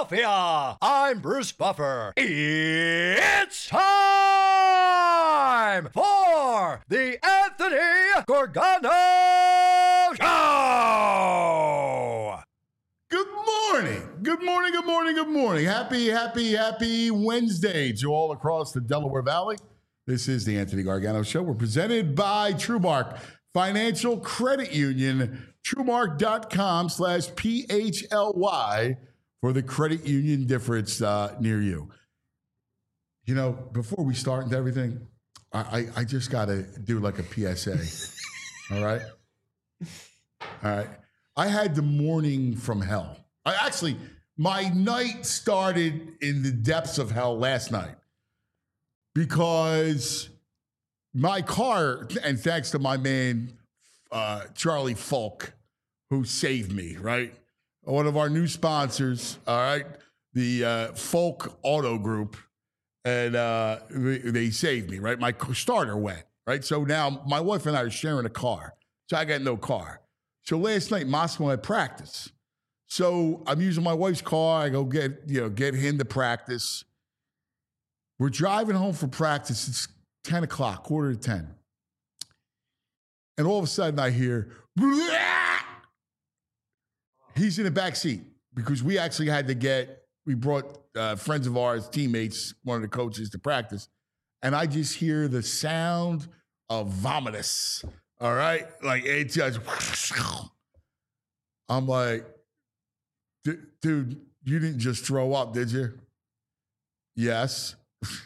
Philadelphia. I'm Bruce Buffer. It's time for the Anthony Gargano Show. Good morning. Good morning, good morning, good morning. Happy Wednesday to all across the Delaware Valley. This is the Anthony Gargano Show. We're presented by TrueMark Financial Credit Union, TrueMark.com/PHLY for the credit union difference near you. You know, before we start into everything, I just got to do like a PSA. All right? All right. I had the morning from hell. My night started in the depths of hell last night because my car, and thanks to my man, Charlie Falk, who saved me, right? One of our new sponsors, all right? The Falk Auto Group, and they saved me, right? My starter went, right? So now my wife and I are sharing a car. So I got no car. So last night, Moscow had practice. So I'm using my wife's car. I go get him to practice. We're driving home from practice. It's 10 o'clock, quarter to 10. And all of a sudden I hear, "Bleh!" He's in the back seat because we actually had to we brought friends of ours, teammates, one of the coaches to practice. And I just hear the sound of vomitus. All right? Like it just, I'm like, dude, you didn't just throw up, did you? Yes.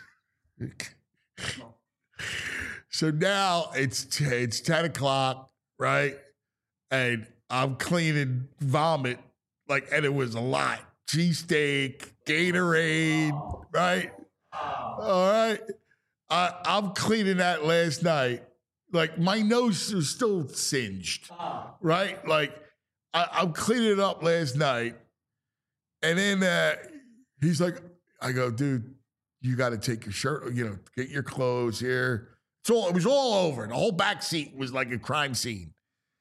So now it's 10 o'clock, right? And I'm cleaning vomit, and it was a lot. Cheesesteak, Gatorade, right? All right. I'm cleaning that last night. My nose was still singed, right? I'm cleaning it up last night. And then he's like, I go, dude, you got to take your shirt, get your clothes here. It was all over. The whole back seat was like a crime scene.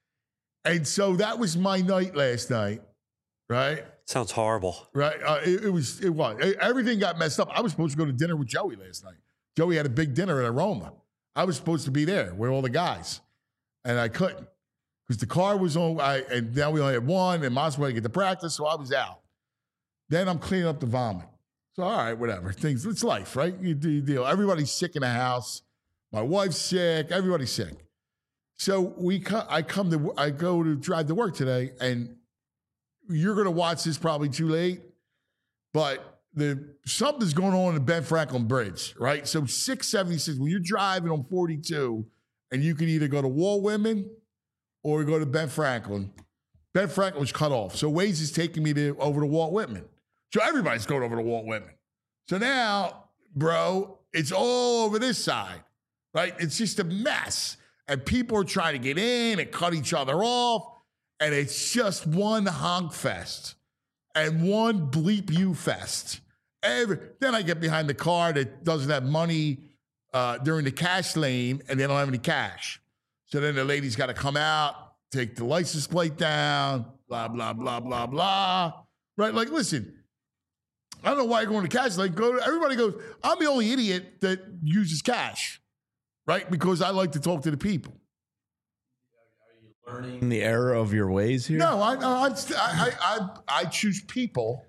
And so that was my night last night, right? Sounds horrible. Right? It was. Everything got messed up. I was supposed to go to dinner with Joey last night. Joey had a big dinner at Aroma. I was supposed to be there with all the guys. And I couldn't because the car was on. And now we only had one, and Moscow had to get to practice, so I was out. Then I'm cleaning up the vomit. So, all right, whatever. It's life, right? You do your deal. Everybody's sick in the house. My wife's sick. Everybody's sick. So I go to drive to work today, and you're going to watch this probably too late, but something's going on in the Ben Franklin Bridge, right? So 676, when you're driving on 42, and you can either go to Walt Whitman or go to Ben Franklin. Ben Franklin was cut off. So Waze is taking me over to Walt Whitman. So everybody's going over to Walt Whitman. So now, bro, it's all over this side, right? It's just a mess. And people are trying to get in and cut each other off. And it's just one honk fest and one bleep you fest. Then I get behind the car that doesn't have money during the cash lane, and they don't have any cash. So then the lady's got to come out, take the license plate down, blah, blah, blah, blah, blah. Right? Listen, I don't know why you're going to cash lane. Everybody goes, I'm the only idiot that uses cash, right? Because I like to talk to the people. Learning the error of your ways here? No, I choose people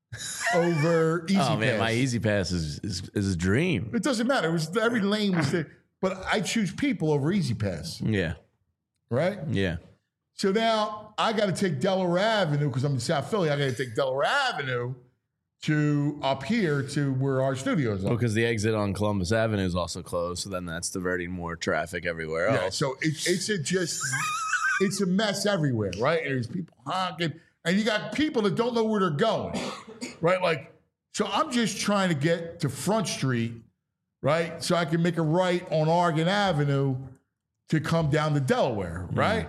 over Easy Pass. Oh man, my Easy Pass is a dream. It doesn't matter. Every lane was there, but I choose people over Easy Pass. Yeah. Right? Yeah. So now I got to take Delaware Avenue because I'm in South Philly. I got to take Delaware Avenue to up here to where our studios are. Because the exit on Columbus Avenue is also closed, so then that's diverting more traffic everywhere else. Yeah. So it's a mess everywhere, right? And there's people honking, and you got people that don't know where they're going, right? So I'm just trying to get to Front Street, right? So I can make a right on Oregon Avenue to come down to Delaware, right?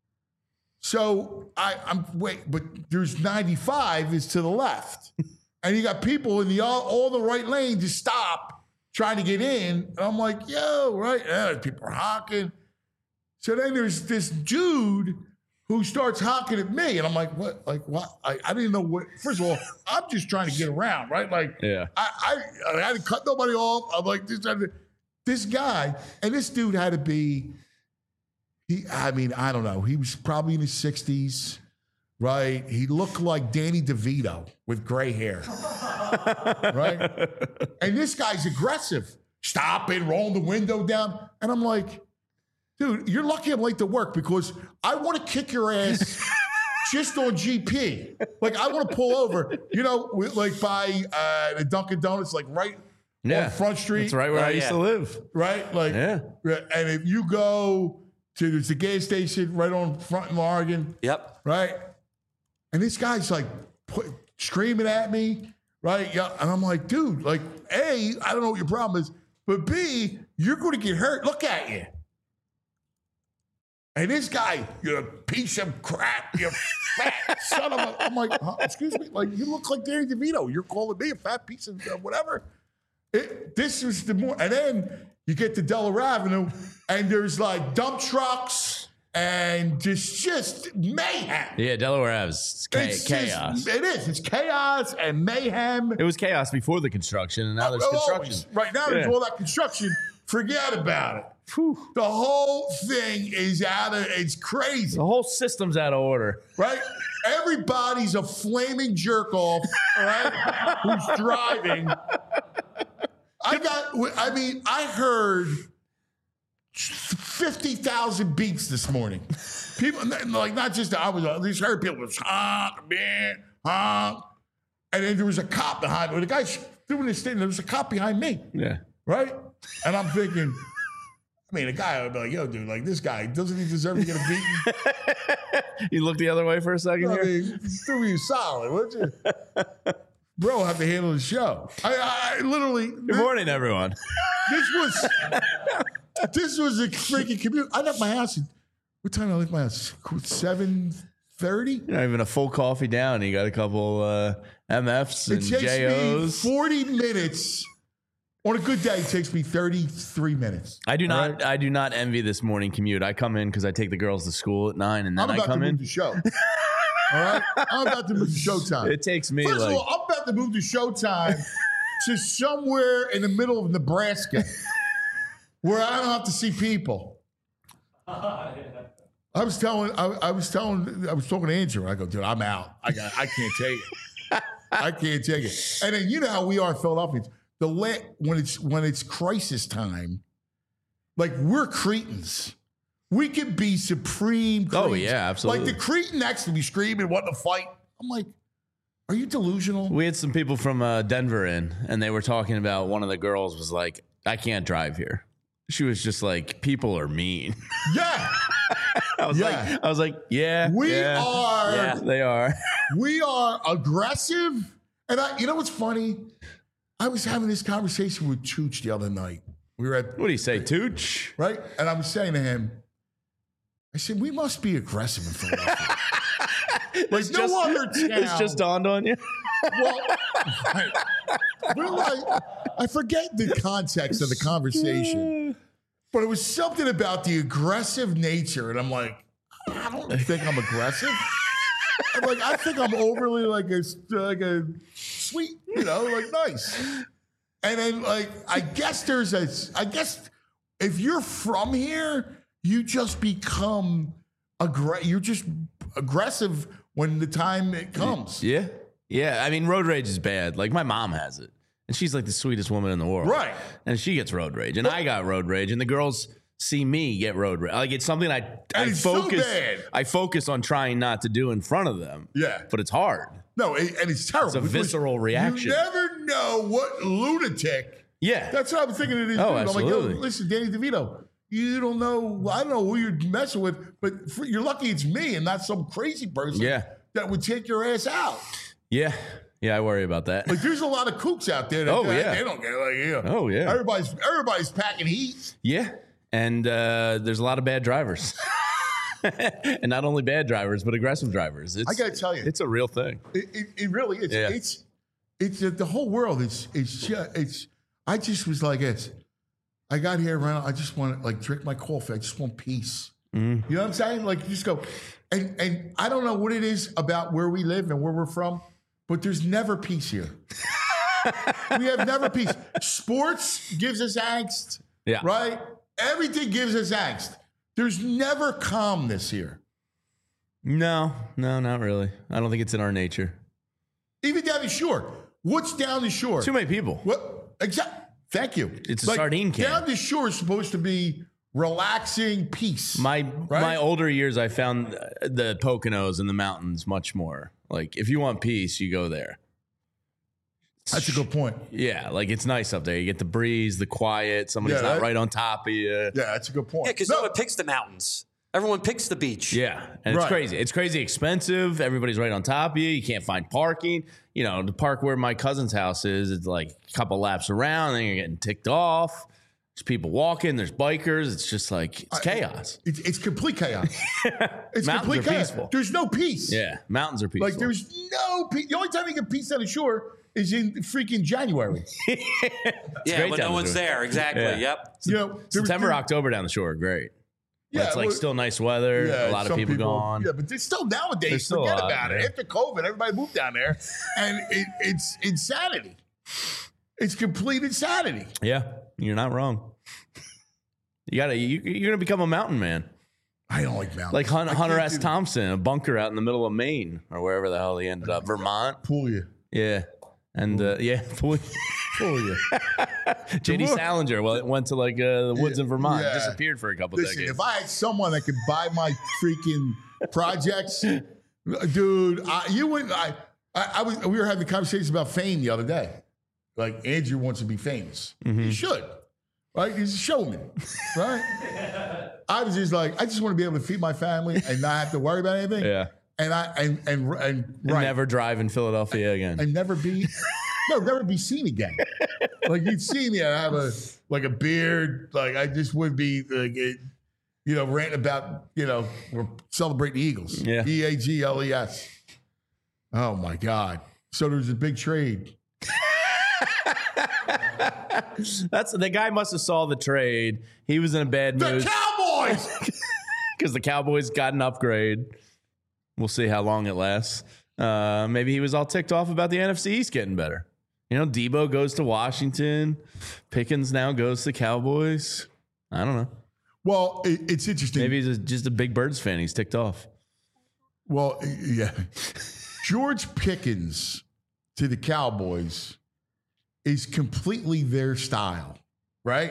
So but there's 95 is to the left. And you got people in all the right lane just stop trying to get in. And I'm like, yo, right? Yeah, people are honking. So then there's this dude who starts honking at me, and I'm like, what? Like what? I didn't know what. First of all, I'm just trying to get around, right? Like, Yeah. I didn't cut nobody off. I'm like, this guy, and this dude had to be. I don't know. He was probably in his 60s, right? He looked like Danny DeVito with gray hair, right? And this guy's aggressive. Stopping, rolling the window down. And I'm like, dude, you're lucky I'm late to work because I want to kick your ass just on GP. Like, I want to pull over, like by the Dunkin' Donuts, like right on Front Street. That's right where I used to live. Right? Like, Yeah. And if you go to there's a gas station right on Front in Oregon. Yep. Right? And this guy's like screaming at me. Right? Yeah. And I'm like, dude, like, A, I don't know what your problem is, but B, you're going to get hurt. Look at you. And this guy, you piece of crap, you fat son of a. I'm like, excuse me, like, you look like Danny DeVito. You're calling me a fat piece of whatever. This was the more, and then you get to Delaware Avenue, and there's like dump trucks and just mayhem. Yeah, Delaware Ave's chaos. It is. It's chaos and mayhem. It was chaos before the construction, and now there's construction. Right now, there's all that construction. Forget about it. Whew. The whole thing is it's crazy. The whole system's out of order. Right? Everybody's a flaming jerk off, all right, who's driving. I heard 50,000 beats this morning. People, like, not just, I just heard people was honk, man, honk. And then there was a cop behind me. The guy's doing this thing, there was a cop behind me. Yeah. Right? And I'm thinking, the guy would be like, yo, dude, like, this guy, doesn't he deserve to get a beating? You looked the other way for a second here? Do me solid, would you? Bro, I have to handle the show. I literally. Good morning, everyone. This was a freaking commute. I left my house. What time did I leave my house? 7:30? You're not even a full coffee down. You got a couple MFs and It takes JOs. me 40 minutes. On a good day, it takes me 33 minutes. I do not envy this morning commute. I come in because I take the girls to school at 9, and then I come in. I'm about to move the show. All right? I'm about to move to Showtime. It takes me First of all, I'm about to move to Showtime to somewhere in the middle of Nebraska where I don't have to see people. I was talking to Andrew. I go, dude, I'm out. I can't take it. I can't take it. And then you know how we are in Philadelphia. When it's crisis time, like, we're Cretans. We could be supreme Cretans. Oh, yeah, absolutely. Like, the Cretan next to me screaming, wanting to fight. I'm like, are you delusional? We had some people from Denver in, and they were talking about, one of the girls was like, I can't drive here. She was just like, people are mean. Yeah. I was like, yeah. Yeah, they are. We are aggressive. And you know what's funny? I was having this conversation with Tooch the other night. We were at. What do you say, Tooch? Right? And I was saying to him, I said, we must be aggressive in Philadelphia. Like, no other town. It's just dawned on you? Well, right. We're like, I forget the context of the conversation, but it was something about the aggressive nature. And I'm like, I don't think I'm aggressive. I'm like, I think I'm overly like a sweet, like, nice. And then, like, I guess if you're from here, you just become you're just aggressive when the time it comes. Yeah. Yeah. I mean, road rage is bad. Like, my mom has it, and she's like the sweetest woman in the world. Right. And she gets road rage, and I got road rage, and the girls see me get road rage. Like, it's something I focus. So bad. I focus on trying not to do in front of them. Yeah. But it's hard. No, and it's terrible. It's a visceral reaction. You never know what lunatic. Yeah. That's what I'm thinking of this Oh, dude. absolutely. I'm like, yo, listen, Danny DeVito, you don't know, I don't know who you're messing with, but you're lucky it's me and not some crazy person that would take your ass out. Yeah. Yeah, I worry about that. Like, there's a lot of kooks out there that they don't get it. Oh, yeah. Everybody's packing heat. Yeah. And there's a lot of bad drivers. And not only bad drivers, but aggressive drivers. I got to tell you. It's a real thing. It really is. Yeah. It's the whole world. I just was like this. I got here around, I just want to, like, drink my coffee. I just want peace. You know what I'm saying? Like, you just go, and I don't know what it is about where we live and where we're from, but there's never peace here. We have never peace. Sports gives us angst, right? Everything gives us angst. There's never calmness here. No, not really. I don't think it's in our nature. Even down the shore. What's down the shore? Too many people. What? Thank you. It's a sardine can. Down the shore is supposed to be relaxing peace. My older years, I found the Poconos and the mountains much more. Like, if you want peace, you go there. That's a good point. Yeah, like it's nice up there. You get the breeze, the quiet. Somebody's not right on top of you. Yeah, that's a good point. Yeah, because no one picks the mountains. Everyone picks the beach. Yeah, and it's crazy. It's crazy expensive. Everybody's right on top of you. You can't find parking. You know, the park where my cousin's house is, it's like a couple laps around, then you're getting ticked off. There's people walking. There's bikers. It's just like, it's chaos. It's complete chaos. It's Mountains complete are chaos. peaceful. There's no peace. Yeah, mountains are peaceful. Like, there's no peace. The only time you get peace on the shore is in freaking January. Yeah, when no one's there. Exactly. Yeah. Yep. You know, September, October down the shore are great. Yeah, it's like still nice weather. Yeah, a lot of some people gone. Yeah, but there's still nowadays. There's still forget a lot, about it. yeah. After COVID, everybody moved down there, and it's insanity. It's complete insanity. Yeah, you're not wrong. You're gonna become a mountain man, I don't like mountains. like Hunter can't S. do- Thompson, a bunker out in the middle of Maine or wherever the hell he ended up, Vermont. Pull you. Yeah, and Pull you. J.D. Salinger. Well, it went to like the woods in Vermont, Yeah. disappeared for a couple Listen, decades. if I had someone that could buy my freaking projects, dude, you wouldn't. We were having conversations about fame the other day. Like, Andrew wants to be famous. He should, right? He's a showman, right? I was just like, I just want to be able to feed my family and not have to worry about anything. Yeah, And right. never drive in Philadelphia again. And never be seen again. Like, you'd see me, I have a beard. Like, I just would be like, ranting about, we're celebrating the Eagles. Yeah. EAGLES. Oh my God. So there's a big trade. That's the guy must have saw the trade. He was in a bad The mood Cowboys. because the Cowboys got an upgrade. We'll see how long it lasts. Maybe he was all ticked off about the NFC East getting better. You know, Debo goes to Washington. Pickens now goes to Cowboys. I don't know. Well, it's interesting. Maybe he's just a big Birds fan. He's ticked off. Well, yeah. George Pickens to the Cowboys is completely their style, right?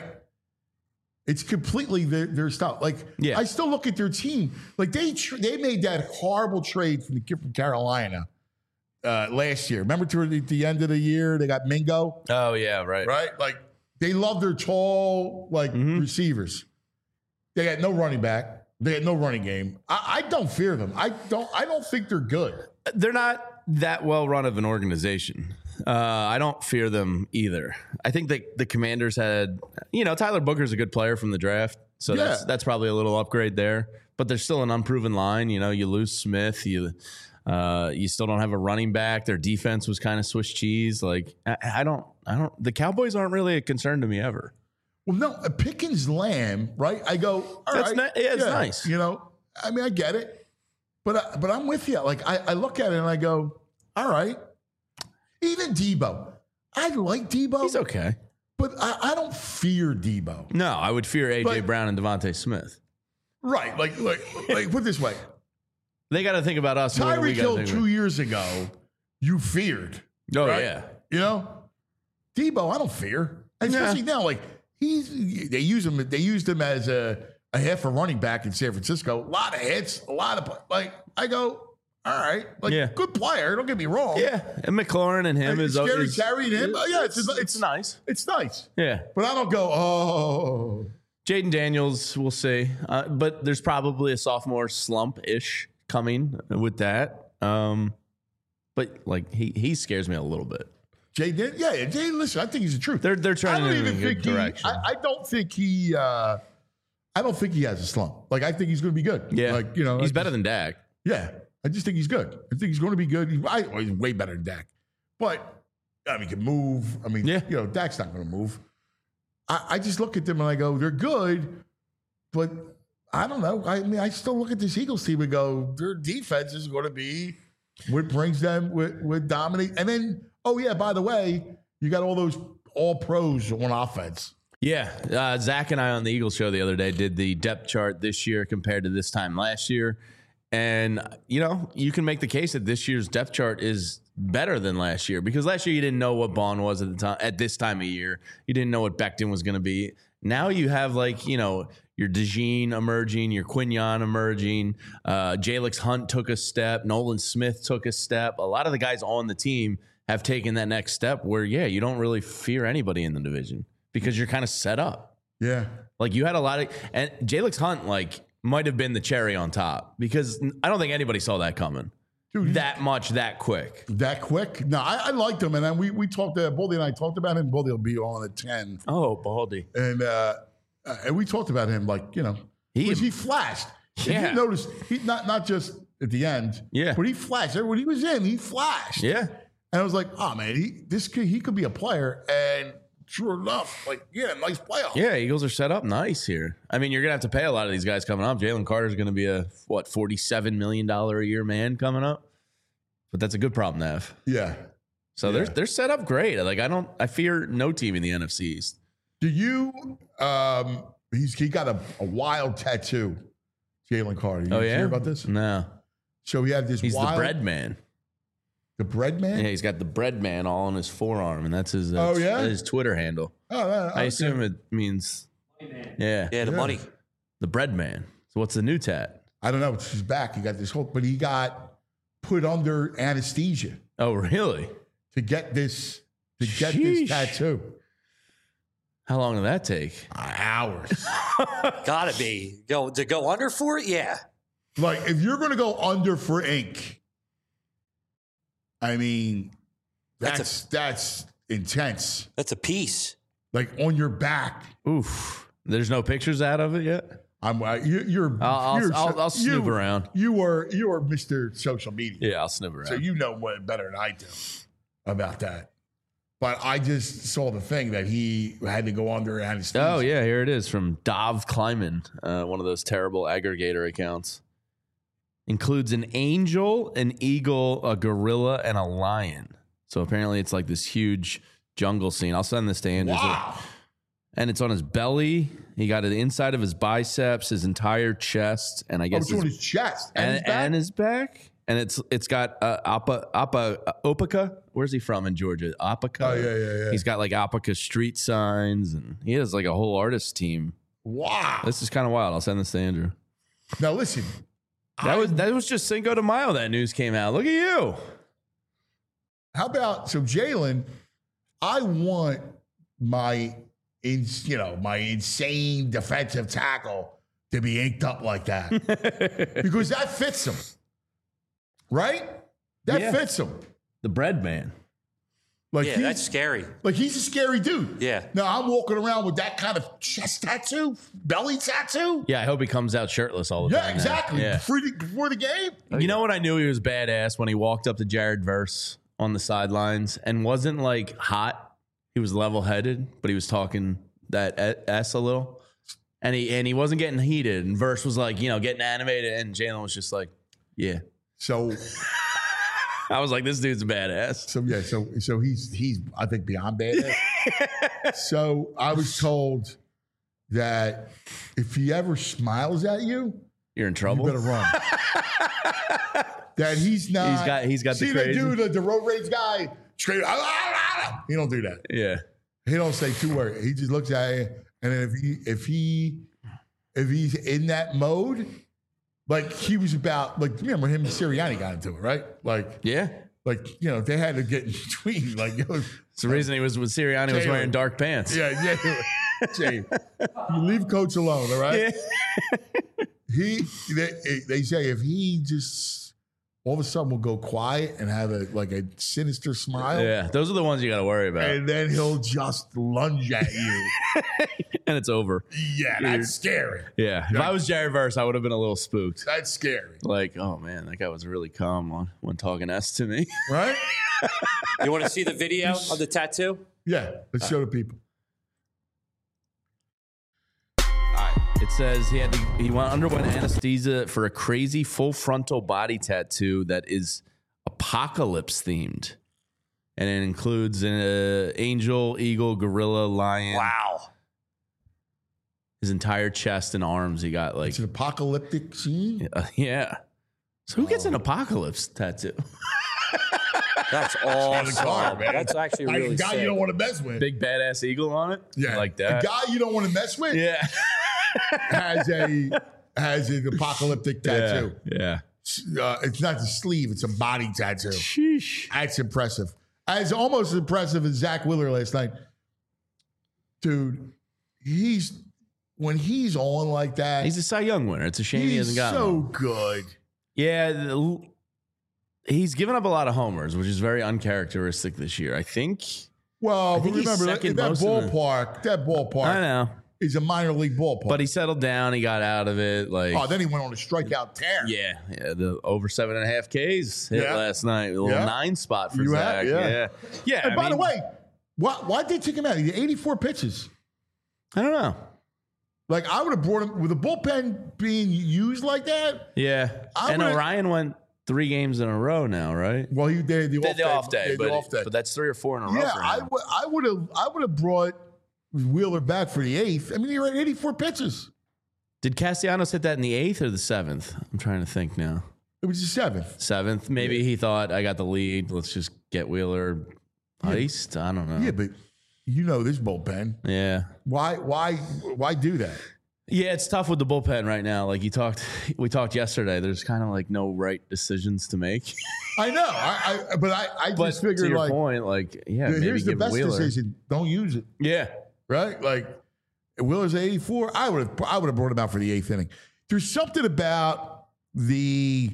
It's completely their style. Like, Yeah. I still look at their team. Like, they made that horrible trade from the kid from Carolina last year. Remember, at the end of the year, they got Mingo, Oh, yeah, right. right? Like, they love their tall, receivers. They had no running back. They had no running game. I don't fear them. I don't think they're good. They're not that well run of an organization. I don't fear them either. I think that the Commanders had, Tyler Booker's a good player from the draft, so that's probably a little upgrade there. But there's still an unproven line. You lose Smith. You still don't have a running back. Their defense was kind of Swiss cheese. Like I don't. The Cowboys aren't really a concern to me ever. Well, no, a Pickens Lamb, right? I go, all right. It's nice. I mean, I get it, but I'm with you. Like, I look at it and I go, all right. Even Debo, I like Debo. He's okay. But I don't fear Debo. No, I would fear A.J. Brown and Devontae Smith. Right, like put it this way. They got to think about us. more than we Tyreek gotta Hill think 2 years ago, you feared. Oh, right? yeah. Debo, I don't fear. And especially now, like, they used him as a half a running back in San Francisco. A lot of hits, I go, all right, good player. Don't get me wrong. Yeah, and McLaurin and him is Scary Terry and him. It's nice. It's nice. Yeah, but I don't go, oh. Jaden Daniels, we'll see. But there's probably a sophomore slump-ish coming with that. But like he scares me a little bit. Jay, listen, I think he's the truth. They're trying to move in a good direction. I don't think he has a slump. Like, I think he's going to be good. Yeah, he's better than Dak. Yeah, I just think he's good. I think he's going to be good. He's way better than Dak. But, he can move. I mean, Dak's not going to move. I just look at them and I go, they're good, but I don't know. I mean, I still look at this Eagles team and go, their defense is going to be what brings them with dominate. And then, oh yeah, by the way, you got all those all pros on offense. Yeah. Zach and I on the Eagles show the other day did the depth chart this year compared to this time last year. And, you can make the case that this year's depth chart is better than last year, because last year you didn't know what Bond was at this time of year. You didn't know what Becton was going to be. Now you have your DeJean emerging, your Quignon emerging. Jalix Hunt took a step. Nolan Smith took a step. A lot of the guys on the team have taken that next step where, you don't really fear anybody in the division because you're kind of set up. Yeah. You had a lot of, and Jalix Hunt, might have been the cherry on top, because I don't think anybody saw that coming. Dude, that much, that quick. That quick? No, I liked him. And then we talked to Baldy, and I talked about him. Baldy will be on at 10. Oh, Baldy. And we talked about him he flashed. Yeah. If you noticed, he not just at the end. Yeah. But he flashed. When he was in, he flashed. Yeah. And I was like, oh man, he could be a player. And sure enough, nice playoff. Yeah, Eagles are set up nice here. I mean, you're going to have to pay a lot of these guys coming up. Jalen Carter's going to be a, $47 million a year man coming up. But that's a good problem to have. Yeah. So they're set up great. I fear no team in the NFC East. Do you, he got a wild tattoo, Jalen Carter. You hear about this? No. So he had this He's the bread man. The bread man? Yeah, he's got the bread man all on his forearm, and that's his his Twitter handle. Oh, I assume it means the money. The bread man. So what's the new tat? I don't know. He's back. He got this whole, but he got put under anesthesia. Oh, really? To get this tattoo. How long did that take? Hours. Gotta be. To go under for it? Yeah. If you're going to go under for ink, I mean, that's intense. That's a piece. On your back. Oof. There's no pictures out of it yet? I'll snoop around. You are Mr. Social Media. Yeah, I'll snoop around. So you know better than I do about that. But I just saw the thing that he had to go under anesthesia. Oh, yeah, here it is from Dov Kleiman, one of those terrible aggregator accounts. Includes an angel, an eagle, a gorilla, and a lion. So apparently it's this huge jungle scene. I'll send this to Andrew. Wow. And it's on his belly. He got it inside of his biceps, his entire chest, and I guess it's on his chest and his back. And it's got Opaka. Where's he from in Georgia? Opaka. Oh yeah. He's got Opaka street signs, and he has a whole artist team. Wow. This is kind of wild. I'll send this to Andrew. Now listen. That was just Cinco de Mayo. That news came out. Look at you. How about Jalen? I want my insane defensive tackle to be inked up like that because that fits him, right? That fits him. The bread man. That's scary. He's a scary dude. Yeah. Now I'm walking around with that kind of chest tattoo, belly tattoo. Yeah, I hope he comes out shirtless all the time. Yeah, exactly. Yeah. Before the game. You know what? I knew he was badass when he walked up to Jared Verse on the sidelines and wasn't hot. He was level headed, but he was talking that S a little, and he wasn't getting heated. And Verse was getting animated, and Jalen was just yeah. So. I was like, this dude's a badass. So he's I think beyond badass. So I was told that if he ever smiles at you, you're in trouble. You better run. That he's not. He's got see the crazy. See the dude, the road rage guy. Straight. He don't do that. Yeah. He don't say two words. He just looks at you, and then if he's in that mode. He was about, remember him and Sirianni got into it, right? Yeah. They had to get in between. It's the reason he was with Sirianni was wearing dark pants. Yeah. Jay, you leave Coach alone, all right? Yeah. They say if he just all of a sudden will go quiet and have a sinister smile. Yeah, those are the ones you got to worry about. And then he'll just lunge at you. And it's over. Yeah, that's scary. Yeah. If I was Jared Verse, I would have been a little spooked. That's scary. Oh man, that guy was really calm when talking S to me. Right? You want to see the video of the tattoo? Yeah, let's show the people. All right. It says he underwent anesthesia for a crazy full frontal body tattoo that is apocalypse themed. And it includes an angel, eagle, gorilla, lion. Wow. His entire chest and arms. He got like It's an apocalyptic scene. yeah. So who gets an apocalypse tattoo? That's Car, awesome. man. That's actually A really guy sick. you don't want to mess with. Big badass eagle on it. Yeah, like that. A guy you don't want to mess with. Yeah. has an apocalyptic tattoo. Yeah. It's not the sleeve; it's a body tattoo. Sheesh. That's impressive. It's almost as impressive as Zach Wheeler last night, dude. When he's on like that, He's a Cy Young winner. It's a shame he hasn't gotten so one. good. Yeah. He's given up a lot of homers, which is very uncharacteristic this year. I think. Well, but think he's remember that second most in the- ballpark I know. is a minor league ballpark. But he settled down. He got out of it. Like, then he went on a strikeout tear. yeah, the over 7.5 Ks hit Yeah. last night. A little Yeah. 9 spot for You Zach. have, yeah. Yeah. And by the way, why'd they take him out? He had 84 pitches. I don't know. Like, I would have brought him with a bullpen being used like that. Yeah. I And would've- Orion went 3 games in a row now, right? Well, they had the off day. They had the off day. But that's 3 or 4 in a row. Yeah, for him. I would have brought Wheeler back for the 8th. I mean, he had 84 pitches. Did Castellanos hit that in the 8th or the 7th? I'm trying to think now. It was the 7th. 7th. Maybe he thought, I got the lead. Let's just get Wheeler iced. I don't know. Yeah, but you know this bullpen. Yeah. Why do that? Yeah, it's tough with the bullpen right now. Like we talked yesterday. There's kind of like no right decisions to make. I know. But I But just to figured your like point, like maybe here's the give best Wheeler. decision. Don't use it. Yeah, Right? Like Wheeler's at 84. I would have brought him out for the 8th inning. There's something about the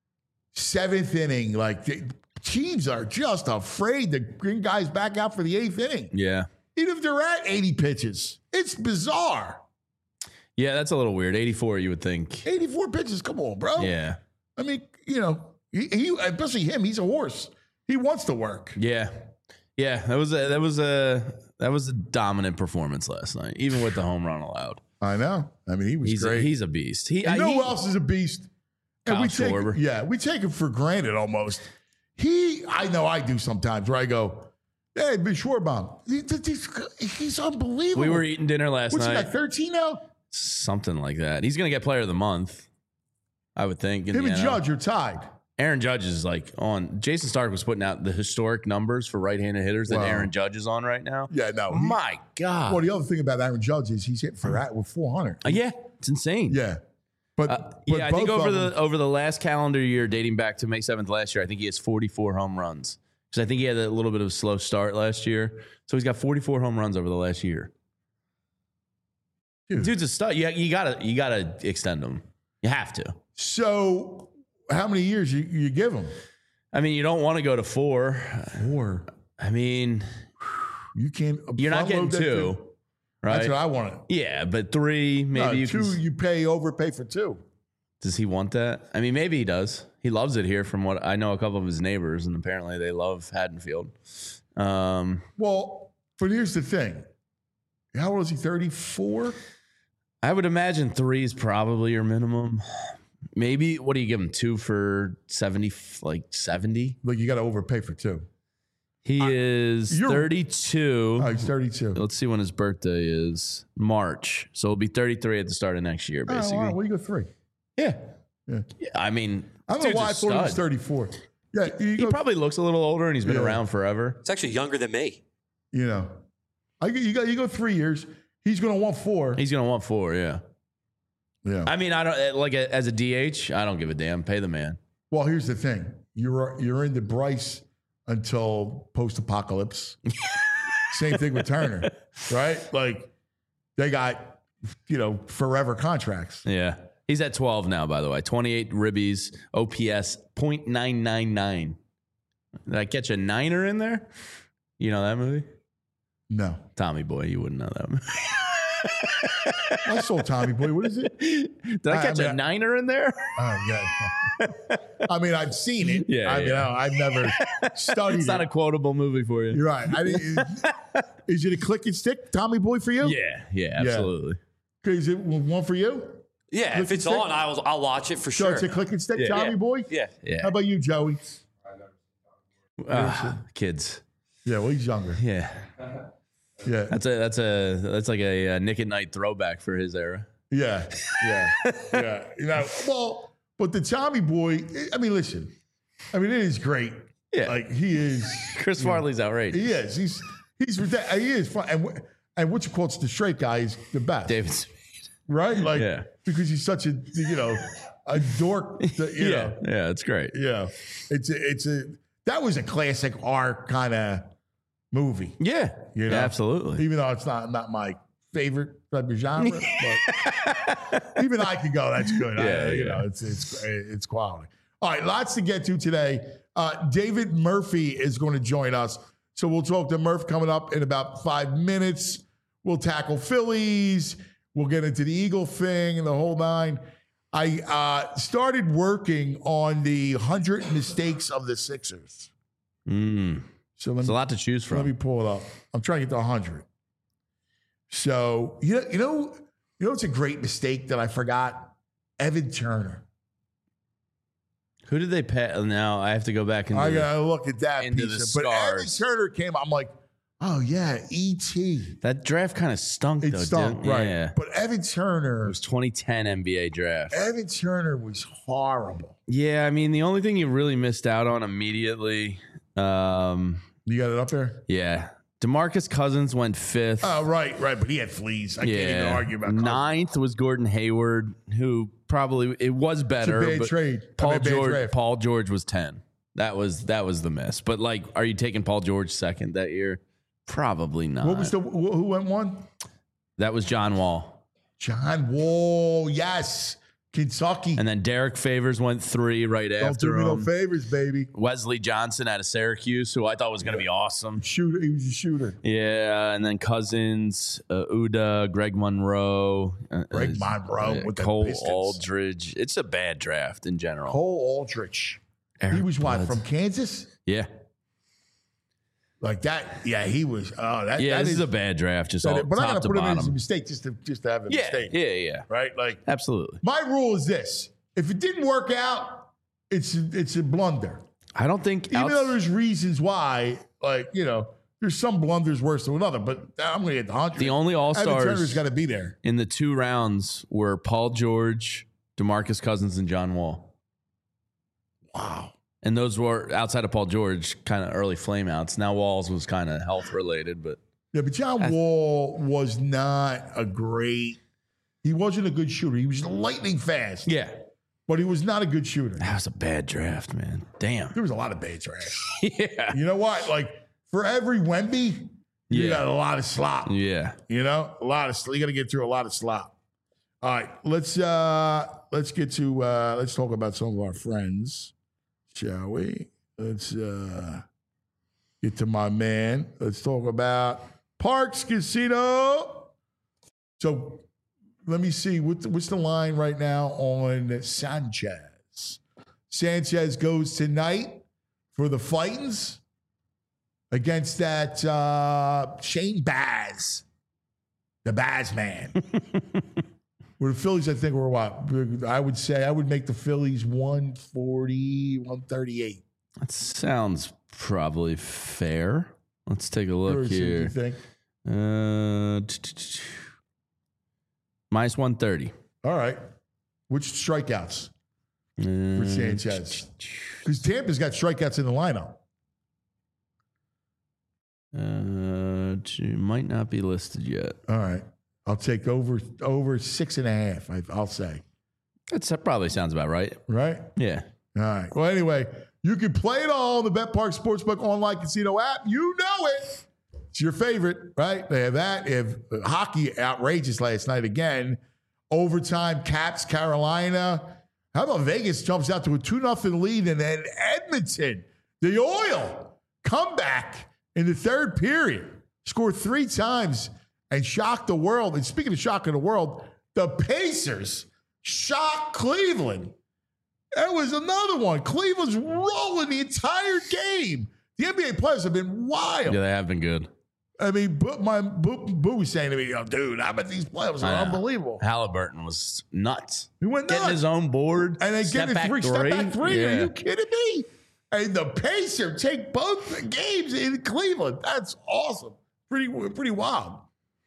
7th inning. Like teams are just afraid to bring guys back out for the 8th inning. yeah, Even if they're at 80 pitches. It's bizarre. yeah. That's a little weird. 84, you would think. 84 pitches. Come on, bro. Yeah, I mean, he especially him, he's a horse. He wants to work. yeah. That was a dominant performance last night, even with the home run allowed. I know. I mean, he was He's great. he's a beast. You know who else is a beast? Kyle we take, Schwarber. yeah, we take him for granted almost. I know I do sometimes where I go, hey, be Schwarber. He's unbelievable. We were eating dinner last What's he night. got, 13 now? Something like that. He's going to get Player of the Month, I would think. in Him the and NL. Judge are tied. Aaron Judge is like on. Jason Stark was putting out the historic numbers for right-handed hitters that Wow. Aaron Judge is on right now. Yeah, no. My God. Well, the other thing about Aaron Judge is he's hit with 400. Yeah, it's insane. Yeah. But Yeah, I think both of them- over the last calendar year, dating back to May 7th last year, I think he has 44 home runs. Because I think he had a little bit of a slow start last year. So he's got 44 home runs over the last year. Dude. Dude's a stud. You gotta extend him. You have to. So how many years you give him? I mean, you don't want to go to 4. 4. I mean, You can't. you're not getting front-load that 2, thing. right? That's what I wanted. Yeah, but 3, maybe No, you 2, can. you overpay for 2. Does he want that? I mean, maybe he does. He loves it here from what I know a couple of his neighbors, and apparently they love Haddonfield. Well, but here's the thing. How old is he? 34? I would imagine 3 is probably your minimum. Maybe, what do you give him, 2 for 70, like 70? Like you got to overpay for 2. He is 32. Oh, he's 32. Let's see when his birthday is. March. So he'll be 33 at the start of next year, basically. Oh, wow. Well, you go 3. Yeah. Yeah. I mean, I don't know dude's why a I thought he was stud. 34. Yeah, He probably looks a little older, and he's been Yeah. around forever. It's actually younger than me. you know, you go 3 years. He's going to want 4. He's going to want 4, yeah. Yeah. I mean, I don't like as a DH. I don't give a damn. Pay the man. Well, here's the thing. You're into Bryce until post-apocalypse. Same thing with Turner, right? Like they got, forever contracts. Yeah, he's at 12 now. By the way, 28 ribbies, OPS .999. Did I catch a 9er in there? You know that movie? No. Tommy Boy. You wouldn't know that movie. I saw Tommy Boy. What is it? Did I catch a 9er in there? Oh, yeah. I mean, I've seen it. Yeah, I mean, yeah. I've never studied It's not it. a quotable movie for you. You're right. Is it a click and stick Tommy Boy for you? Yeah, absolutely. Is it one for you? Yeah, Click if it's and stick? on, I'll watch it for So sure. it's a click and stick, Yeah. Tommy boy? Yeah. Yeah. How about you, Joey? Kids. Yeah, well, he's younger. Yeah. Yeah. That's like a Nick at Night throwback for his era. Yeah. Well, but the Tommy boy, I mean, listen. I mean, it is great. Yeah. Like, he is. Chris Farley's outrageous. He is. He is fun. And what you call it's the straight guy is the best. David Spade. Right? Like, Yeah. because he's such a dork. Yeah, it's great. Yeah. That was a classic R kind of movie. Yeah, You know? absolutely. Even though it's not my favorite type of genre, but even I could go, that's good. It's quality. All right, lots to get to today. David Murphy is going to join us. So we'll talk to Murph coming up in about 5 minutes. We'll tackle Phillies. We'll get into the Eagle thing and the whole nine. I started working on the 100 mistakes of the Sixers. So There's a lot to choose from. let me pull it up. I'm trying to get to 100. So, you know, it's a great mistake that I forgot? Evan Turner. Who did they pay? Now I have to go back and I got to look at that into piece. the But Evan scars. Turner came, I'm like, oh, yeah, E.T. that draft kind of stunk. It though, stunk, didn't it? right. Yeah. But Evan Turner, It was 2010 NBA draft. Evan Turner was horrible. Yeah, I mean the only thing you really missed out on immediately. You got it up there? Yeah, DeMarcus Cousins went 5th. Oh, right. But he had fleas. I can't even argue about Cousins. 9th was Gordon Hayward, who probably it was better. It's a bad but trade. Paul Bad draft. Paul George was 10. That was the miss. But like, are you taking Paul George 2nd that year? Probably not. What was who went one? That was John Wall. John Wall, yes. Kentucky. And then Derek Favors went 3 right Don't after do me no him. favors, baby. Wesley Johnson out of Syracuse, who I thought was going to be awesome. Shooter. He was a shooter. Yeah, and then Cousins, Uda, Greg Monroe, Greg Monroe with the Cole Pistons. Aldridge. It's a bad draft in general. Cole Aldrich. He Eric was what, Bledsoe. from Kansas? Yeah, Like that. Yeah, he was. Oh, that. yeah. that This is a bad draft, just all But I top got to to put him in as a bottom. mistake just to have a Yeah, mistake. yeah, Right? Like, absolutely. my rule is this. If it didn't work out, it's a blunder. I don't think Even though there's reasons why, like, there's some blunders worse than another, but I'm going to get the 100. the only All Evan Turner's Stars got to be there. in the 2 rounds were Paul George, DeMarcus Cousins, and John Wall. Wow. And those were outside of Paul George, kind of early flameouts. Now Walls was kind of health related, but Yeah, but John Wall was not he wasn't a good shooter. He was lightning fast. yeah, But he was not a good shooter. that was a bad draft, man. Damn. There was a lot of bad drafts. Yeah. You know what? Like, for every Wemby, you Yeah. got a lot of slop. Yeah. You know? A lot of slop. You got to get through a lot of slop. All right. Let's get to let's talk about some of our friends, shall we? Let's get to my man. Let's talk about Parks Casino. So let me see. What's the line right now on Sanchez? Sanchez goes tonight for the Fightins against that Shane Baz, the Baz man. Where the Phillies, I think, were what? I would say I would make the Phillies 140, 138. That sounds probably fair. Let's take a look What do you here. think? Minus 130. All right. Which strikeouts for Sanchez? Because Tampa's got strikeouts in the lineup. Might not be listed yet. All right. I'll take over 6.5, I'll say. That probably sounds about right. Right? Yeah. All right. Well, anyway, you can play it all on the BetPark Sportsbook online casino app. You know it. It's your favorite, right? They have that. They have hockey outrageous last night again. Overtime, Caps, Carolina. How about Vegas jumps out to a 2-0 lead, and then Edmonton, the Oil, comeback in the third period, score 3 times and shock the world. And speaking of shocking the world, the Pacers shocked Cleveland. That was another one. Cleveland's rolling the entire game. The NBA players have been wild. Yeah, they have been good. I mean, Boo was saying to me, dude, I bet these playoffs are unbelievable. Halliburton was nuts. He went getting nuts. his own board. And then step getting back step back three. Yeah. Are you kidding me? And the Pacers take both the games in Cleveland. That's awesome. Pretty wild.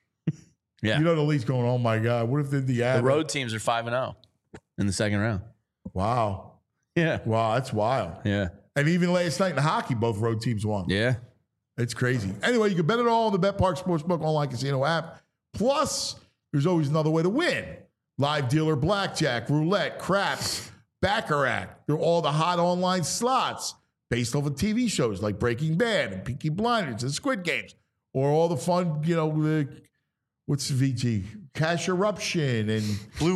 Yeah. You know the league's going, oh my God, what if the road teams are 5-0 in the second round? Wow. Yeah. Wow, that's wild. Yeah. And even last night in hockey, both road teams won. Yeah. It's crazy. Anyway, you can bet it all on the BetPark Sportsbook online casino app. Plus, there's always another way to win. Live dealer blackjack, roulette, craps, baccarat. They're all the hot online slots based off of TV shows like Breaking Bad and Peaky Blinders and Squid Games. Or all the fun, what's VG? Cash Eruption and Blue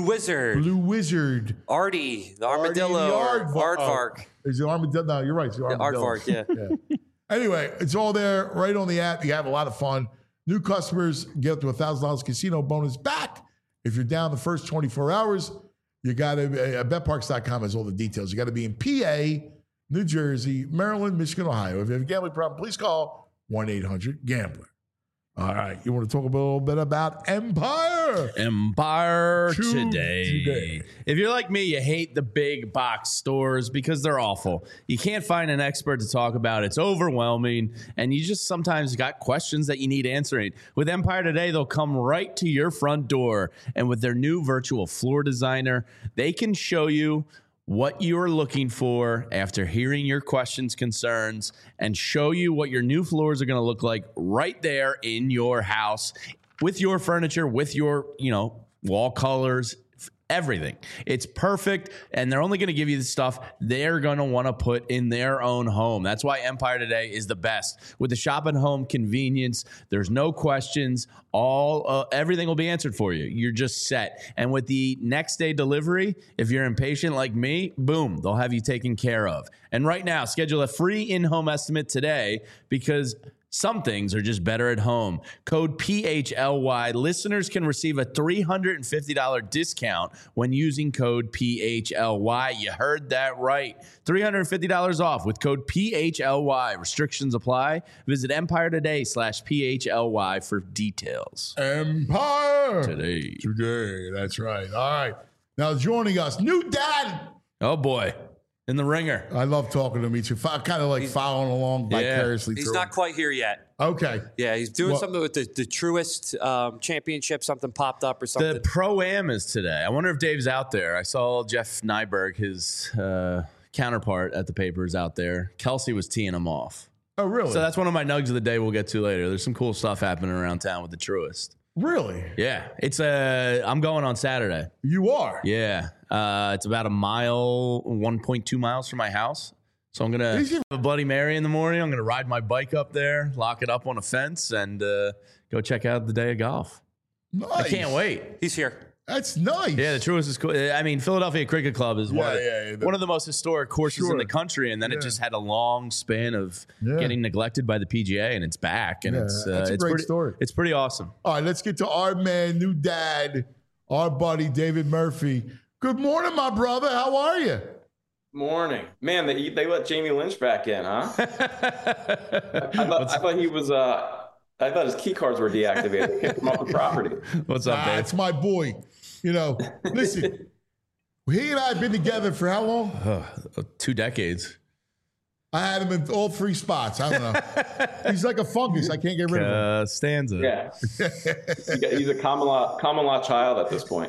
Wizard. Artie. The Armadillo. Aardvark. Is it Armadillo? No, you're right. It's the Armadillo. Aardvark, yeah. Anyway, it's all there right on the app. You have a lot of fun. New customers get up to $1,000 casino bonus back. If you're down the first 24 hours, you got to, betparks.com has all the details. You got to be in PA, New Jersey, Maryland, Michigan, Ohio. If you have a gambling problem, please call 1-800-GAMBLER. All right. You want to talk a little bit about Empire? Empire today. If you're like me, you hate the big box stores because they're awful. You can't find an expert to talk about. It's overwhelming. And you just sometimes got questions that you need answering. With Empire Today, they'll come right to your front door. And with their new virtual floor designer, they can show you what you're looking for after hearing your questions, concerns, and show you what your new floors are going to look like right there in your house with your furniture, with your, wall colors, everything. It's perfect, and they're only going to give you the stuff they're going to want to put in their own home. That's why Empire Today is the best. With the shop at home convenience, there's no questions. Everything will be answered for you. You're just set. And with the next day delivery, if you're impatient like me, boom, they'll have you taken care of. And right now, schedule a free in-home estimate today because some things are just better at home. Code PHLY. Listeners can receive a $350 discount when using code PHLY. You heard that right. $350 off with code PHLY. Restrictions apply. Visit EmpireToday.com/PHLY for details. Empire Today. That's right. All right. Now joining us, new dad. Oh, boy. In the ringer. I love talking to him. He's kind of like following along vicariously. He's not quite here yet. Okay. Yeah, he's doing something with the Truist Championship. Something popped up or something. The Pro-Am is today. I wonder if Dave's out there. I saw Jeff Nyberg, his counterpart at the papers out there. Kelsey was teeing him off. Oh, really? So that's one of my nugs of the day we'll get to later. There's some cool stuff happening around town with the Truist. Really? Yeah. I'm going on Saturday. You are? Yeah. It's about 1.2 miles from my house. So I'm going to have a Bloody Mary in the morning. I'm going to ride my bike up there, lock it up on a fence, and go check out the day of golf. Nice. I can't wait. He's here. That's nice. Yeah, the Truist is cool. I mean, Philadelphia Cricket Club is one of the most historic courses in the country, and then it just had a long span of getting neglected by the PGA, and it's back, and it's a great story. It's pretty awesome. All right, let's get to our man, new dad, our buddy David Murphy. Good morning, my brother. How are you? Morning, man. They let Jamie Lynch back in, huh? I thought he was. I thought his key cards were deactivated. They kicked him off the property. What's up, Dave? That's my boy. Listen, he and I have been together for how long? 2 decades. I had him in all 3 spots. I don't know. He's like a fungus. I can't get rid of him. Stanza. Yeah. He's a common law child at this point.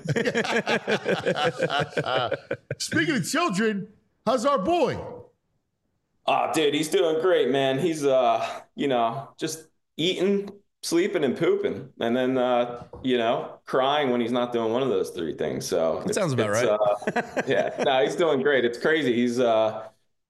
Speaking of children, how's our boy? Oh, dude, he's doing great, man. He's, just eating, sleeping, and pooping. And then, crying when he's not doing one of those 3 things. So that sounds about right. He's doing great. It's crazy. He's, it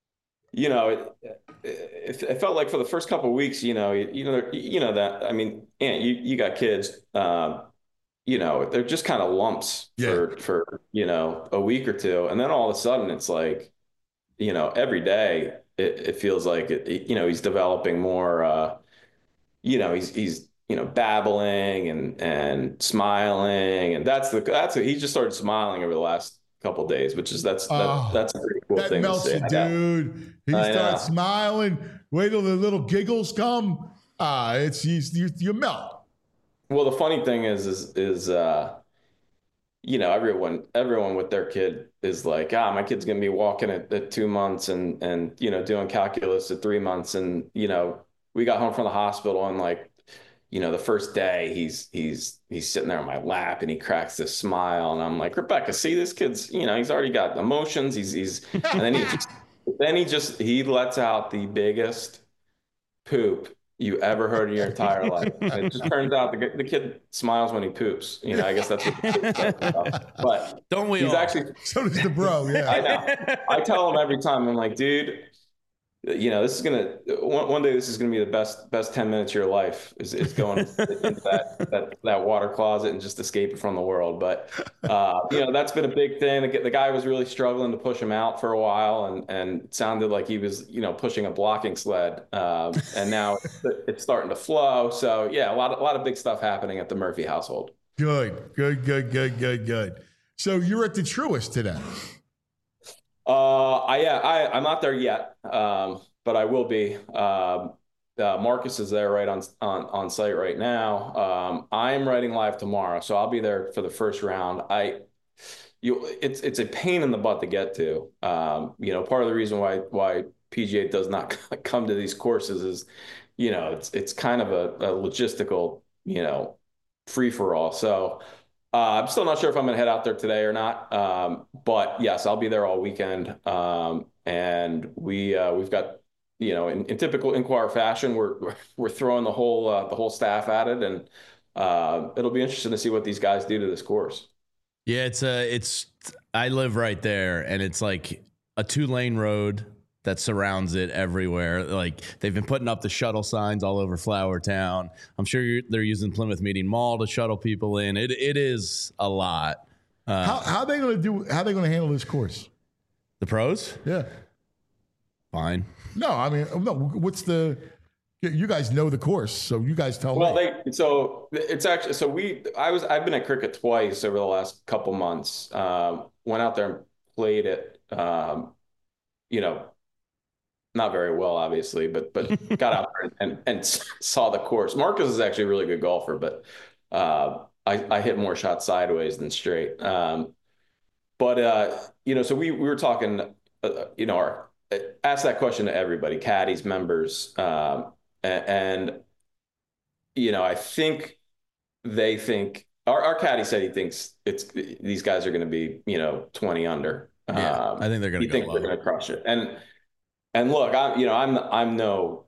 felt like for the first couple of weeks, that, I mean, Aunt, you got kids, they're just kind of lumps for, a week or 2. And then all of a sudden it's like, every day it feels like, he's developing more, he's babbling and smiling, and that's he just started smiling over the last couple of days, which is that's a pretty cool thing. That melts to you, dude. He starts smiling. Wait till the little giggles come. It's you melt. Well, the funny thing is you know, everyone with their kid is like, my kid's gonna be walking at 2 months and you know, doing calculus at 3 months. And, you know, we got home from the hospital and like, you know, the first day he's sitting there on my lap and he cracks this smile. And I'm like, Rebecca, see, this kid's, you know, he's already got emotions. He's and then he lets out the biggest poop you ever heard in your entire life. And it just turns out the kid smiles when he poops. You know, I guess that's what the kid says about. But don't we he's all? Actually, so does the bro. Yeah, I know. I tell him every time. I'm like, dude, you know, this is one day. This is gonna be the best 10 minutes of your life. Is going into that water closet and just escaping from the world. But you know, that's been a big thing. The guy was really struggling to push him out for a while, and it sounded like he was, you know, pushing a blocking sled. And now it's starting to flow. So yeah, a lot of big stuff happening at the Murphy household. Good. So you're at the Truist today. I'm not there yet, but I will be. Marcus is there right on site right now. I'm writing live tomorrow, so I'll be there for the first round. It's a pain in the butt to get to. You know, part of the reason why PGA does not come to these courses is, you know, it's kind of a logistical, you know, free for all. So. I'm still not sure if I'm going to head out there today or not. But yes, I'll be there all weekend. And we've got, you know, in typical Inquire fashion, we're throwing the whole staff at it, and it'll be interesting to see what these guys do to this course. Yeah, I live right there, and it's like a 2-lane road that surrounds it everywhere. Like, they've been putting up the shuttle signs all over Flower Town. I'm sure they're using Plymouth Meeting Mall to shuttle people in. It is a lot. How are they going to handle this course? The pros? Yeah. Fine. No, I mean, no. You guys know the course, so you guys tell me. Well, I've been at cricket twice over the last couple months. Went out there and played it. You know, not very well, obviously, but got out there and saw the course. Marcus is actually a really good golfer, but I hit more shots sideways than straight. But you know, so we were talking, you know, asked that question to everybody, caddies, members, and you know, I think they think our caddy said he thinks these guys are going to be, you know, 20 under. Yeah, I think they're going to go low. They're going to crush it. And look, I'm no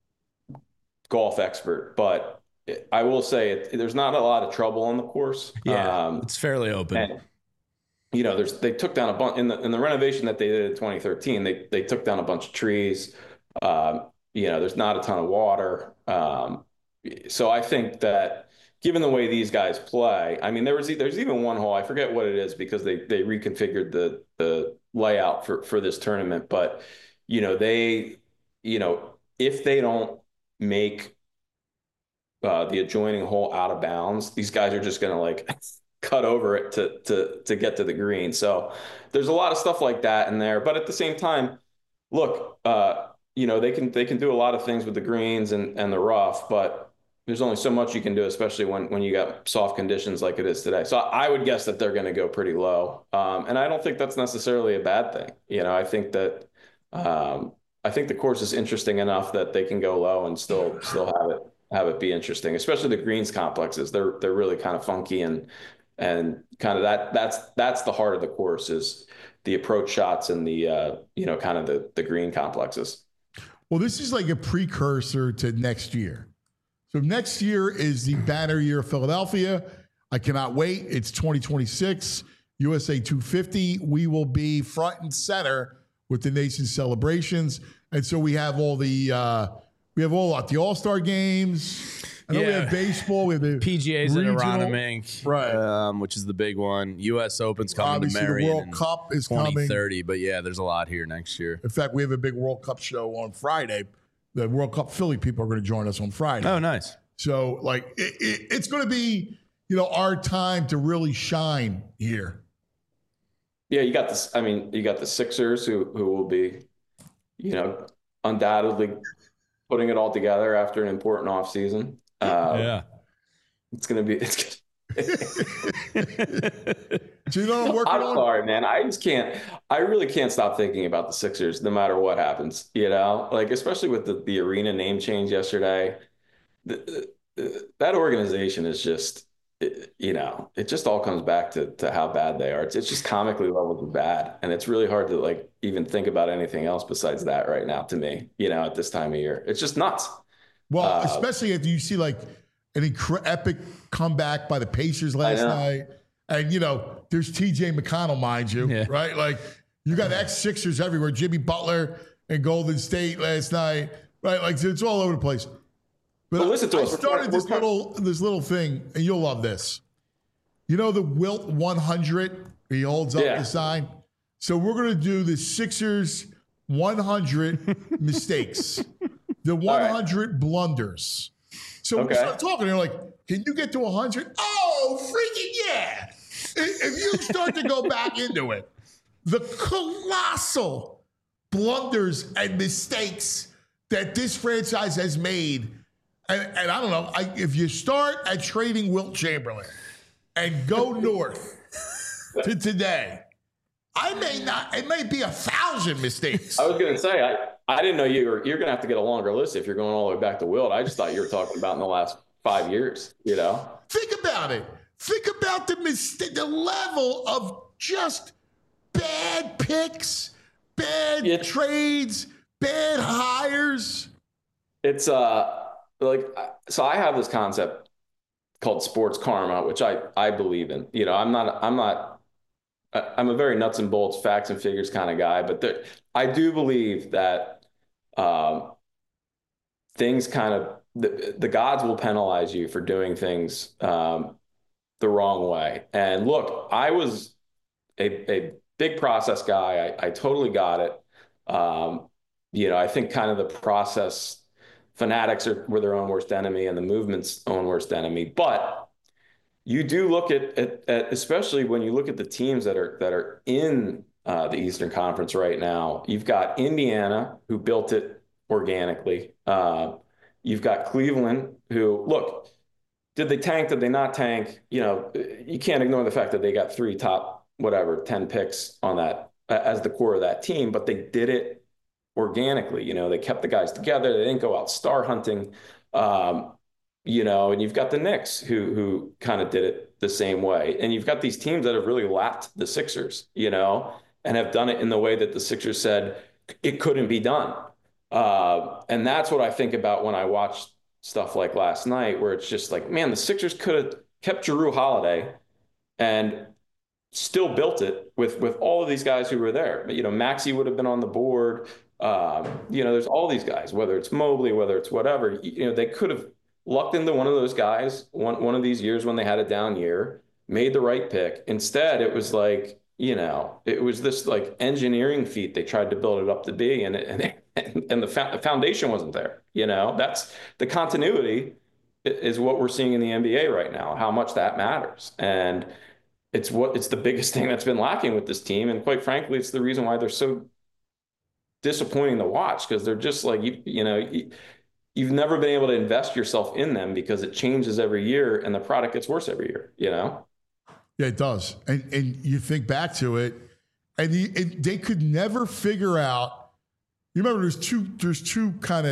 golf expert, but I will say there's not a lot of trouble on the course. Yeah, it's fairly open. And, you know, they took down a bunch in the renovation that they did in 2013. They took down a bunch of trees. You know, there's not a ton of water. So I think that given the way these guys play, I mean, there's even one hole, I forget what it is because they reconfigured the layout for this tournament, but you know, if they don't make the adjoining hole out of bounds, these guys are just going to like cut over it to get to the green. So there's a lot of stuff like that in there. But at the same time, look, you know, they can do a lot of things with the greens and the rough, but there's only so much you can do, especially when you got soft conditions like it is today. So I would guess that they're going to go pretty low. And I don't think that's necessarily a bad thing. You know, I think that the course is interesting enough that they can go low and still have it be interesting, especially the greens complexes. They're really kind of funky and kind of that's the heart of the course is the approach shots and the you know, kind of the green complexes. Well, this is like a precursor to next year. So next year is the banner year of Philadelphia. I cannot wait. It's 2026, USA 250. We will be front and center with the nation's celebrations. And so we have all the All-Star games. I know we have baseball. We have the PGA's at Aronimink, right? Which is the big one. U.S. Open's coming Obviously, to Marion. The World Cup is 2030, coming. but yeah, there's a lot here next year. In fact, we have a big World Cup show on Friday. The World Cup Philly people are going to join us on Friday. Oh, nice. So, like, it's going to be, you know, our time to really shine here. Yeah, you got this. I mean, you got the Sixers who will be, you know, undoubtedly putting it all together after an important offseason. Yeah. It's going to be. Do you know what I'm working on? I'm sorry, man. I just can't. I really can't stop thinking about the Sixers, no matter what happens. You know, like especially with the arena name change yesterday. That organization is just, you know, it just all comes back to how bad they are. It's just comically levels of bad, and it's really hard to like even think about anything else besides that right now. To me, you know, at this time of year, it's just nuts. Well, especially if you see like an epic comeback by the Pacers last night. And, you know, there's TJ McConnell, mind you, right? Like, you got ex-Sixers everywhere. Jimmy Butler and Golden State last night, right? Like, it's all over the place. But listen to us. I started this little thing, and you'll love this. You know the Wilt 100? He holds up the sign. So we're going to do the Sixers 100 mistakes, the 100 blunders. So we start talking, and they're like, can you get to 100? Oh, freaking yeah. If you start to go back into it, the colossal blunders and mistakes that this franchise has made, and I don't know, if you start at trading Wilt Chamberlain and go north to today, it may be 1,000 mistakes. I was going to say, I didn't know you're going to have to get a longer list if you're going all the way back to Wilt. I just thought you were talking about in the last 5 years, you know? Think about it. Think about the level of just bad picks, bad trades, bad hires. It's like, so I have this concept called sports karma, which I believe in. You know, I'm a very nuts and bolts, facts and figures kind of guy, but I do believe that things kind of, the gods will penalize you for doing things the wrong way. And look, I was a big process guy. I totally got it. You know, I think kind of the process fanatics were their own worst enemy and the movement's own worst enemy. But you do look at especially when you look at the teams that are in the Eastern Conference right now. You've got Indiana, who built it organically. You've got Cleveland, who, look, did they tank? Did they not tank? You know, you can't ignore the fact that they got 3 top, 10 picks on that as the core of that team, but they did it organically. You know, they kept the guys together. They didn't go out star hunting. You know, and you've got the Knicks who kind of did it the same way. And you've got these teams that have really lapped the Sixers, you know, and have done it in the way that the Sixers said it couldn't be done. And that's what I think about when I watch stuff like last night, where it's just like, man, the Sixers could have kept Jrue Holiday and still built it with all of these guys who were there. You know, Maxey would have been on the board. You know, there's all these guys, whether it's Mobley, whether it's whatever, you know, they could have lucked into one of those guys one of these years when they had a down year, made the right pick. Instead, it was like, you know, it was this like engineering feat they tried to build it up to be, and the foundation wasn't there. You know, that's the continuity is what we're seeing in the NBA right now, how much that matters. And it's the biggest thing that's been lacking with this team. And quite frankly, it's the reason why they're so disappointing to watch, because they're just like, you've never been able to invest yourself in them because it changes every year and the product gets worse every year, you know? Yeah, it does. And you think back to it, and they could never figure out. You remember there's two kind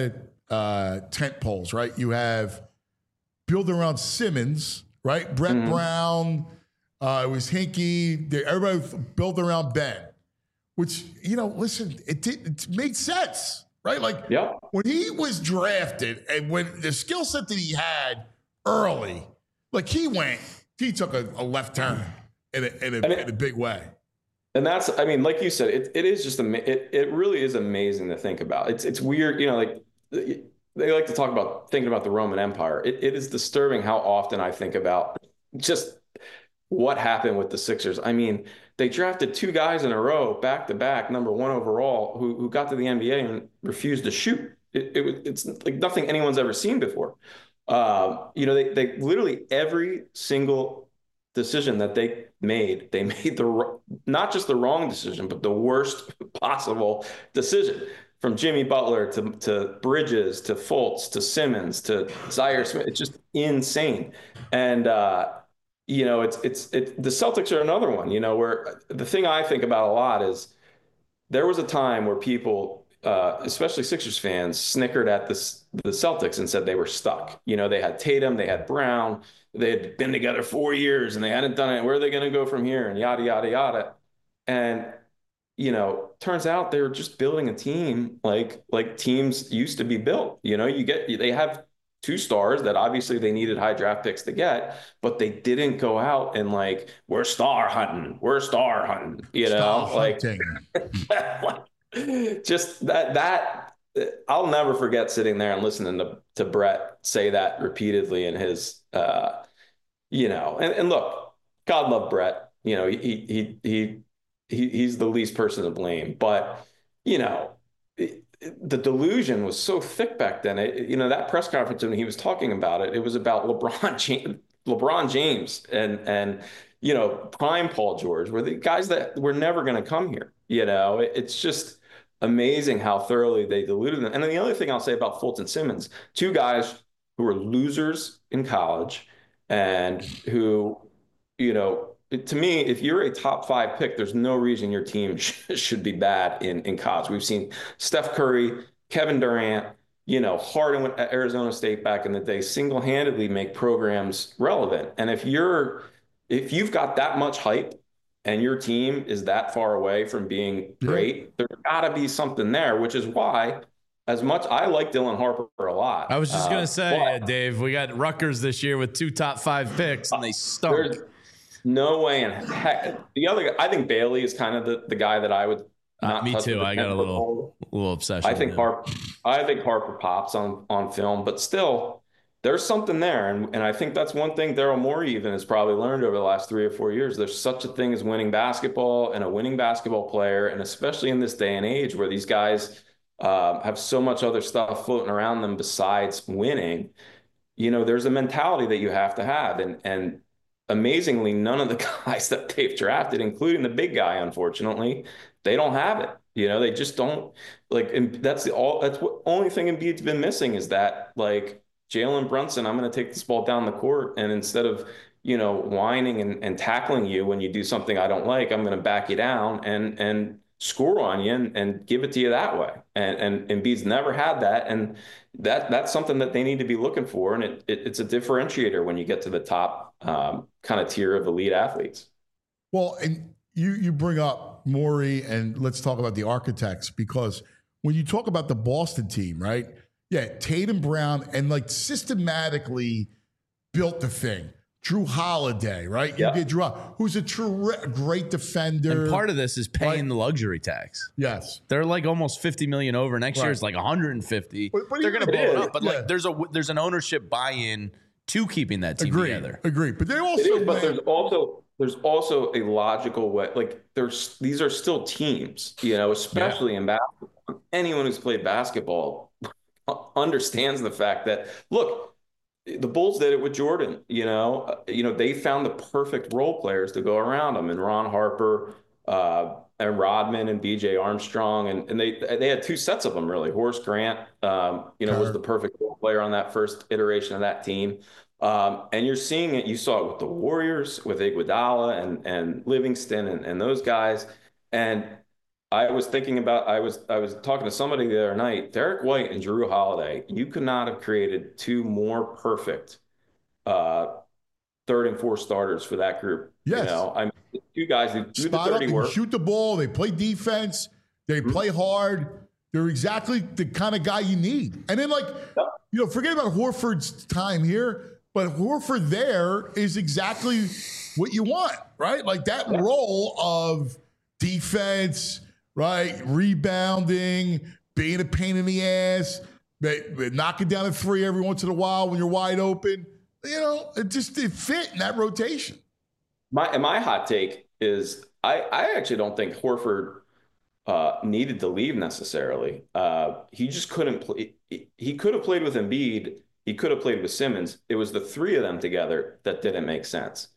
of tent poles, right? You have built around Simmons, right? Brett Brown, it was Hinkie. Everybody built around Ben, which, you know, listen, it made sense, right? Like when he was drafted and when the skill set that he had early, like he took a left turn in a big way. And that's, I mean, like you said, it is just, it really is amazing to think about. It's weird, you know, like they like to talk about thinking about the Roman Empire. It is disturbing how often I think about just what happened with the Sixers. I mean, they drafted 2 guys in a row, back to back, number 1 overall, who got to the NBA and refused to shoot. It's like nothing anyone's ever seen before. You know, they literally every single decision that they made not just the wrong decision, but the worst possible decision. from Jimmy Butler to Bridges to Fultz to Simmons to Zaire Smith. It's just insane. And the Celtics are another one, where the thing I think about a lot is there was a time where people, especially Sixers fans, snickered at the Celtics and said they were stuck. They had Tatum, they had Brown, they had been together 4 years and they hadn't done it. Where are they going to go from here? And yada, yada, yada. And, turns out they were just building a team like teams used to be built. They have 2 stars that obviously they needed high draft picks to get, but they didn't go out and we're star hunting, just that I'll never forget sitting there and listening to Brett say that repeatedly in his, and look, God love Brett, he's the least person to blame, but the delusion was so thick back then. That press conference when he was talking about it, it was about LeBron James and prime Paul George were the guys that were never going to come here. It's just amazing how thoroughly they diluted them. And then the other thing I'll say about Fultz and Simmons, 2 guys who were losers in college and who, to me, if you're a top 5 pick, there's no reason your team should be bad in college. We've seen Steph Curry, Kevin Durant, Harden at Arizona State back in the day, single-handedly make programs relevant. And if you've got that much hype and your team is that far away from being great, there's got to be something there, which is why, as much I like Dylan Harper a lot. I was just going to say, Dave, we got Rutgers this year with 2 top 5 picks, and they stunk. No way in heck. The other guy, I think Bailey is kind of the guy that I would not me touch too. I got a little obsession. I think Harper pops on film, but still there's something there. And I think that's one thing Daryl Morey even has probably learned over the last 3 or 4 years. There's such a thing as winning basketball and a winning basketball player. And especially in this day and age where these guys have so much other stuff floating around them besides winning, there's a mentality that you have to have. And amazingly, none of the guys that they've drafted, including the big guy, unfortunately, they don't have it. They just don't and that's what only thing Embiid's been missing is that Jalen Brunson, I'm going to take this ball down the court. And instead of, whining and tackling you when you do something I don't like, I'm going to back you down and score on you and give it to you that way. And Embiid's never had that. And that's something that they need to be looking for. And it's a differentiator when you get to the top kind of tier of elite athletes. Well, and you bring up Morey, and let's talk about the architects, because when you talk about the Boston team, right? Yeah, Tatum, Brown, and systematically built the thing. Drew Holiday, right? Yeah. You get Drew, who's a great defender. And part of this is paying the luxury tax. Yes, they're almost $50 million over. Next year is 150. But they're going to blow it up. But there's an ownership buy-in to keeping that team together. Agree. But they also, there's also a logical way. These are still teams, especially in basketball. Anyone who's played basketball understands the fact that, look, the Bulls did it with Jordan. They found the perfect role players to go around them, and Ron Harper, and Rodman and B.J. Armstrong, and they had 2 sets of them really. Horace Grant, was the perfect role player on that first iteration of that team. And you're seeing it. You saw it with the Warriors, with Iguodala and Livingston and those guys. And I was thinking about, I was talking to somebody the other night, Derek White and Jrue Holiday. You could not have created 2 more perfect 3rd and 4th starters for that group. Yes. 2 guys who do the dirty work, shoot the ball. They play defense. They play hard. They're exactly the kind of guy you need. And then forget about Horford's time here, but Horford there is exactly what you want, right? That role of defense, right? Rebounding, being a pain in the ass, knocking down a 3 every once in a while when you're wide open. It fit in that rotation. My hot take is I actually don't think Horford needed to leave necessarily. He just couldn't play. He could have played with Embiid. He could have played with Simmons. It was the 3 of them together that didn't make sense.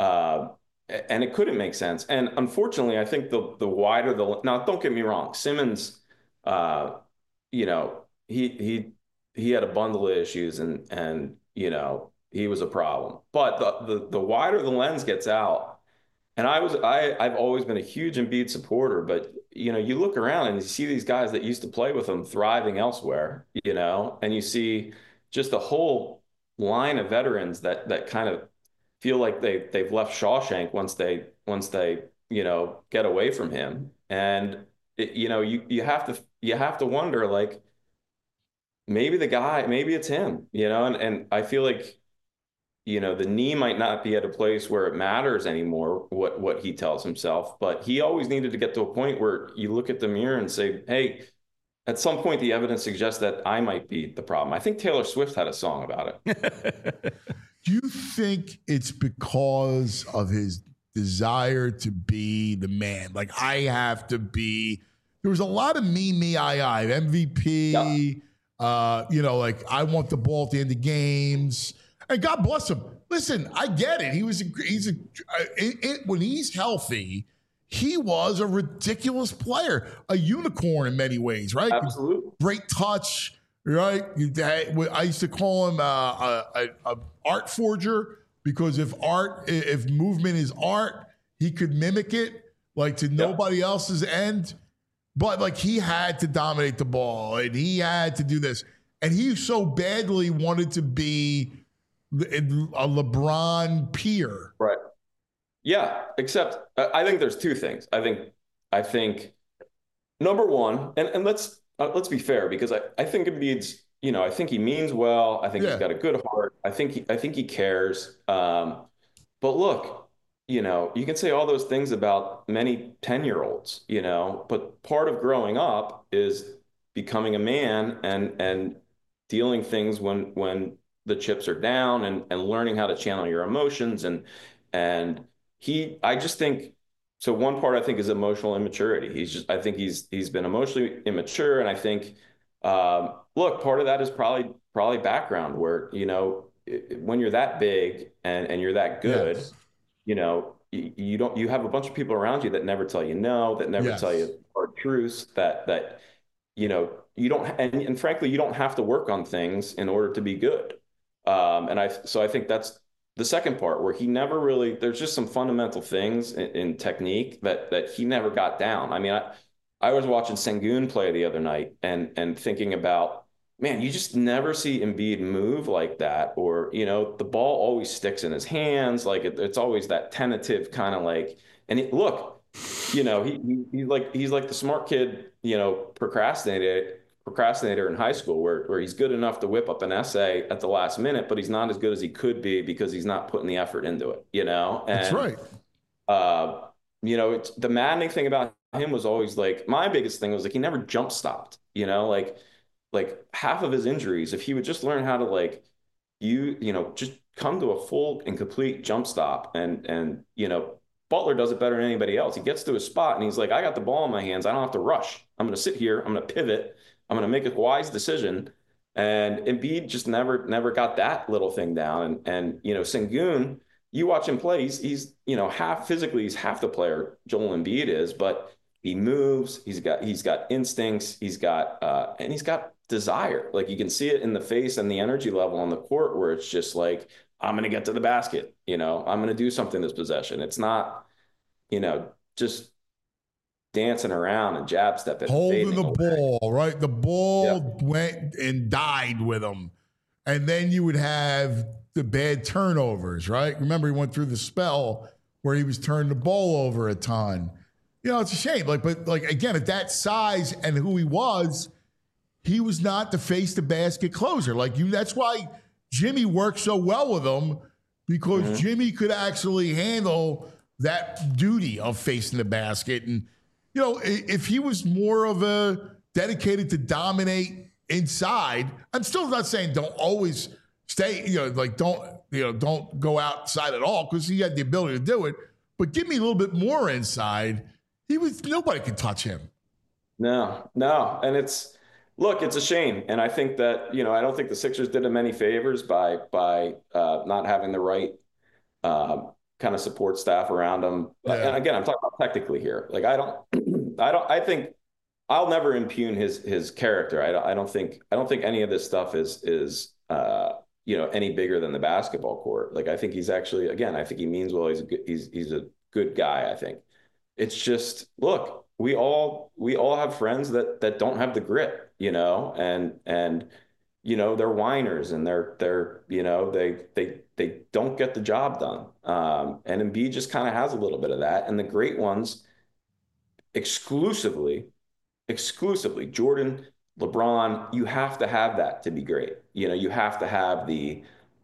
And it couldn't make sense. And unfortunately, I think the wider now, don't get me wrong, Simmons you know, he had a bundle of issues and, you know, he was a problem. But the wider the lens gets out, and I've always been a huge Embiid supporter, but you know, you look around and you see these guys that used to play with him thriving elsewhere, you know, and you see just a whole line of veterans that kind of feel like they've left Shawshank once they you know get away from him, and you know you have to wonder like maybe it's him, you know, and I feel like you know the knee might not be at a place where it matters anymore what he tells himself, but he always needed to get to a point where you look at the mirror and say, hey, at some point the evidence suggests that I might be the problem. I think Taylor Swift had a song about it. Do you think it's because of his desire to be the man? Like, I have to be. There was a lot of me, I, MVP. Yeah. You know, like, I want the ball at the end of games. And God bless him. Listen, I get it. When he's healthy, he was a ridiculous player, a unicorn in many ways, right? Absolutely. Great touch. Right, I used to call him a art forger, because if movement is art, he could mimic it like to nobody else's end. But like, he had to dominate the ball, and he had to do this, and he so badly wanted to be a LeBron peer. Right. Yeah. Except I think there's two things. I think number one, and let's be fair, because I think Embiid's, you know, I think he means well. I think he's got a good heart. I think he cares. But look, you know, you can say all those things about many 10-year-olds, you know, but part of growing up is becoming a man and dealing things when the chips are down and learning how to channel your emotions. I just think, so one part I think is emotional immaturity. I think he's been emotionally immature. And I think, look, part of that is probably background where, you know, when you're that big and you're that good, you know, you have a bunch of people around you that never tell you no, that never tell you hard truths, that, you know, you don't, and frankly, you don't have to work on things in order to be good. So I think that's the second part, where he never really, there's just some fundamental things in technique that he never got down. I mean, I was watching Sengun play the other night and thinking about, man, you just never see Embiid move like that, or, you know, the ball always sticks in his hands. Like it's always that tentative kind of like, and look, you know, he's like the smart kid, you know, procrastinator in high school where he's good enough to whip up an essay at the last minute, but he's not as good as he could be because he's not putting the effort into it, you know? And, that's right. You know, the maddening thing about him was always like, my biggest thing was like, he never jump stopped, you know, like half of his injuries, if he would just learn how to like, you know, just come to a full and complete jump stop. And, you know, Butler does it better than anybody else. He gets to his spot and he's like, I got the ball in my hands. I don't have to rush. I'm going to sit here. I'm going to pivot. I'm going to make a wise decision. And Embiid just never got that little thing down. And you know, Sengun, you watch him play, he's you know, he's half the player Joel Embiid is, but he moves, he's got instincts, he's got desire. Like you can see it in the face and the energy level on the court, where it's just like, I'm going to get to the basket, you know, I'm going to do something this possession. It's not, you know, just dancing around and jab stepping, holding the ball, right? The ball went and died with him. And then you would have the bad turnovers, right? Remember, he went through the spell where he was turning the ball over a ton. You know, it's a shame. But again, at that size and who he was not the face the basket closer. That's why Jimmy worked so well with him, because Jimmy could actually handle that duty of facing the basket. And you know, if he was more of a dedicated to dominate inside, I'm still not saying don't always stay, you know, like don't go outside at all, because he had the ability to do it. But give me a little bit more inside. Nobody could touch him. No. And it's a shame. And I think that, you know, I don't think the Sixers did him any favors by not having the right kind of support staff around him. Yeah. And again, I'm talking about technically here. Like, I think I'll never impugn his character. I don't think any of this stuff is any bigger than the basketball court. Like, I think he's actually, again, I think he means well. He's a good guy. I think it's just, look, we all have friends that don't have the grit, and they're whiners and they don't get the job done. And Embiid just kind of has a little bit of that. And the great ones, exclusively Jordan, LeBron, you have to have that to be great. You have to have the,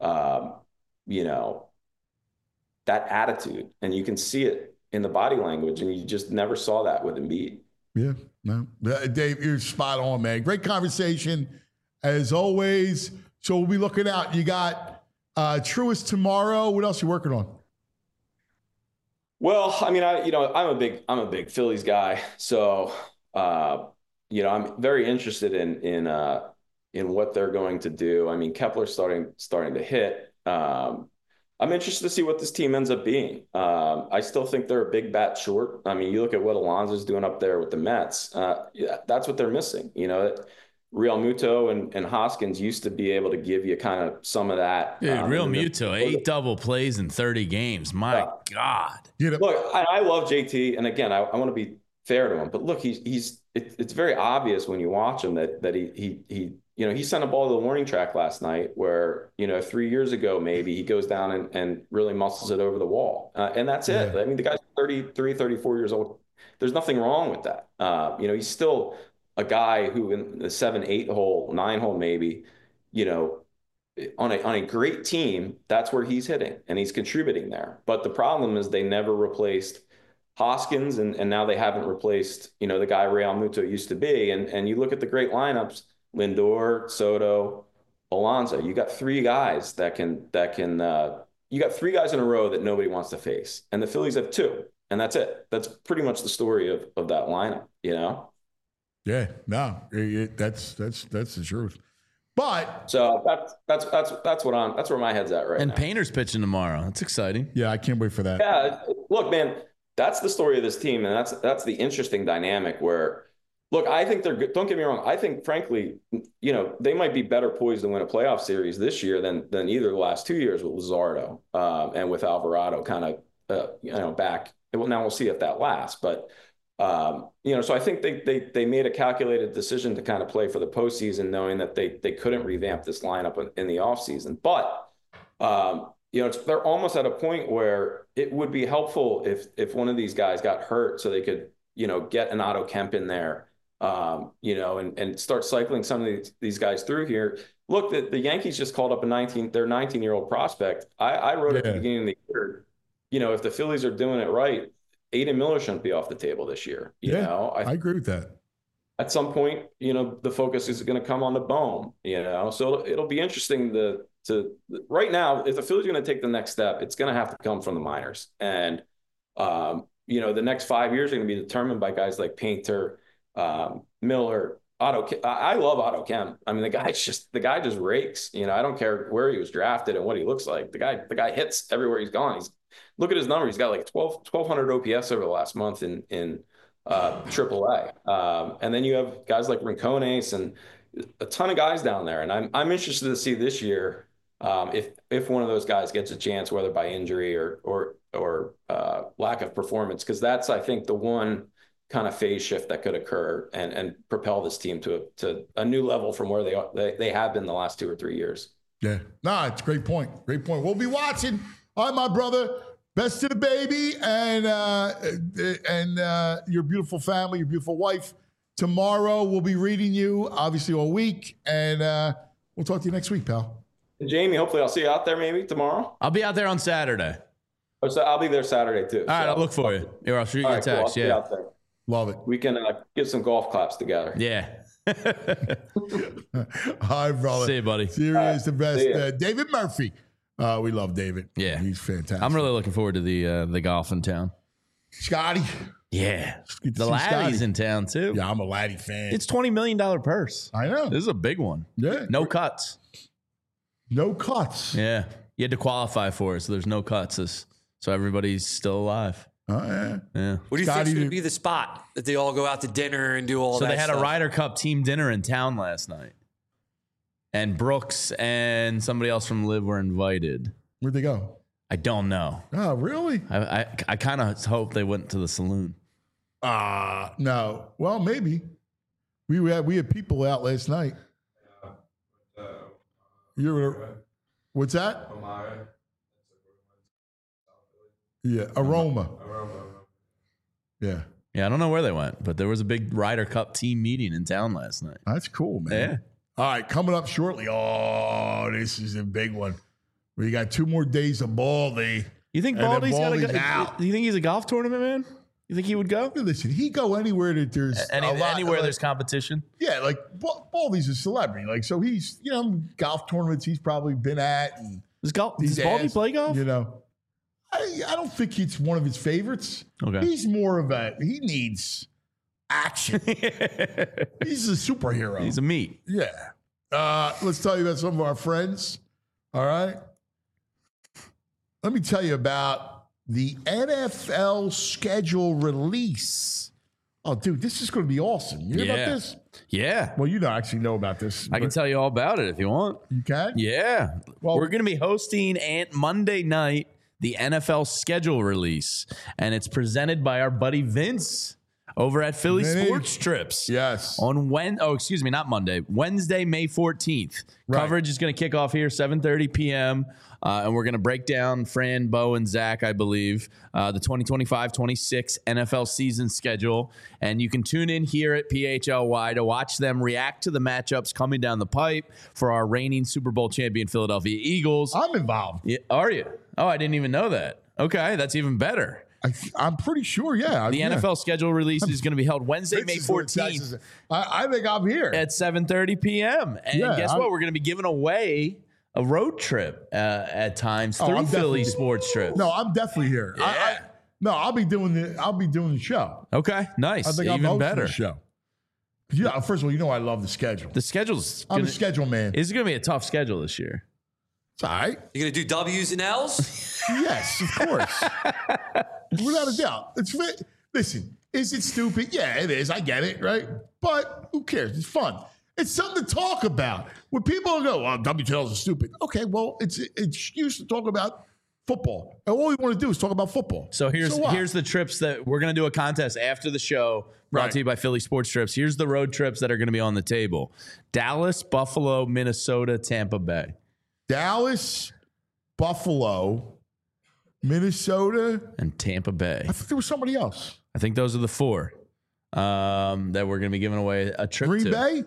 that attitude, and you can see it in the body language, and you just never saw that with Embiid. Yeah, no, Dave, you're spot on, man. Great conversation as always. So we'll be looking out. You got Truist tomorrow. What else are you working on? Well, I mean, I'm a big Phillies guy, so I'm very interested in what they're going to do. I mean, Kepler's starting to hit. I'm interested to see what this team ends up being. I still think they're a big bat short. I mean, you look at what Alonso's doing up there with the Mets. That's what they're missing. Real Muto and Hoskins used to be able to give you kind of some of that. Dude, Real Muto, 8 double plays in 30 games. My God. Look, I love JT, and again, I want to be fair to him, but look, it's very obvious when you watch him that he sent a ball to the warning track last night where 3 years ago maybe he goes down and really muscles it over the wall, and that's it. I mean, the guy's 33, 34 years old. There's nothing wrong with that. He's still a guy who in the 7, 8 hole, 9 hole maybe, on a great team, that's where he's hitting and he's contributing there. But the problem is they never replaced Hoskins, and now they haven't replaced the guy Real Muto used to be. And you look at the great lineups: Lindor, Soto, Alonso. You got 3 guys that can you got 3 guys in a row that nobody wants to face, and the Phillies have 2, and that's it. That's pretty much the story of that lineup. Yeah, no, that's the truth. But so that's where my head's at right now. And Painter's pitching tomorrow. That's exciting. Yeah, I can't wait for that. Yeah, look, man, that's the story of this team, and that's the interesting dynamic where, look, I think they're good. Don't get me wrong. I think, frankly, they might be better poised to win a playoff series this year than either the last 2 years with Luzardo and with Alvarado kind of back. Well, now we'll see if that lasts, but. So I think they made a calculated decision to kind of play for the postseason, knowing that they couldn't revamp this lineup in the offseason. But, they're almost at a point where it would be helpful if one of these guys got hurt so they could, get an Otto Kemp in there, and start cycling some of these guys through here. Look, the Yankees just called up their 19-year-old prospect. I wrote at the beginning of the year, if the Phillies are doing it right, Aiden Miller shouldn't be off the table this year. I agree with that. At some point, the focus is going to come on the Bohm, so it'll be interesting to right now, if the Phillies are going to take the next step, it's going to have to come from the minors. And, the next 5 years are going to be determined by guys like Painter, Miller, Otto. I love Otto Kemp. I mean, the guy just rakes. I don't care where he was drafted and what he looks like. The guy hits everywhere he's gone. Look at his number. He's got like 1,200 OPS over the last month in AAA. And then you have guys like Rincones and a ton of guys down there. And I'm interested to see this year if one of those guys gets a chance, whether by injury or lack of performance, because that's, I think, the one kind of phase shift that could occur and propel this team to a new level from where they have been the last 2 or 3 years. Yeah, it's a great point. Great point. We'll be watching. All right, my brother. Best to the baby and your beautiful family, your beautiful wife. Tomorrow we'll be reading you, obviously, all week, and we'll talk to you next week, pal. And Jamie, hopefully I'll see you out there maybe tomorrow. I'll be out there on Saturday. Oh, so I'll be there Saturday too. All right, I'll look for you. Or I'll shoot you a text. Cool. Out there. Love it. We can get some golf claps together. Yeah. All right, brother. See you, buddy. Serious, the best. David Murphy. We love David. Yeah. He's fantastic. I'm really looking forward to the golf in town. Scotty. Yeah. The Laddie's in town, too. Yeah, I'm a Laddie fan. It's $20 million purse. I know. This is a big one. Yeah. No cuts. No cuts. Yeah. You had to qualify for it, so there's no cuts. So everybody's still alive. Oh, yeah. Yeah. What do you think would be the spot that they all go out to dinner and do all So that they had stuff? a Ryder Cup team dinner in town last night. And Brooks and somebody else from Liv were invited. Where'd they go? I don't know. Oh, really? I kind of hope they went to the saloon. No. Well, maybe. We had people out last night. What's that? Yeah, Aroma. Yeah. Yeah, I don't know where they went, but there was a big Ryder Cup team meeting in town last night. That's cool, man. Yeah. All right, coming up shortly. Oh, this is a big one. We got 2 more days of Baldy. You think And then Baldy's got to Baldy's go? out. Do you think he's a golf tournament man? You think he would go? Listen, he go anywhere that there's Anywhere there's competition? Yeah, like Baldy's a celebrity. Like, so he's, golf tournaments he's probably been at. And Does Baldy play golf? I don't think it's one of his favorites. Okay. He's more of he needs action. He's a superhero. He's a meat. Yeah. Let's tell you about some of our friends. All right. Let me tell you about the NFL schedule release. Oh, dude, this is going to be awesome. You hear about this? Yeah. Well, you don't actually know about this. I can tell you all about it if you want. You can? Yeah. Well, we're going to be hosting Monday night the NFL schedule release, and it's presented by our buddy Vince over at Philly Vinny. Sports Trips. Yes. On not Monday, Wednesday, May 14th. Right. Coverage is going to kick off here 7:30 p.m. And we're going to break down Fran, Bo, and Zach, I believe, the 2025-26 NFL season schedule. And you can tune in here at PHLY to watch them react to the matchups coming down the pipe for our reigning Super Bowl champion Philadelphia Eagles. I'm involved. Yeah, are you? Oh, I didn't even know that. Okay, that's even better. I'm pretty sure, yeah. The NFL schedule release is going to be held Wednesday, May 14th. I think I'm here. At 7:30 p.m. And guess what? We're going to be giving away a road trip at times through Philly Sports Trips. No, I'm definitely here. Yeah. I'll be doing the show. Okay, nice. I think Even I'm better. the show. Yeah, first of all, I love the schedule. The schedule's I'm a schedule man. It's going to be a tough schedule this year. It's all right. You're going to do W's and L's? Yes, of course. Without a doubt. Listen, is it stupid? Yeah, it is. I get it, right? But who cares? It's fun. It's something to talk about. When people go, well, WTLs are stupid. Okay, well, it's an excuse to talk about football. And all we want to do is talk about football. So here's the trips that we're going to do a contest after the show brought to you by Philly Sports Trips. Here's the road trips that are going to be on the table. Dallas, Buffalo, Minnesota, Tampa Bay. Dallas, Buffalo, Minnesota, and Tampa Bay. I think there was somebody else. I think those are the 4 that we're going to be giving away a trip to. Green Bay?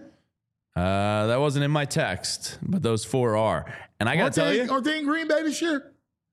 That wasn't in my text, but those 4 are. And I got to tell you. Aren't they in Green Bay this year?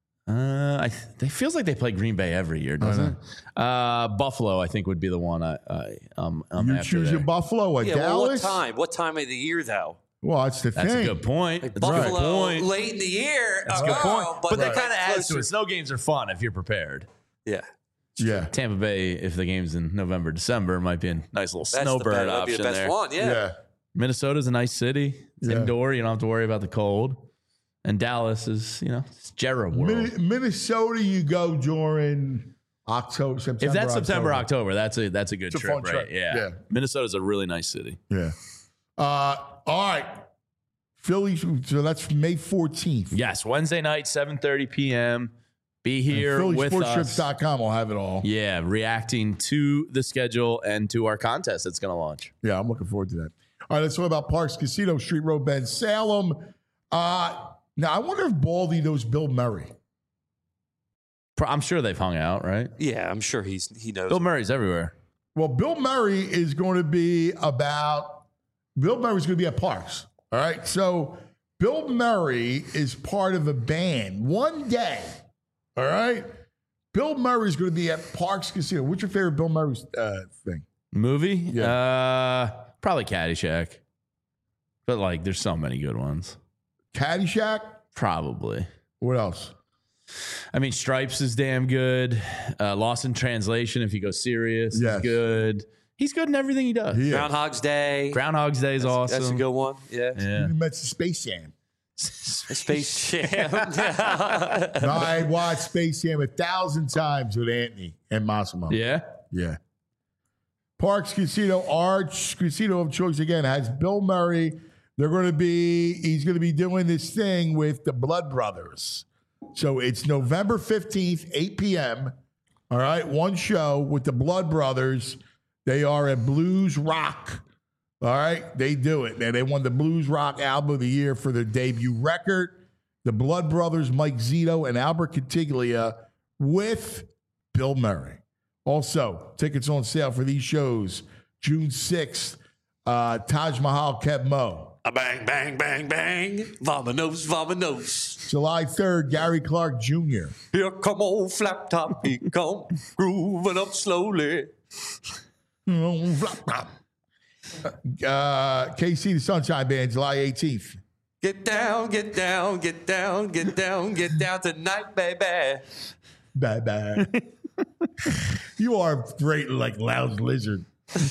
It feels like they play Green Bay every year, doesn't it? Buffalo, I think, would be the one I'm You after choose there. your Buffalo at Dallas? Well, what time? What time of the year, though? Well, that's the That's thing. a good point. Like That's a good Buffalo, point. late in the year. That's a good point. But that kind of adds closer. to it. Snow games are fun if you're prepared. Yeah. Yeah. Tampa Bay, if the game's in November, December, might be a nice little snowbird That'd be option the best there. one, yeah. Minnesota's a nice city. It's Yeah. indoor. You don't have to worry about the cold. And Dallas is, it's Jarrah world. Minnesota, you go during October, September. If that's September, October, that's a good It's a trip, fun right? trip. Yeah. Yeah. Minnesota's a really nice city. Yeah. All right. Philly, so that's May 14th. Yes, Wednesday night, 7:30 p.m. Be here with us. PhillySportsTrips.com will have it all. Yeah, reacting to the schedule and to our contest that's going to launch. Yeah, I'm looking forward to that. All right, let's talk about Parks Casino, Street Road, Bend, Salem. Now, I wonder if Baldy knows Bill Murray. I'm sure they've hung out, right? Yeah, I'm sure he knows. Bill Murray's everywhere. Well, Bill Murray is going to be Bill Murray's going to be at Parks. All right, so Bill Murray is part of a band one day. All right, Bill Murray's going to be at Parks Casino. What's your favorite Bill Murray thing? Movie? Yeah. Probably Caddyshack. But there's so many good ones. Caddyshack? Probably. What else? I mean, Stripes is damn good. Lost in Translation, if you go serious, Yes. is good. He's good in everything he does. Groundhog's Day. Groundhog's Day is awesome. That's a good one. Yeah. You met Space Jam. Space Jam. I watched Space Jam 1,000 times with Anthony and Massimo. Yeah. Yeah. Parks Casino, Arch Casino of choice again, has Bill Murray. He's going to be doing this thing with the Blood Brothers. So it's November 15th, 8 p.m. All right. One show with the Blood Brothers. They are at Blues Rock. All right. They do it. And they won the Blues Rock Album of the Year for their debut record. The Blood Brothers, Mike Zito and Albert Cantiglia with Bill Murray. Also, tickets on sale for these shows. June 6th, Taj Mahal, Kev Mo. Bang, bang, bang, bang. Vamonos, vamonos. July 3rd, Gary Clark Jr. Here come old Flap Top. He come grooving up slowly. KC the Sunshine Band, July 18th. Get down, get down, get down, get down, get down tonight, baby. Bye-bye. You are great like Loud Lizard.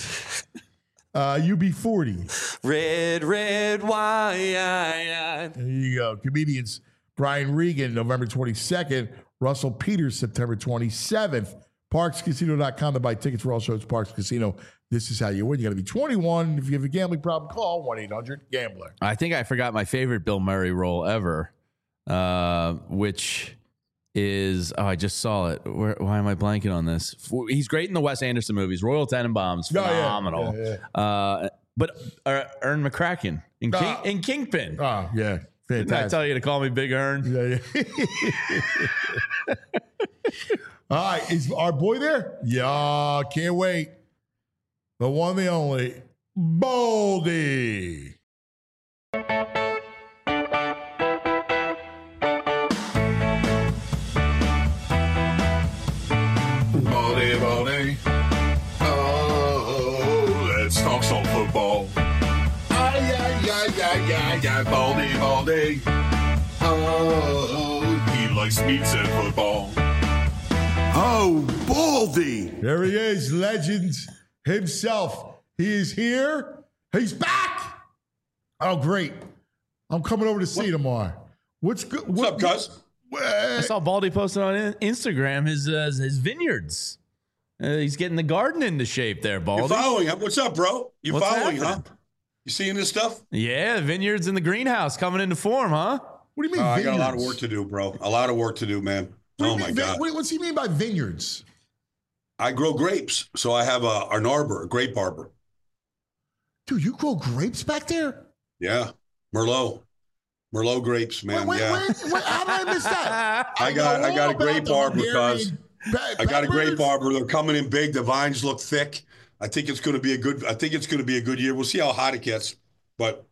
UB40. Red wine. There you go. Comedians Brian Regan, November 22nd. Russell Peters, September 27th. ParksCasino.com to buy tickets for all shows. Parks Casino. This is how you win. You got to be 21. If you have a gambling problem, call 1-800-GAMBLER. I think I forgot my favorite Bill Murray role ever, which is, I just saw it. Why am I blanking on this? He's great in the Wes Anderson movies. Royal Tenenbaums, phenomenal. But Ern McCracken in Kingpin. Oh, yeah. Fantastic. Didn't I tell you to call me Big Ern? Yeah. All right. Is our boy there? Yeah. Can't wait. The one, the only, Baldy. Baldy. Oh, let's talk some football. Yeah, Baldy. Oh, he likes meats and football. Oh, Baldy. There he is, legend himself. He is here. He's back. Oh, great. I'm coming over to see you tomorrow. What's good? What's up, cuz? I saw Baldy posted on Instagram his vineyards. He's getting the garden into shape there, Baldy. You're following, huh? What's up, bro? You following, happening? huh? You seeing this stuff? Yeah, the vineyards in the greenhouse coming into form, huh? What do you mean I vineyards? got a lot of work to do, bro. A lot of work to do, man. Oh, my God. What's he mean by vineyards? I grow grapes, so I have an arbor, a grape arbor. Dude, you grow grapes back there? Yeah, Merlot grapes, man. Wait, how did I miss that? I got a grape arbor, cuz. I got a grape arbor. They're coming in big. The vines look thick. I think it's going to be a good year. We'll see how hot it gets, but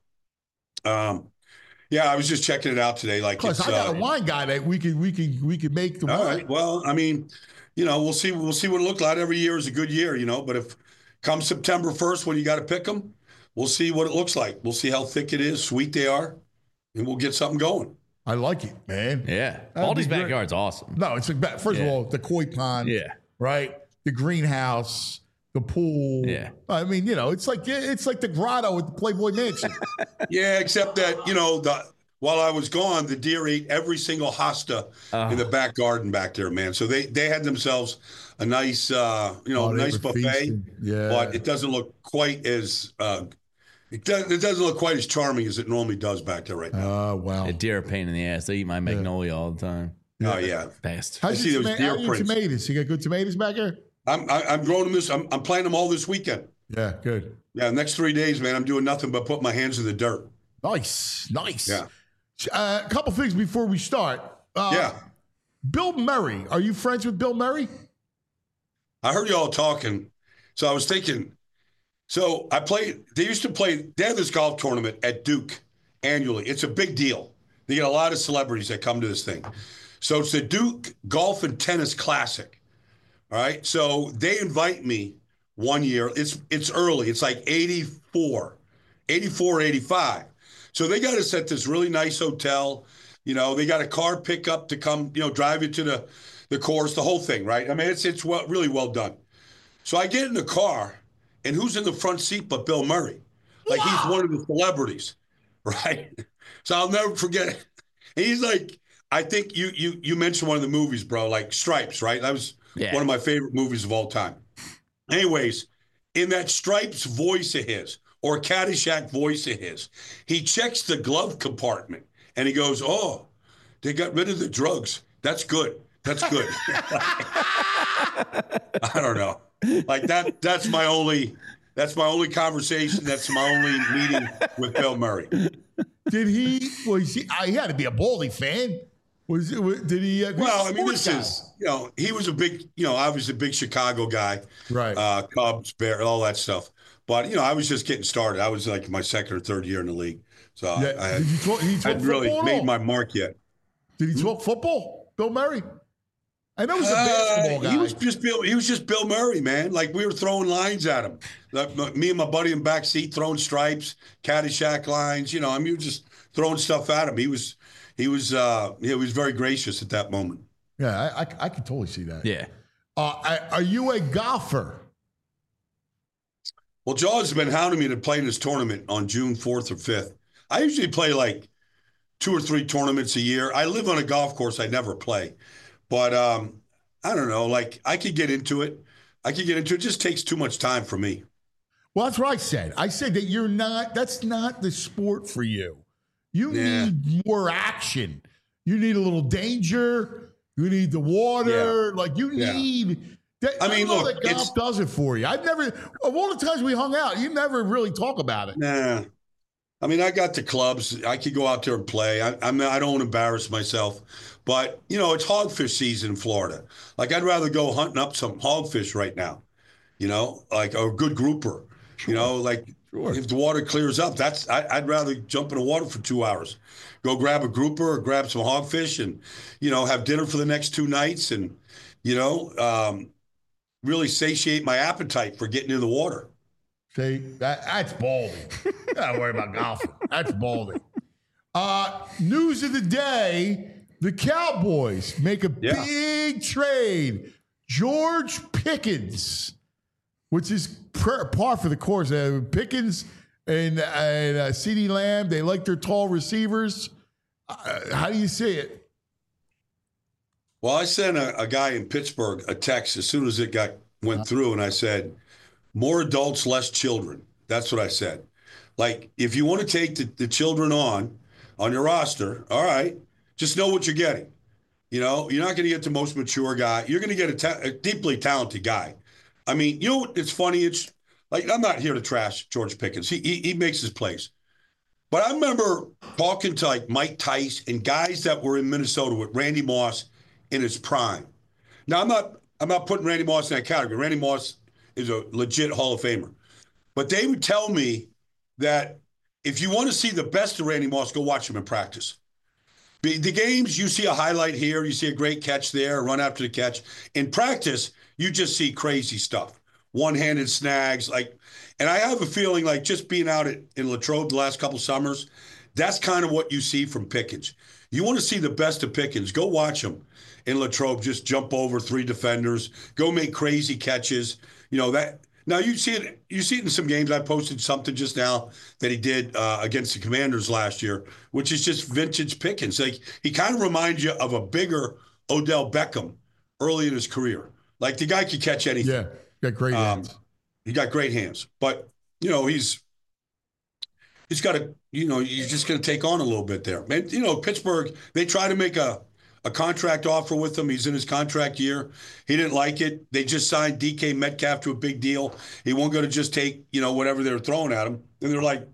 yeah, I was just checking it out today. Like, plus, I got a wine guy that we could make the wine. All right. Well, I mean, we'll see what it looks like. Every year is a good year, but if come September 1st when you got to pick them, we'll see what it looks like. We'll see how thick it is, sweet they are, and we'll get something going. I like it, man. Yeah. Baldy's backyard's awesome. No, it's like, first of all, the koi pond. Yeah. Right? The greenhouse, the pool. Yeah. I mean, it's like the grotto at the Playboy Mansion. Yeah, except that, while I was gone, the deer ate every single hosta in the back garden back there, man. So they had themselves a nice, nice buffet. Feasting. Yeah. But it doesn't look quite as it doesn't look quite as charming as it normally does back there right now. Oh, wow. A deer are a pain in the ass. They eat my magnolia all the time. Oh yeah, best. How's your tomatoes? You got good tomatoes back here? I'm growing them I'm planting them all this weekend. Yeah, good. Yeah, next 3 days, man, I'm doing nothing but put my hands in the dirt. Nice. Yeah. A couple things before we start. Yeah. Bill Murray. Are you friends with Bill Murray? I heard you all talking, so I was thinking. So they used to play. They have this golf tournament at Duke annually. It's a big deal. They get a lot of celebrities that come to this thing. So it's the Duke Golf and Tennis Classic. All right. So they invite me one year. It's early. It's like 84, 85. So they got us at this really nice hotel. They got a car pickup to come, drive you to the course, the whole thing, right? I mean, it's really well done. So I get in the car, and who's in the front seat but Bill Murray? Like, he's one of the celebrities, right? So I'll never forget it. And he's like, I think you mentioned one of the movies, bro, like Stripes, right? That was one of my favorite movies of all time. Anyways, in that Stripes voice of his, or Caddyshack voice of his, he checks the glove compartment and he goes, "Oh, they got rid of the drugs. That's good. That's good." I don't know. Like that's my only conversation. That's my only meeting with Bill Murray. He had to be a Baldy fan. Did he? Well, I mean, this is, he was a big, obviously a big Chicago guy. Right. Cubs, Bears, all that stuff. But, I was just getting started. I was like my second or third year in the league. So I hadn't really made my mark yet. Did he talk football, Bill Murray? I know he was a basketball guy. He was just Bill Murray, man. Like, we were throwing lines at him. Me and my buddy in the back seat throwing Stripes, Caddyshack lines. We were just throwing stuff at him. He was very gracious at that moment. Yeah, I can totally see that. Yeah. Are you a golfer? Well, Jaws has been hounding me to play in this tournament on June 4th or 5th. I usually play like 2 or 3 tournaments a year. I live on a golf course I never play. But I don't know. Like, I could get into it. It just takes too much time for me. Well, that's what I said. I said that that's not the sport for you. You need more action. You need a little danger. You need the water. Like, you need that. I mean, look, that golf does it for you. Of all the times we hung out, you never really talk about it. Nah. I mean, I got the clubs. I could go out there and play. I don't embarrass myself. But, it's hogfish season in Florida. Like, I'd rather go hunting up some hogfish right now, like a good grouper. Sure. If the water clears up, I'd rather jump in the water for 2 hours, go grab a grouper or grab some hogfish and, have dinner for the next 2 nights and, really satiate my appetite for getting in the water. See, that's baldy. Don't worry about golfing. That's baldy. News of the day, the Cowboys make a big trade. George Pickens, which is par for the course. Pickens and CeeDee Lamb, they like their tall receivers. How do you see it? Well, I sent a guy in Pittsburgh a text as soon as it went through, and I said, more adults, less children. That's what I said. Like, if you want to take the children on your roster, all right, just know what you're getting. You're not going to get the most mature guy. You're going to get a deeply talented guy. I mean, it's funny. It's like, I'm not here to trash George Pickens. He makes his plays. But I remember talking to like Mike Tice and guys that were in Minnesota with Randy Moss in his prime. Now, I'm not putting Randy Moss in that category. Randy Moss is a legit Hall of Famer. But they would tell me that if you want to see the best of Randy Moss, go watch him in practice. The games, you see a highlight here, you see a great catch there, run after the catch. In practice, you just see crazy stuff. One-handed snags, and I have a feeling like just being out in Latrobe the last couple summers, that's kind of what you see from Pickens. You want to see the best of Pickens, go watch him in Latrobe, just jump over 3 defenders, go make crazy catches. Now you see it in some games. I posted something just now that he did against the Commanders last year, which is just vintage Pickens. Like, he kind of reminds you of a bigger Odell Beckham early in his career. Like, the guy could catch anything. Yeah, got great hands. He got great hands, but he's got to, he's just going to take on a little bit there. Man, Pittsburgh, they try to make a contract offer with him. He's in his contract year. He didn't like it. They just signed DK Metcalf to a big deal. He wasn't going to just take, whatever they were throwing at him. And they're like,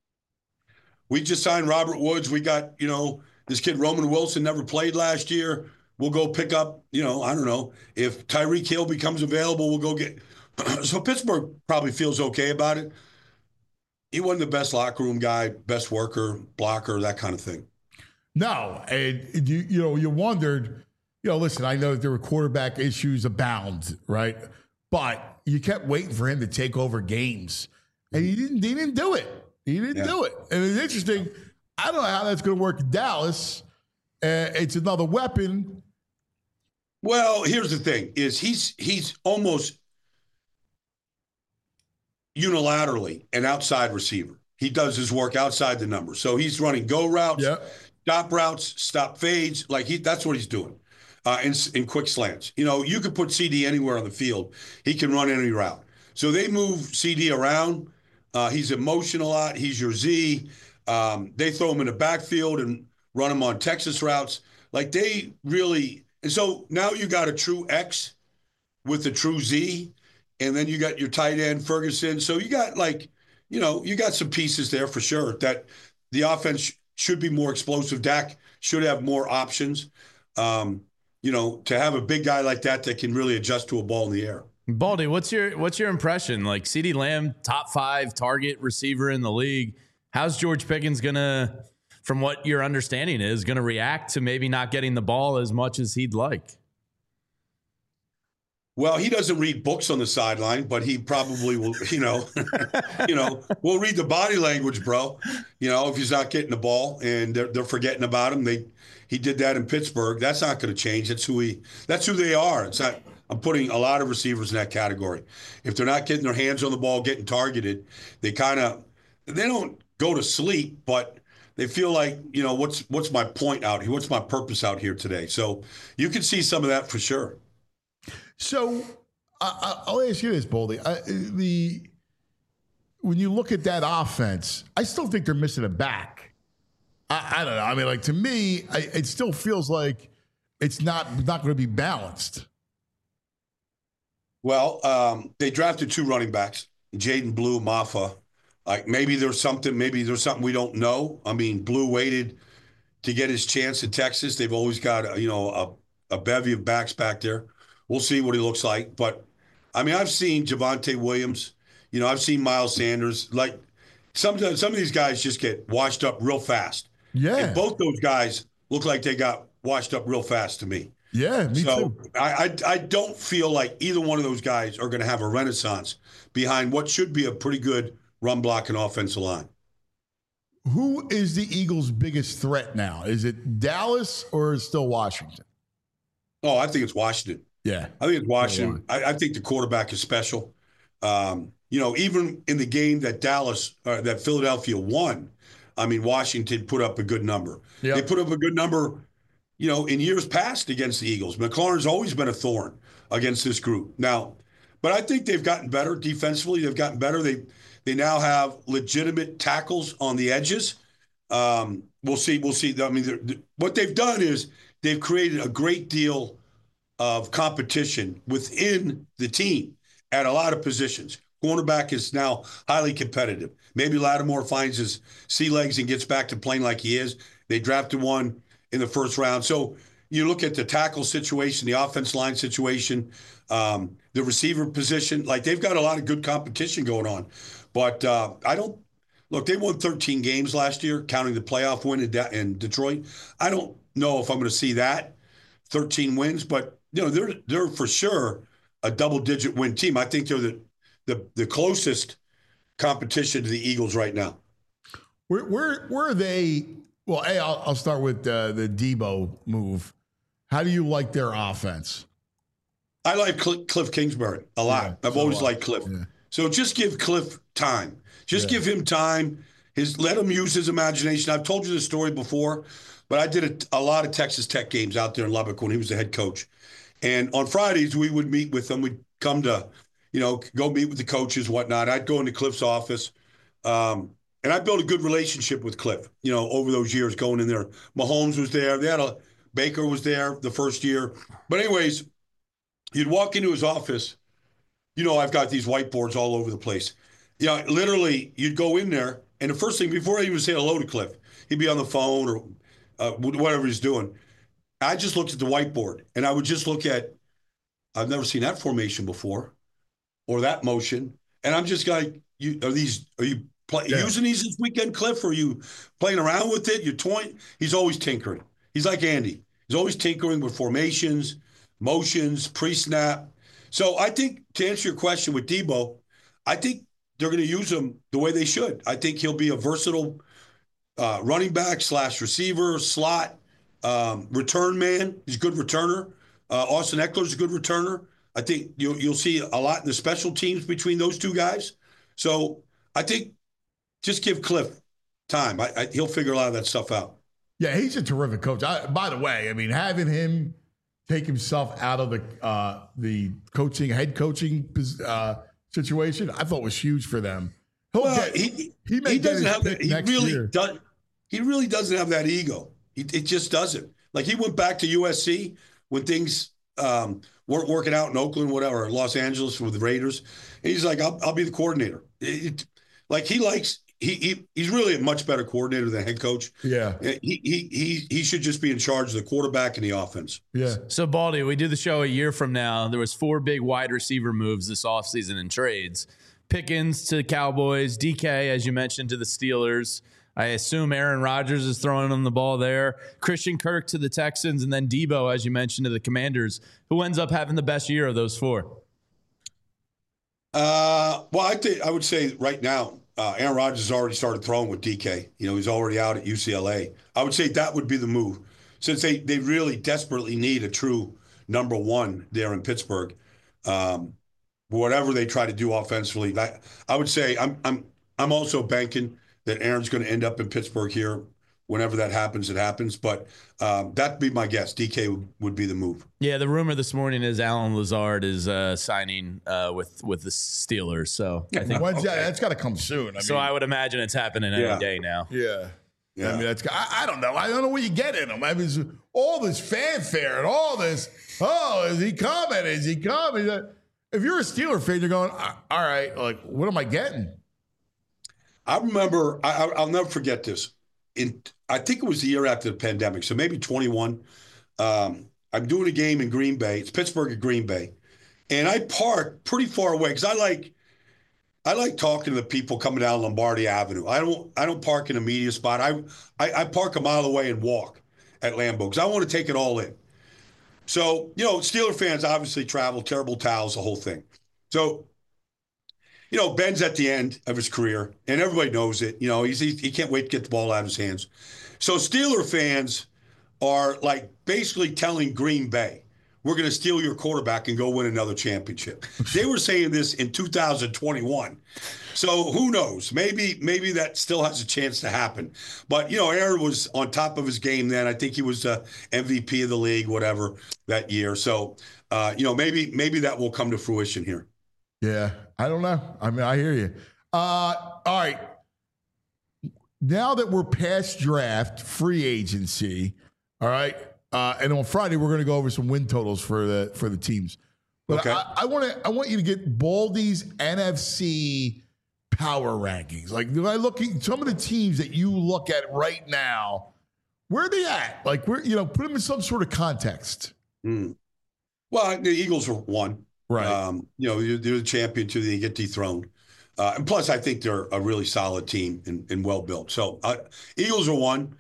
we just signed Robert Woods. We got, this kid Roman Wilson never played last year. We'll go pick up, I don't know. If Tyreek Hill becomes available, we'll go get. So Pittsburgh probably feels okay about it. He wasn't the best locker room guy, best worker, blocker, that kind of thing. No, and you wondered, listen, I know that there were quarterback issues abound, right? But you kept waiting for him to take over games, and he didn't do it. He didn't do it. And it's interesting. I don't know how that's going to work in Dallas. It's another weapon. Well, here's the thing: is he's almost unilaterally an outside receiver. He does his work outside the numbers. So he's running go routes. stop routes, stop fades. Like that's what he's doing in quick slants. You know, you could put CD anywhere on the field. He can run any route. So they move CD around. He's in motion a lot. He's your Z. They throw him in the backfield and run him on Texas routes. Like they really – and so now you got a true X with the true Z, and then you got your tight end, Ferguson. So you got you got some pieces there for sure that the offense should be more explosive. Dak should have more options, to have a big guy like that can really adjust to a ball in the air. Baldy, what's your impression? Like CeeDee Lamb, top 5 target receiver in the league. How's George Pickens gonna, from what your understanding is, gonna react to maybe not getting the ball as much as he'd like? Well, he doesn't read books on the sideline, but he probably will, we'll read the body language, bro. If he's not getting the ball and they're forgetting about him. He did that in Pittsburgh. That's not going to change. That's who they are. It's not. I'm putting a lot of receivers in that category. If they're not getting their hands on the ball, getting targeted, they don't go to sleep, but they feel like, what's my point out here? What's my purpose out here today? So you can see some of that for sure. So I'll ask you this, Baldy. When you look at that offense, I still think they're missing a back. I don't know. I mean, to me, it still feels like it's not going to be balanced. Well, they drafted 2 running backs, Jaden Blue, Maffa. Like maybe there's something we don't know. I mean, Blue waited to get his chance in Texas. They've always got a bevy of backs back there. We'll see what he looks like. But, I mean, I've seen Javonte Williams. I've seen Miles Sanders. Like, some of these guys just get washed up real fast. Yeah. And both those guys look like they got washed up real fast to me. Yeah, me too. I don't feel like either one of those guys are going to have a renaissance behind what should be a pretty good run blocking offensive line. Who is the Eagles' biggest threat now? Is it Dallas or is it still Washington? Oh, I think it's Washington. Yeah. I think it's Washington. I think the quarterback is special. Even in the game that Philadelphia won, I mean, Washington put up a good number. Yep. They put up a good number, in years past against the Eagles. McLaurin's always been a thorn against this group. Now, but I think they've gotten better defensively. They've gotten better. They now have legitimate tackles on the edges. We'll see. I mean, what they've done is they've created a great deal of competition within the team at a lot of positions. Cornerback is now highly competitive. Maybe Lattimore finds his sea legs and gets back to playing like he is. They drafted one in the first round. So you look at the tackle situation, the offense line situation, the receiver position. Like they've got a lot of good competition going on. But they won 13 games last year, counting the playoff win in Detroit. I don't know if I'm going to see that 13 wins, but they're for sure a double-digit win team. I think they're the closest competition to the Eagles right now. Where are they? Well, I'll start with the Debo move. How do you like their offense? I like Cliff Kingsbury a lot. Yeah, I've always liked Cliff. Yeah. So just give Cliff time. Give him time. Let him use his imagination. I've told you this story before, but I did a lot of Texas Tech games out there in Lubbock when he was the head coach. And on Fridays, we would meet with them. We'd come to, go meet with the coaches, whatnot. I'd go into Cliff's office. And I built a good relationship with Cliff, over those years going in there. Mahomes was there. Baker was there the first year. But anyways, you'd walk into his office. I've got these whiteboards all over the place. Literally, you'd go in there, and the first thing, before I even say hello to Cliff, he'd be on the phone or whatever he's doing. I just looked at the whiteboard, and I would just look at, I've never seen that formation before, or that motion, and I'm just like, are you using these this weekend, Cliff? Or are you playing around with it? You're toying? He's always tinkering. He's like Andy. He's always tinkering with formations, motions, pre-snap. So I think, to answer your question with Debo, I think they're going to use him the way they should. I think he'll be a versatile running back / receiver, slot, return man. He's a good returner. Austin Eckler's a good returner. I think you'll see a lot in the special teams between those two guys. So I think just give Cliff time. He'll figure a lot of that stuff out. Yeah, he's a terrific coach. By the way, I mean, having him take himself out of the head coaching situation, I thought was huge for them. He doesn't have that. He really doesn't have that ego. It just doesn't. Like, he went back to USC when things weren't working out in Oakland, whatever, or Los Angeles with the Raiders. And he's like, I'll be the coordinator. He's really a much better coordinator than head coach. Yeah. He should just be in charge of the quarterback and the offense. Yeah. So, Baldy, we do the show a year from now. There was 4 big wide receiver moves this offseason in trades. Pickens to the Cowboys, DK, as you mentioned, to the Steelers. I assume Aaron Rodgers is throwing on the ball there. Christian Kirk to the Texans, and then Debo, as you mentioned, to the Commanders. Who ends up having the best year of those 4? Well, I would say right now, Aaron Rodgers has already started throwing with DK. He's already out at UCLA. I would say that would be the move, since they really desperately need a true number 1 there in Pittsburgh. Whatever they try to do offensively, I would say I'm also banking that Aaron's going to end up in Pittsburgh here. Whenever that happens, it happens. But that'd be my guess. DK would be the move. Yeah, the rumor this morning is Alan Lazard is signing with the Steelers. So I think that's got to come soon. I would imagine it's happening any day now. Yeah. I mean, I don't know. I don't know what you get in him. I mean, all this fanfare and all this. Oh, is he coming? Is he coming? If you're a Steeler fan, you're going, all right, like, what am I getting? I remember, I'll never forget this. I think it was the year after the pandemic, so maybe 21. I'm doing a game in Green Bay. It's Pittsburgh at Green Bay. And I park pretty far away because I like talking to the people coming down Lombardi Avenue. I don't park in a media spot. I park a mile away and walk at Lambeau because I want to take it all in. So, Steeler fans obviously travel, terrible towels, the whole thing. So, Ben's at the end of his career, and everybody knows it. He can't wait to get the ball out of his hands. So Steeler fans are like basically telling Green Bay, we're going to steal your quarterback and go win another championship. They were saying this in 2021. So who knows? Maybe that still has a chance to happen. But, Aaron was on top of his game then. I think he was the MVP of the league, whatever, that year. So, maybe that will come to fruition here. Yeah, I don't know. I mean, I hear you. All right. Now that we're past draft, free agency, all right, and on Friday we're going to go over some win totals for the teams. But okay. I want you to get Baldy's NFC power rankings. Like, when I look at some of the teams that you look at right now, where are they at? Like, put them in some sort of context. Well, the Eagles are 1. Right. They're the champion till they get dethroned. And plus, I think they're a really solid team and well built. So Eagles are 1.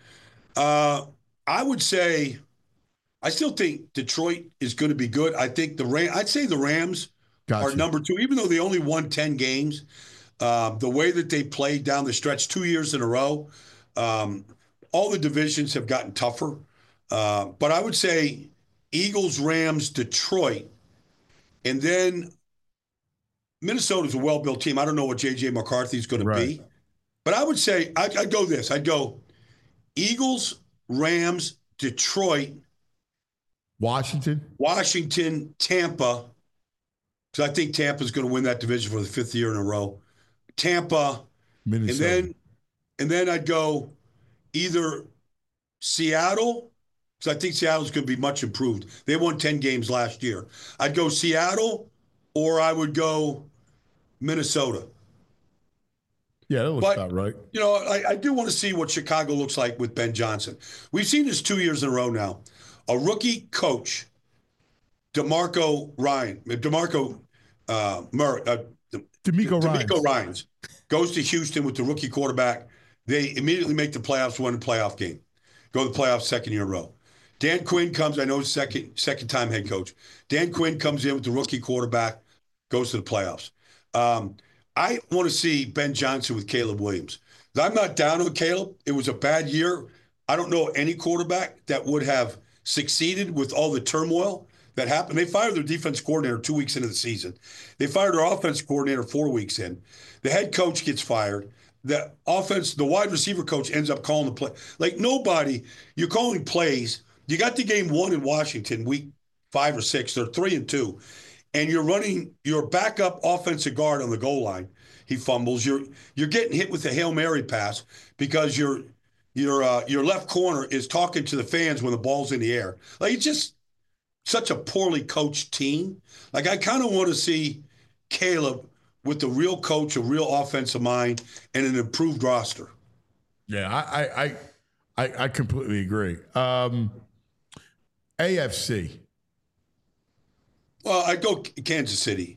I would say, I still think Detroit is going to be good. I think I'd say the Rams are number 2, even though they only won 10 games. The way that they played down the stretch 2 years in a row, all the divisions have gotten tougher. But I would say Eagles, Rams, Detroit. And then Minnesota's a well-built team. I don't know what J.J. McCarthy is going to be. But I would say, I'd go this. I'd go Eagles, Rams, Detroit. Washington, Tampa. Because I think Tampa's going to win that division for the 5th year in a row. Tampa. Minnesota. And then I'd go either Seattle, because I think Seattle's going to be much improved. They won 10 games last year. I'd go Seattle, or I would go Minnesota. Yeah, that looks about right. I do want to see what Chicago looks like with Ben Johnson. We've seen this 2 years in a row now. A rookie coach, DeMeco Ryans, goes to Houston with the rookie quarterback. They immediately make the playoffs, win a playoff game. Go to the playoffs 2nd year in a row. Dan Quinn comes, I know second time head coach. Dan Quinn comes in with the rookie quarterback, goes to the playoffs. I want to see Ben Johnson with Caleb Williams. I'm not down on Caleb. It was a bad year. I don't know any quarterback that would have succeeded with all the turmoil that happened. They fired their defense coordinator 2 weeks into the season. They fired their offense coordinator 4 weeks in. The head coach gets fired. the offense, the wide receiver coach ends up calling the play. Like nobody, you're calling plays. You got the game won in Washington, week 5 or 6. They're 3-2, and you're running your backup offensive guard on the goal line. He fumbles. You're getting hit with a Hail Mary pass because your left corner is talking to the fans when the ball's in the air. Like it's just such a poorly coached team. Like I kind of want to see Caleb with the real coach, a real offensive mind, and an improved roster. Yeah, I completely agree. AFC. Well, I'd go Kansas City.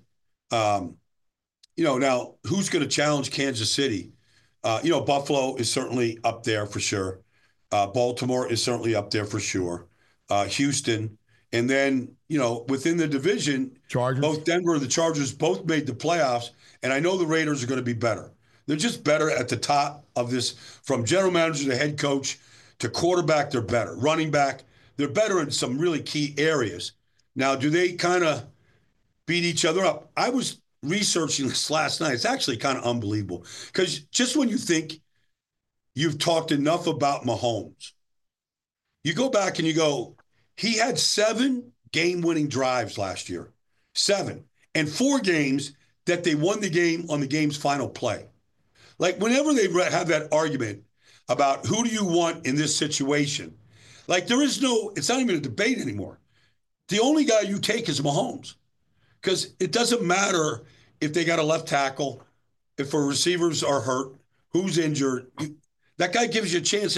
Now who's going to challenge Kansas City? Buffalo is certainly up there for sure. Baltimore is certainly up there for sure. Houston. And then, within the division, Chargers. Both Denver and the Chargers both made the playoffs, and I know the Raiders are going to be better. They're just better at the top of this, from general manager to head coach to quarterback, they're better. Running back, they're better in some really key areas. Now, do they kind of beat each other up? I was researching this last night. It's actually kind of unbelievable because just when you think you've talked enough about Mahomes, you go back and you go, he had 7 game-winning drives last year, 7, and 4 games that they won the game on the game's final play. Like whenever they have that argument about who do you want in this situation, like it's not even a debate anymore. The only guy you take is Mahomes because it doesn't matter if they got a left tackle, if our receivers are hurt, who's injured. That guy gives you a chance.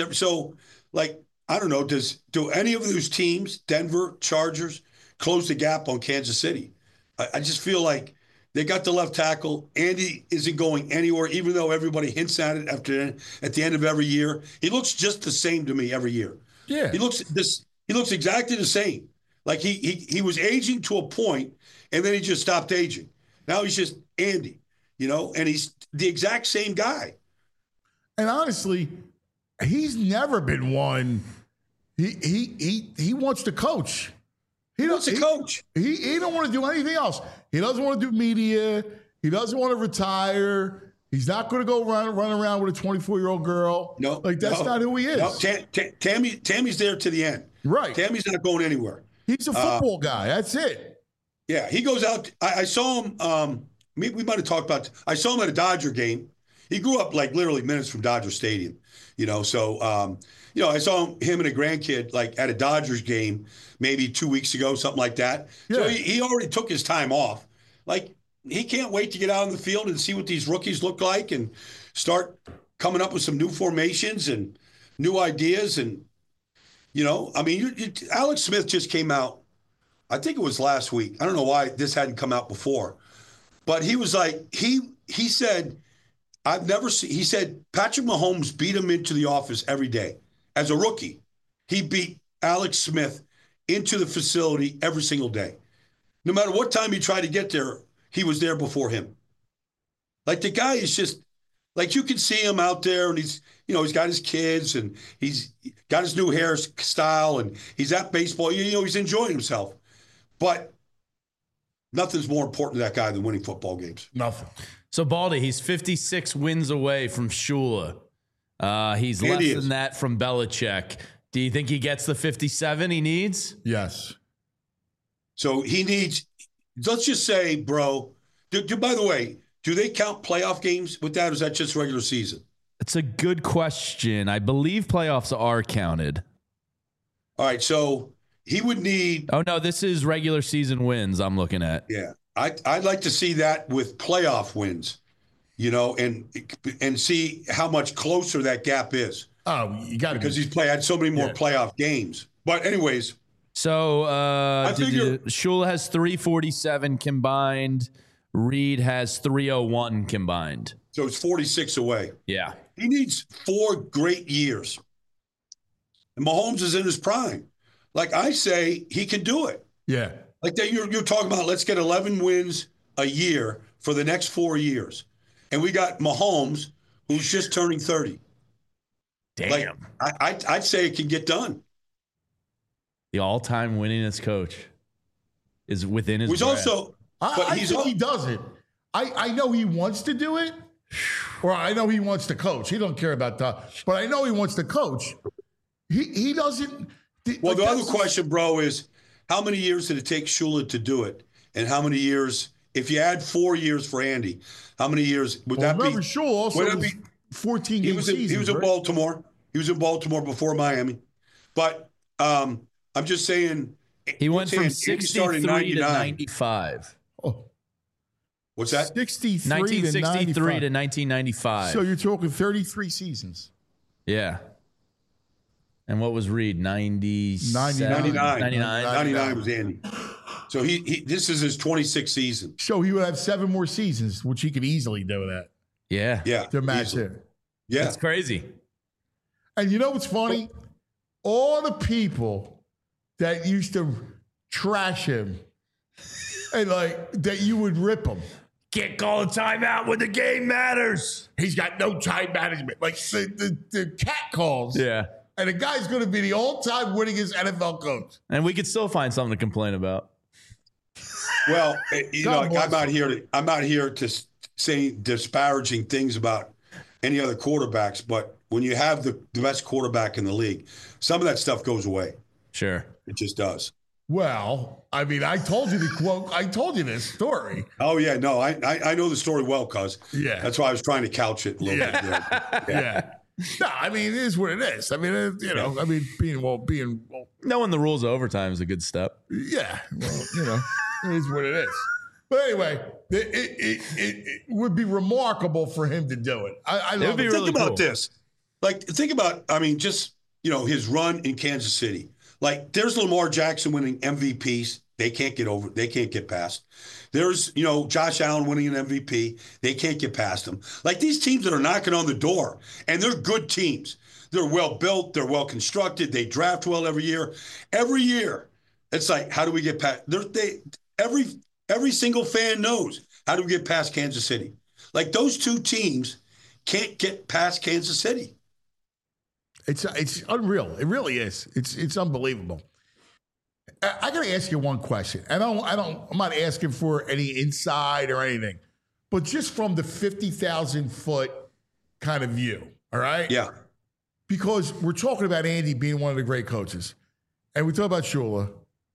I don't know, do any of those teams, Denver, Chargers, close the gap on Kansas City? I just feel like they got the left tackle. Andy isn't going anywhere, even though everybody hints at it at the end of every year. He looks just the same to me every year. Yeah. He looks exactly the same. Like he was aging to a point, and then he just stopped aging. Now he's just Andy, and he's the exact same guy. And honestly, he's never been one. He wants to coach. He wants to coach. He don't want to do anything else. He doesn't want to do media. He doesn't want to retire. He's not going to go run around with a 24-year-old girl. No, that's not who he is. No, Tammy's there to the end. Right. Tammy's not going anywhere. He's a football guy. That's it. Yeah, he goes out. I saw him. We might have talked about. I saw him at a Dodger game. He grew up like literally minutes from Dodger Stadium. So I saw him and a grandkid like at a Dodgers game maybe 2 weeks ago, something like that. Yeah. So he already took his time off. Like he can't wait to get out on the field and see what these rookies look like and start coming up with some new formations and new ideas. And, Alex Smith just came out. I think it was last week. I don't know why this hadn't come out before, but he was like, he said, he said Patrick Mahomes beat him into the office every day. As a rookie, he beat Alex Smith into the facility every single day. No matter what time he tried to get there, he was there before him. Like the guy is just, like you can see him out there and he's got his kids and he's got his new hairstyle and he's at baseball. He's enjoying himself. But nothing's more important to that guy than winning football games. Nothing. So, Baldy, he's 56 wins away from Shula. He's less than that from Belichick. Do you think he gets the 57 he needs? Yes. So he needs, let's just say, bro, by the way, do they count playoff games with that, or is that just regular season? It's a good question. I believe playoffs are counted. All right, so he would need... Oh, no, this is regular season wins I'm looking at. Yeah. I'd like to see that with playoff wins, and see how much closer that gap is. Oh, you got to, because he's had so many more playoff games. But anyways, so Shula has 347 combined. Reed has 301 combined. So it's 46 away. Yeah, he needs 4 great years, and Mahomes is in his prime. Like I say, he can do it. Yeah. Like that, you're talking about, let's get 11 wins a year for the next 4 years. And we got Mahomes, who's just turning 30. Damn. Like, I'd say it can get done. The all-time winningest coach is within his grasp. I think he does it. I know he wants to do it, Or I know he wants to coach. He don't care about that. But I know he wants to coach. He doesn't. Well, the other question, bro, is how many years did it take Shula to do it? And how many years, if you add 4 years for Andy, how many years would that be? Shula also was 14 game season. He was in Baltimore. He was in Baltimore before Miami. But I'm just saying. He went from 63 to 95. Oh. What's that? 1963 to 1995. So you're talking 33 seasons. Yeah. And what was Reed? 99 was Andy. So this is his 26th season. So he would have 7 more seasons, which he could easily do that. Yeah. To match it. Yeah. That's crazy. And you know what's funny? All the people that used to trash him and like that you would rip him. Can't call a timeout when the game matters. He's got no time management. Like the cat calls. Yeah. And the guy's going to be the all-time winningest NFL coach. And we could still find something to complain about. Well, I'm not here to say disparaging things about any other quarterbacks, but when you have the best quarterback in the league, some of that stuff goes away. Sure. It just does. Well, I mean, I told you this story. Oh, yeah. No, I know the story well, cuz. Yeah. That's why I was trying to couch it a little bit. Yeah. No, I mean, it is what it is. I mean, being knowing the rules of overtime is a good step. Yeah. Well, it is what it is. But anyway, it would be remarkable for him to do it. I love it. Think about this. Like, think about, just, his run in Kansas City. Like, there's Lamar Jackson winning MVPs. They can't get past. There's, Josh Allen winning an MVP. They can't get past him. Like, these teams that are knocking on the door, and they're good teams. They're well built. They're well constructed. They draft well every year. Every year, it's like, how do we get past? Every single fan knows, how do we get past Kansas City? Like, those two teams can't get past Kansas City. It's unreal. It really is. It's unbelievable. I got to ask you one question. I'm not asking for any insight or anything, but just from the 50,000 foot kind of view. All right. Yeah. Because we're talking about Andy being one of the great coaches, and we talk about Shula,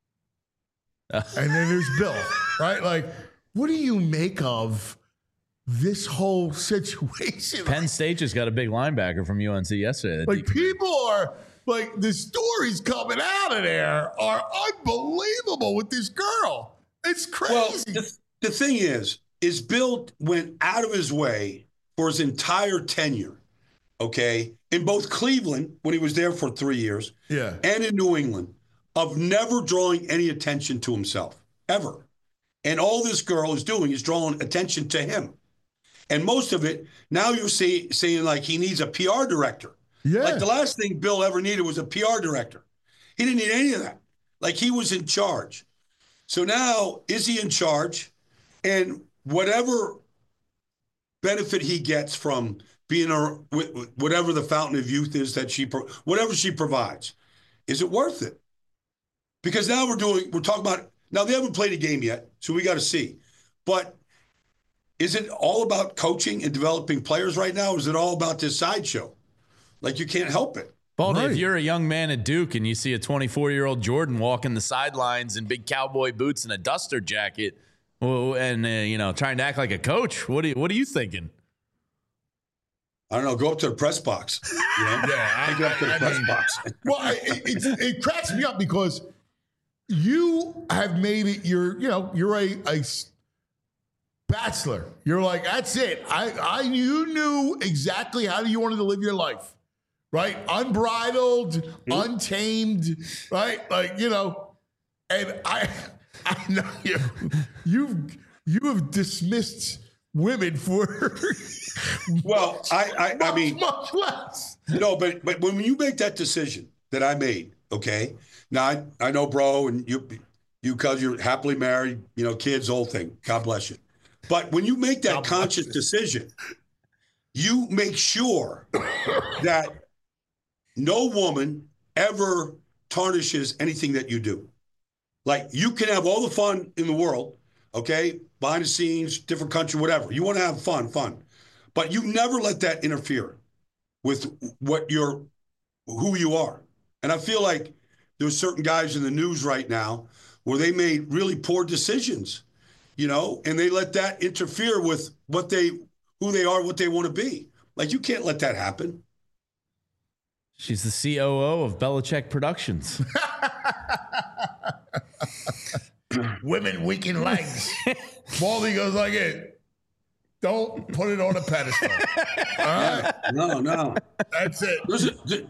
and then there's Bill, right? Like, what do you make of this whole situation? Penn State just got a big linebacker from UNC yesterday. Like, people are like, the stories coming out of there are unbelievable with this girl. It's crazy. Well, the thing is Bill went out of his way for his entire tenure, okay, in both Cleveland, when he was there for 3 years, and in New England, of never drawing any attention to himself, ever. And all this girl is doing is drawing attention to him. And most of it, now you're saying like he needs a PR director. Yeah. Like, the last thing Bill ever needed was a PR director. He didn't need any of that. Like, he was in charge. So now, is he in charge? And whatever benefit he gets from being whatever the fountain of youth is that whatever she provides, is it worth it? Because now we're talking about, now they haven't played a game yet, so we got to see. But is it all about coaching and developing players right now? Or is it all about this sideshow? Like, you can't help it. Baldy, if you're a young man at Duke and you see a 24-year-old Jordan walking the sidelines in big cowboy boots and a duster jacket, and trying to act like a coach, what are you thinking? I don't know. Go up to the press box. Yeah, go up to the press box. Well, it cracks me up because you have made it. You're a bachelor. You're like, that's it. You knew exactly how you wanted to live your life, right? Unbridled, untamed, right? Like, and I know you have dismissed women for well, I mean, much less. No, but when you make that decision that I made, okay. Now I know, bro, and you because you're happily married, kids, whole thing. God bless you. But when you make that conscious decision, you make sure that no woman ever tarnishes anything that you do. Like, you can have all the fun in the world, okay? Behind the scenes, different country, whatever. You want to have fun. But you never let that interfere with who you are. And I feel like there's certain guys in the news right now where they made really poor decisions, and they let that interfere with who they are, what they want to be. Like, you can't let that happen. She's the COO of Belichick Productions. Women weaken legs. Baldy goes like it. Don't put it on a pedestal. All right? No. That's it.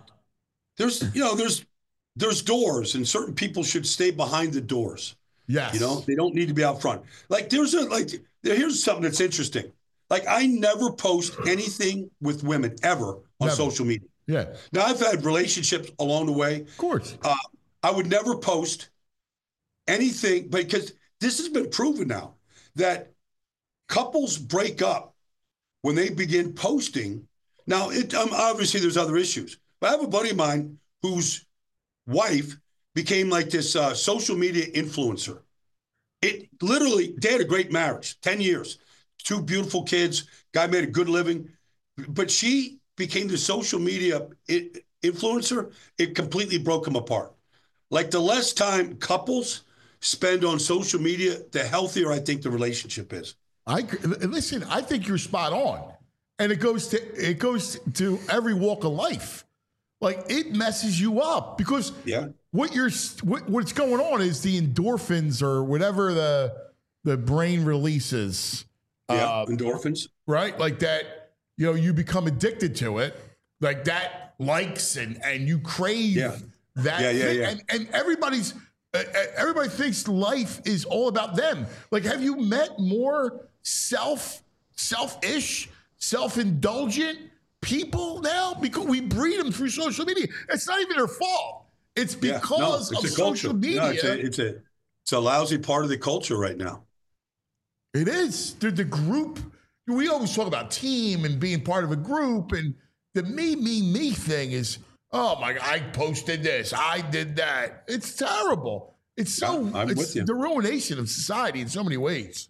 There's doors, and certain people should stay behind the doors. Yes. They don't need to be out front. Like, here's something that's interesting. Like, I never post anything with women ever on social media. Yeah. Now, I've had relationships along the way. Of course. I would never post anything, because this has been proven now that couples break up when they begin posting. Now, obviously there's other issues, but I have a buddy of mine whose wife became like this social media influencer. They had a great marriage, 10 years, 2 beautiful kids, guy made a good living, but she became the social media influencer. It completely broke them apart. Like, the less time couples spend on social media, the healthier I think the relationship is. Listen, I think you're spot on. And it goes to every walk of life. Like, it messes you up because what's going on is the endorphins or whatever the brain releases. Endorphins. Right? Like that, you become addicted to it. Like that likes and you crave that thing. Yeah. And everybody thinks life is all about them. Like, have you met more selfish, self-indulgent people now? Because we breed them through social media. It's not even their fault. It's because of social media. No, it's a lousy part of the culture right now. It is. The group, we always talk about team and being part of a group, and the me thing is, oh my God, I posted this, I did that. It's terrible. It's the ruination of society in so many ways.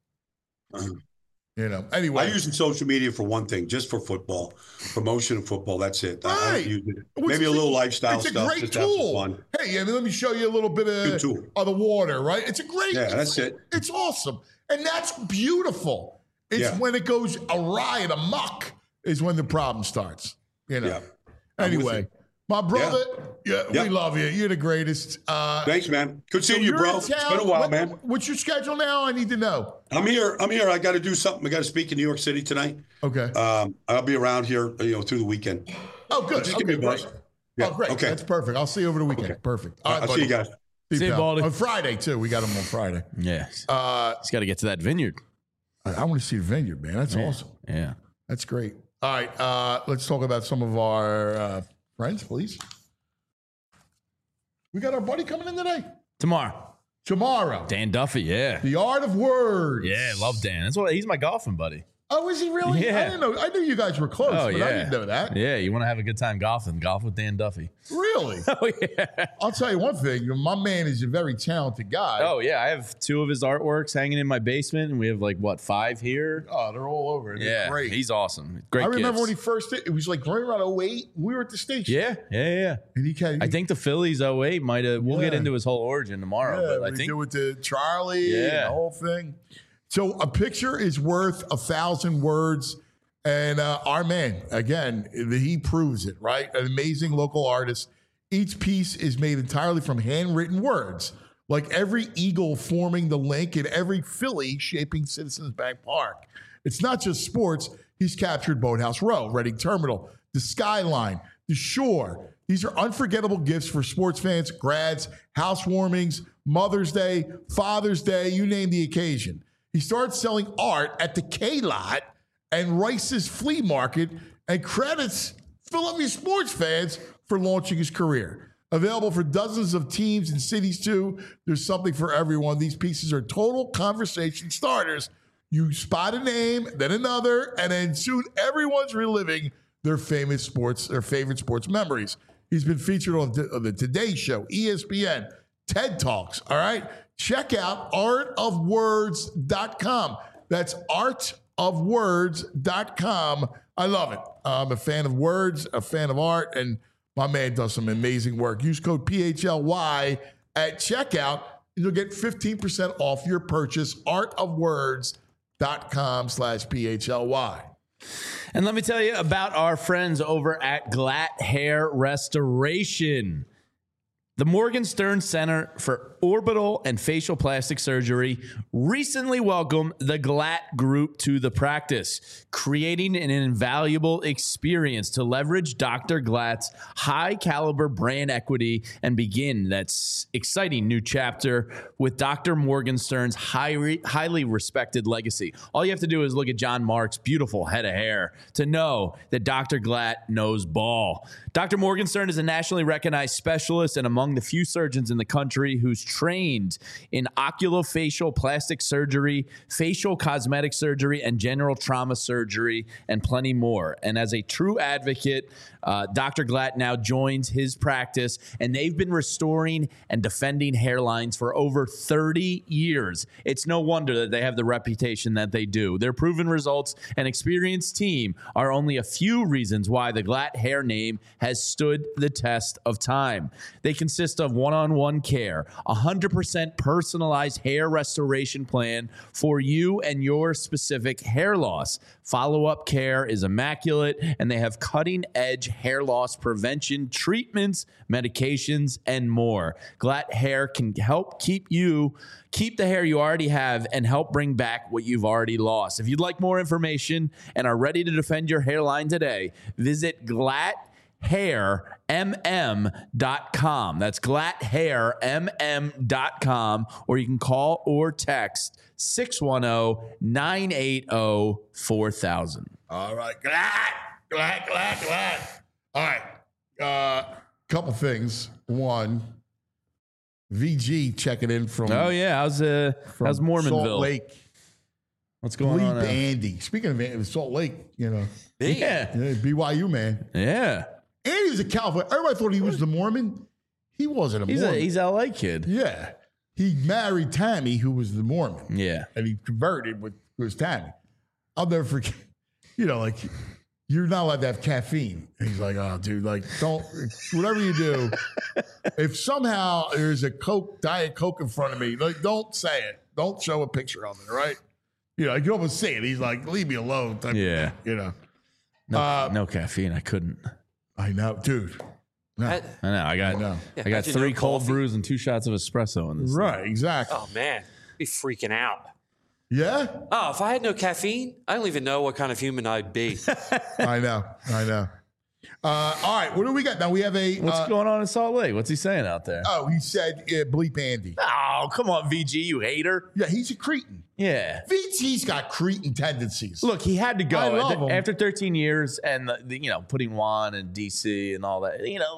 Anyway. I use social media for one thing, just for football, promotion of football. That's it. Right. I use it. Maybe a little lifestyle stuff. It's a great tool. Hey, let me show you a little bit of the water, right? It's a great tool. That's it. It's awesome. And that's beautiful. It's when it goes awry and amok is when the problem starts. Anyway, my brother, we love you. You're the greatest. Thanks, man. Good seeing you, bro. It's been a while, man. What's your schedule now? I need to know. I'm here. I got to do something. I got to speak in New York City tonight. Okay. I'll be around here, through the weekend. Oh, good. Just give me a buzz. Yeah. Oh, great. Okay. That's perfect. I'll see you over the weekend. Okay. Perfect. All right, I'll see you guys. See you, Baldy. On Friday, too. We got him on Friday. Yes. He's got to get to that vineyard. I want to see the vineyard, man. That's awesome. Yeah. That's great. All right. Let's talk about some of our friends, please. We got our buddy coming in today. Tomorrow. Dan Duffy, yeah. The Art of Words. Yeah, love Dan. He's my golfing buddy. Oh, is he really? Yeah. I didn't know. I knew you guys were close, but I didn't know that. Yeah, you want to have a good time golfing. Golf with Dan Duffy. Really? Oh, yeah. I'll tell you one thing. My man is a very talented guy. Oh, yeah. I have 2 of his artworks hanging in my basement, and we have 5 here? Oh, they're all over. They're great. He's awesome. Great. I remember when he first did, it was right around 08. We were at the station. Yeah. And I think the Phillies 08 might have, we'll get into his whole origin tomorrow, but I think. Do with the Charlie and the whole thing. So a picture is worth 1,000 words. And our man, again, he proves it, right? An amazing local artist. Each piece is made entirely from handwritten words, like every eagle forming the link and every Philly shaping Citizens Bank Park. It's not just sports. He's captured Boathouse Row, Reading Terminal, the skyline, the shore. These are unforgettable gifts for sports fans, grads, housewarmings, Mother's Day, Father's Day, you name the occasion. He started selling art at the K-Lot and Rice's Flea Market and credits Philadelphia sports fans for launching his career. Available for dozens of teams and cities, too. There's something for everyone. These pieces are total conversation starters. You spot a name, then another, and then soon everyone's reliving their favorite sports memories. He's been featured on the Today Show, ESPN, TED Talks, all right? Check out artofwords.com. That's artofwords.com. artofwords.com. I love it. I'm a fan of words, a fan of art, and my man does some amazing work. Use code PHLY at checkout, and you'll get 15% off your purchase. artofwords.com/PHLY. And let me tell you about our friends over at Glatt Hair Restoration. The Morgenstern Center for Orbital and Facial Plastic Surgery recently welcomed the Glatt Group to the practice, creating an invaluable experience to leverage Dr. Glatt's high-caliber brand equity and begin that exciting new chapter with Dr. Morgenstern's highly respected legacy. All you have to do is look at John Mark's beautiful head of hair to know that Dr. Glatt knows ball. Dr. Morgenstern is a nationally recognized specialist and among the few surgeons in the country who's trained in oculofacial plastic surgery, facial cosmetic surgery, and general trauma surgery, and plenty more. And as a true advocate, Dr. Glatt now joins his practice, and they've been restoring and defending hairlines for over 30 years. It's no wonder that they have the reputation that they do. Their proven results and experienced team are only a few reasons why the Glatt hair name has stood the test of time. They consist of one-on-one care, 100% personalized hair restoration plan for you and your specific hair loss. Follow-up care is immaculate, and they have cutting-edge hair loss prevention treatments, medications, and more. Glatt Hair can help keep the hair you already have and help bring back what you've already lost. If you'd like more information and are ready to defend your hairline today, visit GlattHairMM.com. That's GlattHairMM.com, or you can call or text 610-980-4000. All right. Glatt. All right. Couple things. One, VG checking in from how's Mormonville? Salt Lake. What's going on? Andy. Speaking of Salt Lake, Yeah. BYU man. Yeah. Andy was a California. Everybody thought he was the Mormon. He wasn't a Mormon. He's a LA kid. Yeah. He married Tammy, who was the Mormon. Yeah. And he converted with Tammy. I'll never forget. You're not allowed to have caffeine. And he's like, oh, dude, don't, whatever you do, if somehow there's a Diet Coke in front of me, don't say it. Don't show a picture of it, right? You can almost see it. He's like, leave me alone. Yeah. No caffeine. I couldn't. I know, dude. No. I know. I got 3 cold brews and 2 shots of espresso in this. Right, exactly. Oh, man. Be freaking out. Yeah? Oh, if I had no caffeine, I don't even know what kind of human I'd be. I know. All right, what do we got? Now we have What's going on in Salt Lake? What's he saying out there? Oh, he said bleep Andy. Oh, come on, VG, you hater. Yeah, he's a cretin. Yeah. VG's got cretin tendencies. Look, he had to go I love him. after 13 years and putting Juan and DC and all that.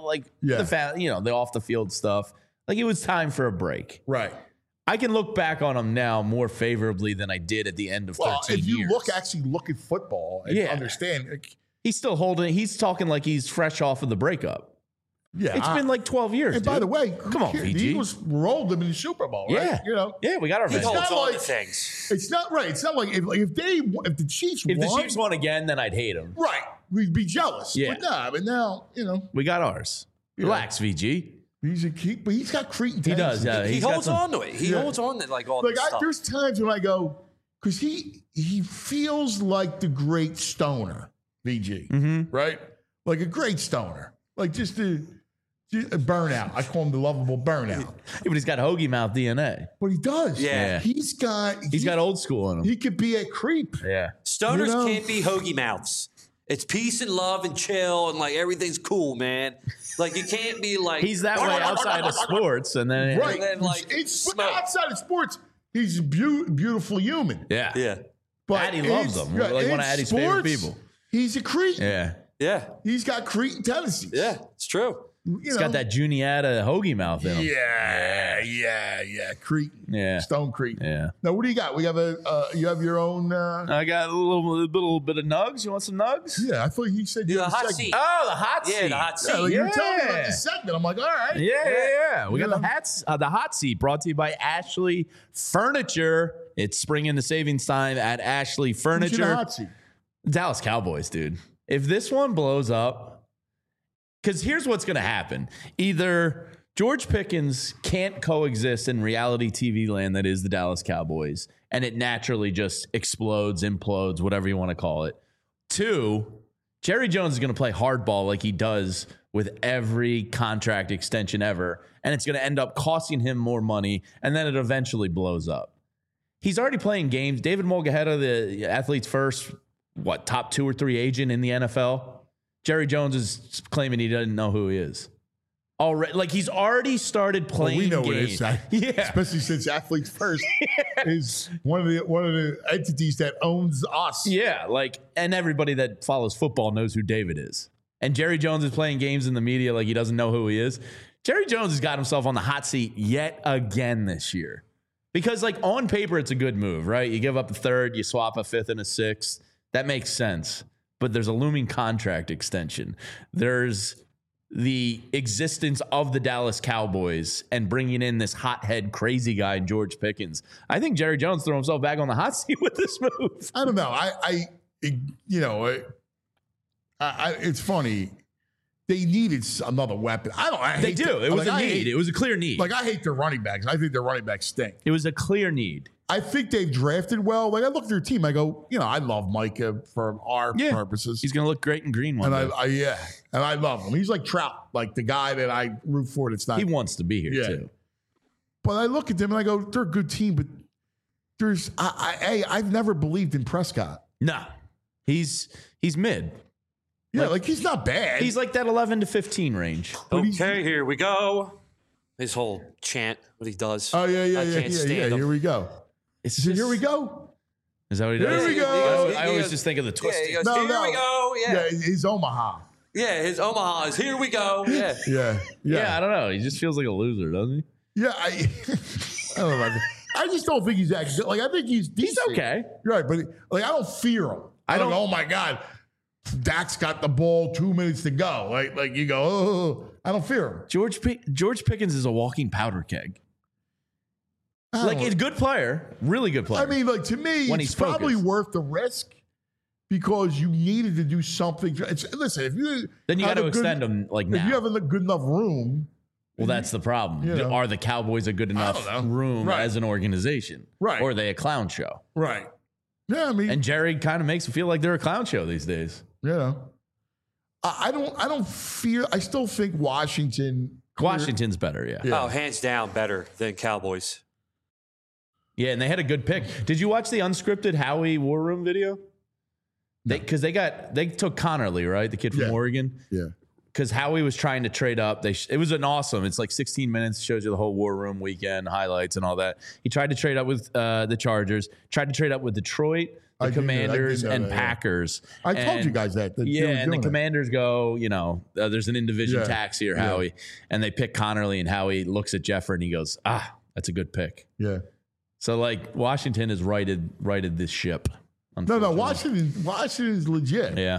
The off the field stuff. It was time for a break. Right. I can look back on him now more favorably than I did at the end of 13 years. If you look at football and understand. He's still he's talking like he's fresh off of the breakup. Yeah. It's been 12 years. And by the way, come on, VG. The Eagles rolled them in the Super Bowl, right? Yeah. Yeah, we got our He vengeance. holds on to things. It's not right. It's not like if the Chiefs won. If the Chiefs won again, then I'd hate him. Right. We'd be jealous. Yeah. But now, We got ours. Relax, VG. But he's got cretin. He does, yeah. He holds on to it. He holds on to all this stuff. There's times when I go, because he feels like the great stoner, VG, right? Like a great stoner. Just a burnout. I call him the lovable burnout. Yeah, but he's got hoagie mouth DNA. But he does. Yeah. He's got old school in him. He could be a creep. Yeah. Stoners can't be hoagie mouths. It's peace and love and chill and everything's cool, man. You can't be he's that way outside of sports, and then right. And then, outside of sports, he's a beautiful human. Yeah. Yeah. But Addie loves him. One of Addie's favorite people. He's a creep. Yeah. Yeah. He's got cretin tendencies. Yeah, it's true. He's got that Juniata hoagie mouth in him. Yeah. Cretin. Yeah. Stone cretin. Yeah. Now, what do you got? We have you have your own. I got a little bit of nugs. You want some nugs? Yeah, I thought you said you The had a hot segment. seat. Oh, the hot seat. Yeah, the hot seat. Yeah, you were telling me about the segment. I'm like, all right. Yeah. We got the hot seat brought to you by Ashley Furniture It's spring into savings time at Ashley Who's in the Furniture. hot seat? Dallas Cowboys, dude. If this one blows up, because here's what's going to happen. Either George Pickens can't coexist in reality TV land that is the Dallas Cowboys, and it naturally just explodes, implodes, whatever you want to call it. 2, Jerry Jones is going to play hardball like he does with every contract extension ever, and it's going to end up costing him more money, and then it eventually blows up. He's already playing games. David Mulgaheda, the Athletes First, top 2 or 3 agent in the NFL? Jerry Jones is claiming he doesn't know who he is. Already, like he's already started playing We know games. what it is. Yeah. Especially since Athletes First is one of the entities that owns us. Yeah, and everybody that follows football knows who David is. And Jerry Jones is playing games in the media like he doesn't know who he is. Jerry Jones has got himself on the hot seat yet again this year. Because on paper, it's a good move, right? You give up a 3rd, you swap a 5th and a 6th. That makes sense. But there's a looming contract extension. There's the existence of the Dallas Cowboys and bringing in this hothead crazy guy, George Pickens. I think Jerry Jones threw himself back on the hot seat with this move. I don't know. It's funny. They needed another weapon. They do. It was a need. It was a clear need. I hate their running backs. I think their running backs stink. It was a clear need. I think they've drafted well. I look at their team. I go, I love Micah for our purposes. He's going to look great in green one and day. and I love him. He's like Trout, like the guy that I root for. That's not. He wants to be here too. But I look at them and I go, they're a good team, but I've never believed in Prescott. No, he's mid. Yeah, he's not bad. He's like that 11 to 15 range. Okay, here we go. His whole chant, what he does. Oh yeah. I can't stand him. Here we go. Here we go. Is that what he does? Here we go. I always just think of the twist. Yeah, he goes, here we go. Yeah. His Omaha. Yeah, his Omaha is here we go. Yeah. Yeah. I don't know. He just feels like a loser, doesn't he? Yeah, I don't know about that. I just don't think he's that good. I think he's decent. He's okay. Right, but I don't fear him. I don't. Oh my God, Dak's got the ball 2 minutes to go. Like you go. Oh, I don't fear him. George Pickens is a walking powder keg. He's a good player, really good player. I mean, to me, when it's he's probably focused. worth the risk because you needed to do something. Listen, if you then you got to extend him now. If you have a good enough room. Well, that's the problem. Are the Cowboys a good enough room as an organization? Right. Or are they a clown show? Right. Yeah, I mean. And Jerry kind of makes it feel like they're a clown show these days. Yeah. I don't fear. I still think Washington's better, yeah. Oh, hands down better than Cowboys. Yeah, and they had a good pick. Did you watch the unscripted Howie War Room video? Because they took Connerly, right? The kid from Oregon. Yeah. Because Howie was trying to trade up. It was an awesome. It's 16 minutes, shows you the whole War Room weekend, highlights and all that. He tried to trade up with the Chargers, tried to trade up with Detroit, the Commanders, and Packers. I told you guys that. And the Commanders go, there's an in-division tax here, Howie. And they pick Connerly, and Howie looks at Jeffrey and he goes, that's a good pick. Yeah. So Washington has righted this ship. No, Washington's legit. Yeah.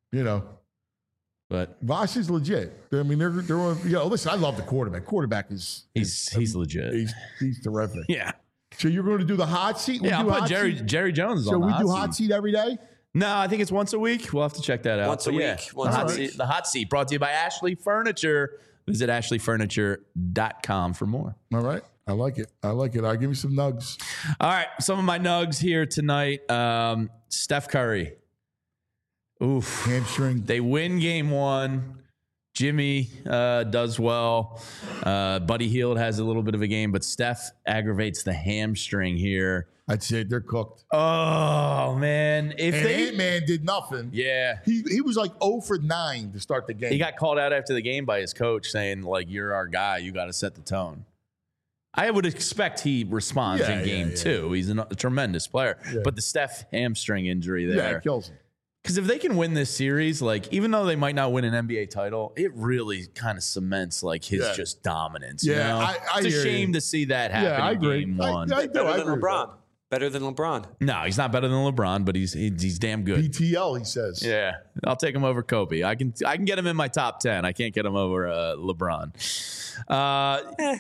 But Washington's legit. I mean, they're listen, I love the quarterback. Quarterback is he's legit. He's terrific. Yeah. So you're going to do the hot seat? I'll put Jerry Jones on the hot seat. So we do hot seat every day? No, I think it's once a week. We'll have to check that out. Once a week. The hot seat brought to you by Ashley Furniture. Visit ashleyfurniture.com for more. All right. I like it. I'll give you some nugs. All right. Some of my nugs here tonight. Steph Curry. Oof. Hamstring. They win game 1. Jimmy does well. Buddy Hield has a little bit of a game, but Steph aggravates the hamstring here. I'd say they're cooked. Oh, man. Ant-Man did nothing. Yeah. He was 0 for 9 to start the game. He got called out after the game by his coach saying, you're our guy. You got to set the tone. I would expect he responds in game 2. He's a tremendous player. Yeah. But the Steph hamstring injury there. Yeah, it kills him. Because if they can win this series, even though they might not win an NBA title, it really kind of cements his just dominance. Yeah, it's a shame to see that happen in game 1. Better than LeBron. Better than LeBron. No, he's not better than LeBron, but he's damn good. BTL, he says. Yeah, I'll take him over Kobe. I can get him in my top 10. I can't get him over LeBron.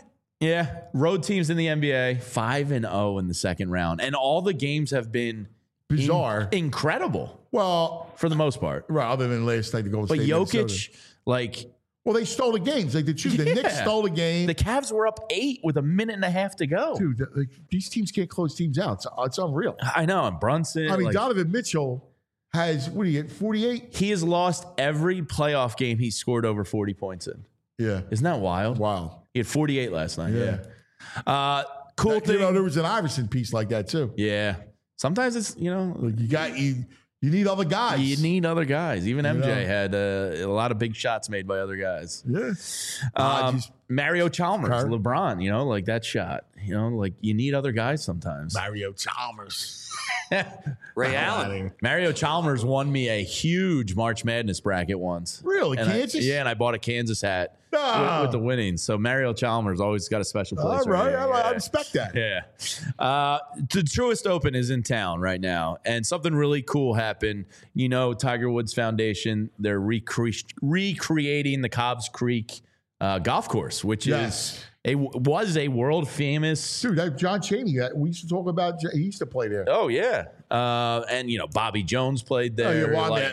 Yeah, road teams in the NBA 5-0 in the second round, and all the games have been bizarre, incredible. Well, for the most part, right? Other than last night, the Golden State. But Jokic, Minnesota. like, well, they stole the games. Like the Knicks stole the game. The Cavs were up 8 with a minute and a half to go. Dude, these teams can't close teams out. It's unreal. I know. And Brunson. I mean, Donovan Mitchell has, what do you get, 48? He has lost every playoff game he scored over 40 points in. Yeah. Isn't that wild? Wow. He had 48 last night. Yeah. Cool thing. You know, there was an Iverson piece like that too. Yeah. Sometimes it's, like you need other guys. You need other guys. Even MJ had a lot of big shots made by other guys. Yeah. Mario Chalmers, LeBron, like that shot. Like you need other guys sometimes. Mario Chalmers. Ray Allen. Mario Chalmers won me a huge March Madness bracket once. Really? And Kansas? and I bought a Kansas hat with the winnings. So Mario Chalmers always got a special place. All right. I respect that. Yeah. The Truist Open is in town right now, and something really cool happened. Tiger Woods Foundation, they're recreating the Cobbs Creek golf course, which was a world famous. Dude, that John Chaney, we used to talk about, he used to play there. Oh, yeah. And, Bobby Jones played there.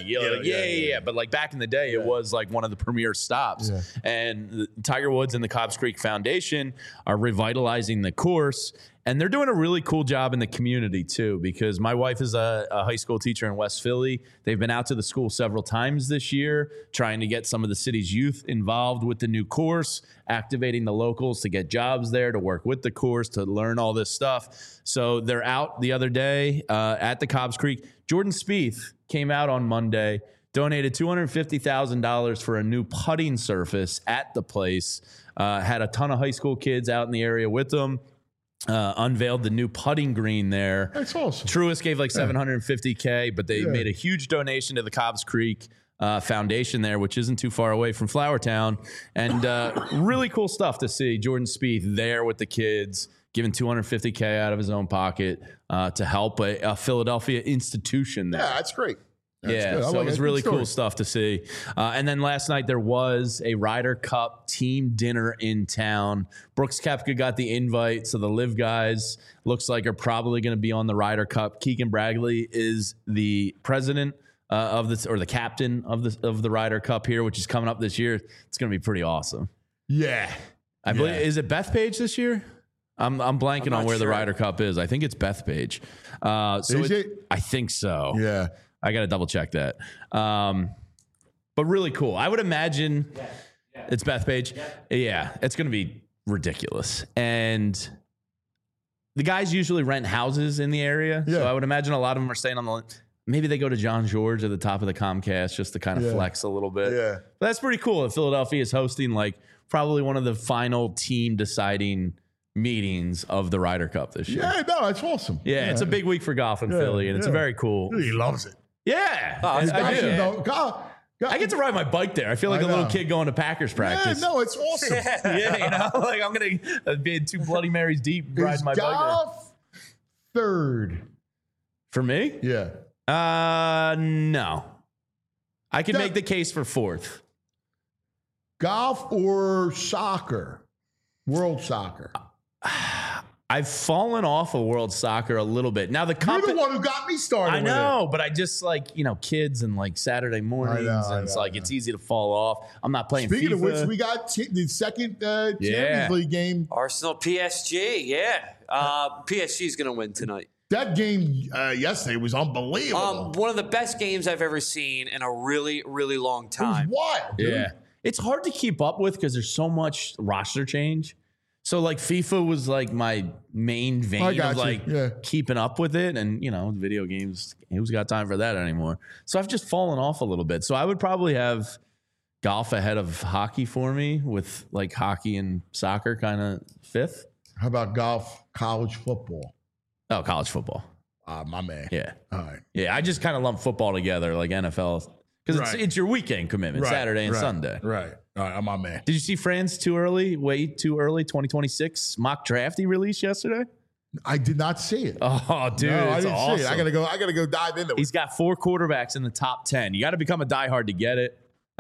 Yeah. But like back in the day, it was like one of the premier stops. Yeah. And Tiger Woods and the Cobbs Creek Foundation are revitalizing the course. And they're doing a really cool job in the community, too, because my wife is a high school teacher in West Philly. They've been out to the school several times this year, trying to get some of the city's youth involved with the new course, activating the locals to get jobs there, to work with the course, to learn all this stuff. So they're out the other day at the Cobbs Creek. Jordan Spieth came out on Monday, donated $250,000 for a new putting surface at the place, had a ton of high school kids out in the area with them. Unveiled the new putting green there. That's awesome. Truist gave like $750K, but they made a huge donation to the Cobbs Creek Foundation there, which isn't too far away from Flowertown. And really cool stuff to see Jordan Spieth there with the kids, giving $250K out of his own pocket to help a Philadelphia institution there. Yeah, that's great. That's so it was really cool stuff to see. And then last night there was a Ryder Cup team dinner in town. Brooks Koepka got the invite, so the Live guys looks like are probably going to be on the Ryder Cup. Keegan Bradley is the president of this, or the captain of the Ryder Cup here, which is coming up this year. It's going to be pretty awesome. Yeah, I believe. Is it Bethpage this year? I'm blanking on where the Ryder Cup is. I think it's Bethpage. Is it? I think so. Yeah. I got to double check that. But really cool. I would imagine it's Bethpage. Yeah, it's going to be ridiculous. And the guys usually rent houses in the area. Yeah. So I would imagine a lot of them are staying on the, maybe they go to John George at the top of the Comcast just to kind of flex a little bit. Yeah. But that's pretty cool. If Philadelphia is hosting like probably one of the final team deciding meetings of the Ryder Cup this year. Yeah, no, it's awesome. Yeah, it's a big week for golf in Philly, and it's very cool. He loves it. Yeah. I get to ride my bike there. I feel like a little kid going to Packers practice. Yeah, no, it's awesome. Like I'm going to be 2 Bloody Marys deep riding my bike there. Golf third. For me? Yeah. No. I can make the case for 4th. Golf or soccer? World soccer. I've fallen off of world soccer a little bit. Now you're the one who got me started. I know, but I just like, kids and like Saturday mornings, it's easy to fall off. I'm not playing Speaking FIFA. of which, we got the second Champions League game. Arsenal PSG, PSG is going to win tonight. That game yesterday was unbelievable. One of the best games I've ever seen in a really, really long time. It was wild, dude. Yeah. It's hard to keep up with because there's so much roster change. So like FIFA was like my main vein of like keeping up with it, and video games, who's got time for that anymore? So I've just fallen off a little bit. So I would probably have golf ahead of hockey for me, with like hockey and soccer kind of 5th. How about golf, college football? Oh, college football. My man. Yeah. All right. Yeah, I just kind of lump football together like NFL because it's your weekend commitment, Saturday and Sunday. Right. All right, I'm my man. Did you see France way too early, 2026 mock draft he released yesterday? I did not see it. Oh, dude, no, it's I didn't awesome. see it. I gotta go dive into it. He's got 4 quarterbacks in the top 10. You got to become a diehard to get it.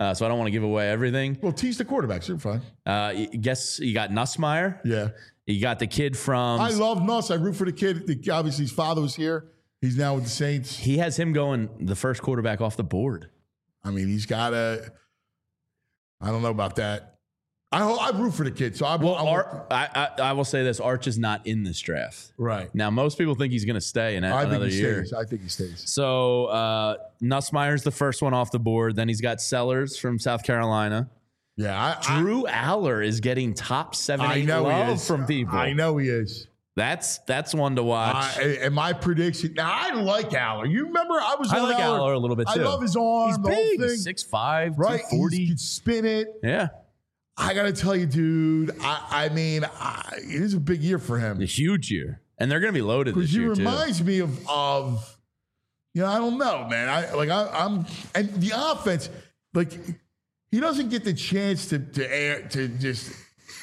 so I don't want to give away everything. Well, tease the quarterbacks. You're fine. Guess you got Nussmeier. Yeah. You got the kid from. I love Nuss. I root for the kid. Obviously, his father was here. He's now with the Saints. He has him going the first quarterback off the board. I mean, he's got I don't know about that. I root for the kid. So I will say this: Arch is not in this draft. Right. Now, most people think he's going to stay in another year. I think he stays. So Nussmeier's the first one off the board. Then he's got Sellers from South Carolina. Yeah. Drew Aller is getting top 7-8 love from people. I know he is. That's one to watch. And my prediction. Now, I like Aller. You remember I like Aller a little bit, too. I love his arm. He's big. 6'5", right? 240. He can spin it. Yeah. I got to tell you, dude, I mean, it is a big year for him. A huge year. And they're going to be loaded this year, too. He reminds me of I don't know, man. I'm and the offense, like, he doesn't get the chance to just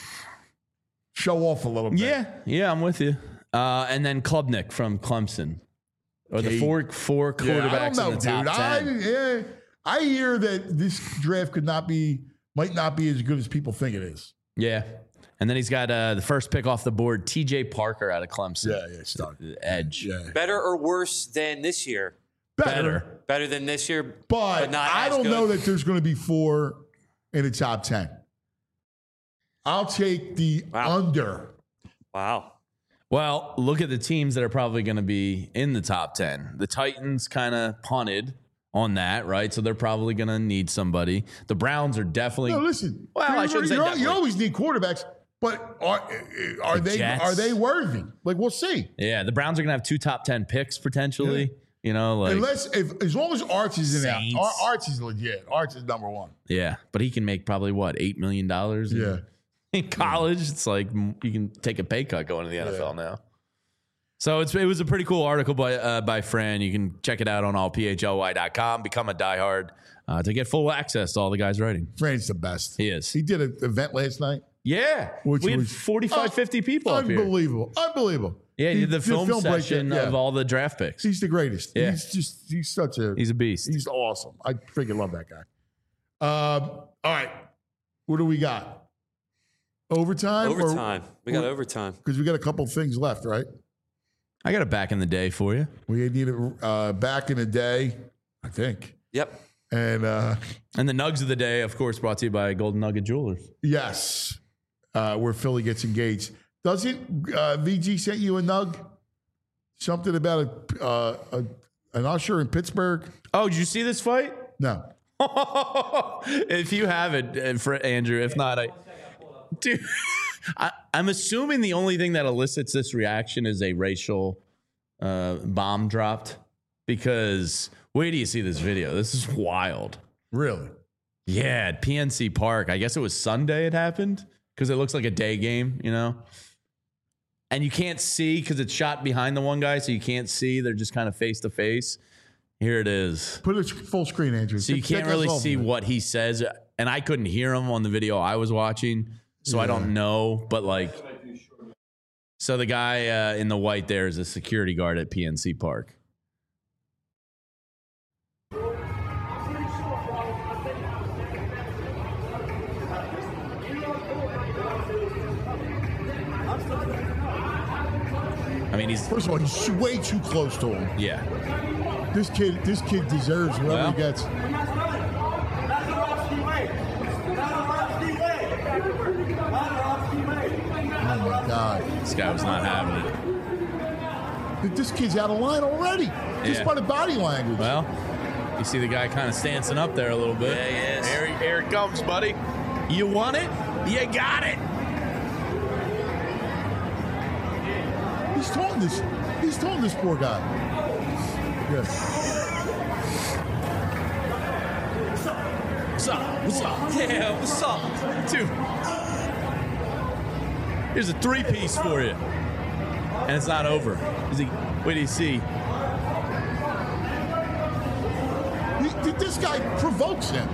show off a little bit. Yeah, I'm with you. And then Klubnik from Clemson. Or the four quarterbacks in the top 10. I hear that this draft might not be as good as people think it is. Yeah. And then he's got the first pick off the board, T.J. Parker out of Clemson. Yeah, start. Edge. Yeah. Better or worse than this year? Better than this year, but not I don't know that there's going to be 4 in the top 10. I'll take the under. Wow. Well, look at the teams that are probably going to be in the top 10. The Titans kind of punted on that, right? So they're probably going to need somebody. The Browns are definitely. No, listen. Well, I shouldn't say definitely. You always need quarterbacks, but are they worthy? Like, we'll see. Yeah, the Browns are going to have 2 top 10 picks potentially. Yeah. You know, like as long as Arch is in there, Arch is legit. Arch is number 1. Yeah, but he can make probably $8 million. In college, it's like you can take a pay cut going to the NFL now. So it was a pretty cool article by Fran. You can check it out on allphly.com. Become a diehard to get full access to all the guys writing. Fran's the best. He is. He did an event last night. Yeah. We had 45, 50 people up here. Unbelievable. Yeah, he did the film session of all the draft picks. He's the greatest. Yeah. He's a beast. He's awesome. I freaking love that guy. All right. What do we got? Overtime? We got overtime. Because we got a couple things left, right? I got a back in the day for you. We need it back in the day, I think. Yep. And the Nugs of the day, of course, brought to you by Golden Nugget Jewelers. Yes. Where Philly gets engaged. Doesn't VG sent you a nug? Something about an usher in Pittsburgh? Oh, did you see this fight? No. If you haven't, for Andrew, if not, dude, I'm assuming the only thing that elicits this reaction is a racial bomb dropped. Because wait till you see this video. This is wild. Really? Yeah, at PNC Park. I guess it was Sunday it happened because it looks like a day game, you know? And you can't see because it's shot behind the one guy, so you can't see. They're just kind of face to face. Here it is. Put it full screen, Andrew. So you can't really see what he says. And I couldn't hear him on the video I was watching, so I don't know. But like, so the guy in the white there is a security guard at PNC Park. I mean, first of all, he's way too close to him. Yeah. This kid deserves whatever he gets. Oh my God. This guy was not having it. This kid's out of line already. Just by the body language. Well, you see the guy kind of stancing up there a little bit. Yeah, he is. Here it comes, buddy. You want it? You got it. He's told this poor guy. Yes. What's up? Yeah, what's up? Dude. Here's a 3-piece for you. And it's not over. Wait till you see. This guy provokes him.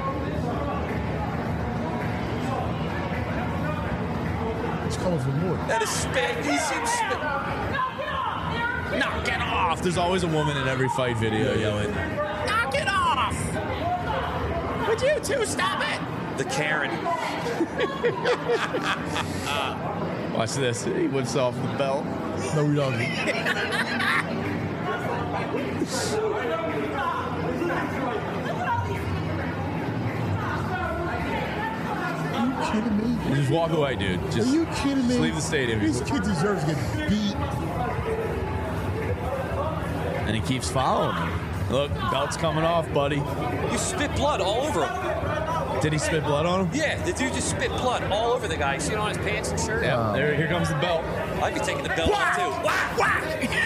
He's coming for more. That is spit. He seems spit. Knock it off. There's always a woman in every fight video yelling, knock it off. Would you two stop it? The Karen. Watch this. He whips off the belt. No, we don't. Are you kidding me? Just walk away, dude. Just, Are you kidding me? just leave the stadium. This kid deserves to get beat. And he keeps following him. Look, belt's coming off, buddy. You spit blood all over him. Did he spit blood on him? Yeah, the dude just spit blood all over the guy. You see it on his pants and shirt? Yeah, here comes the belt. I'd be taking the belt off too. Whack, whack.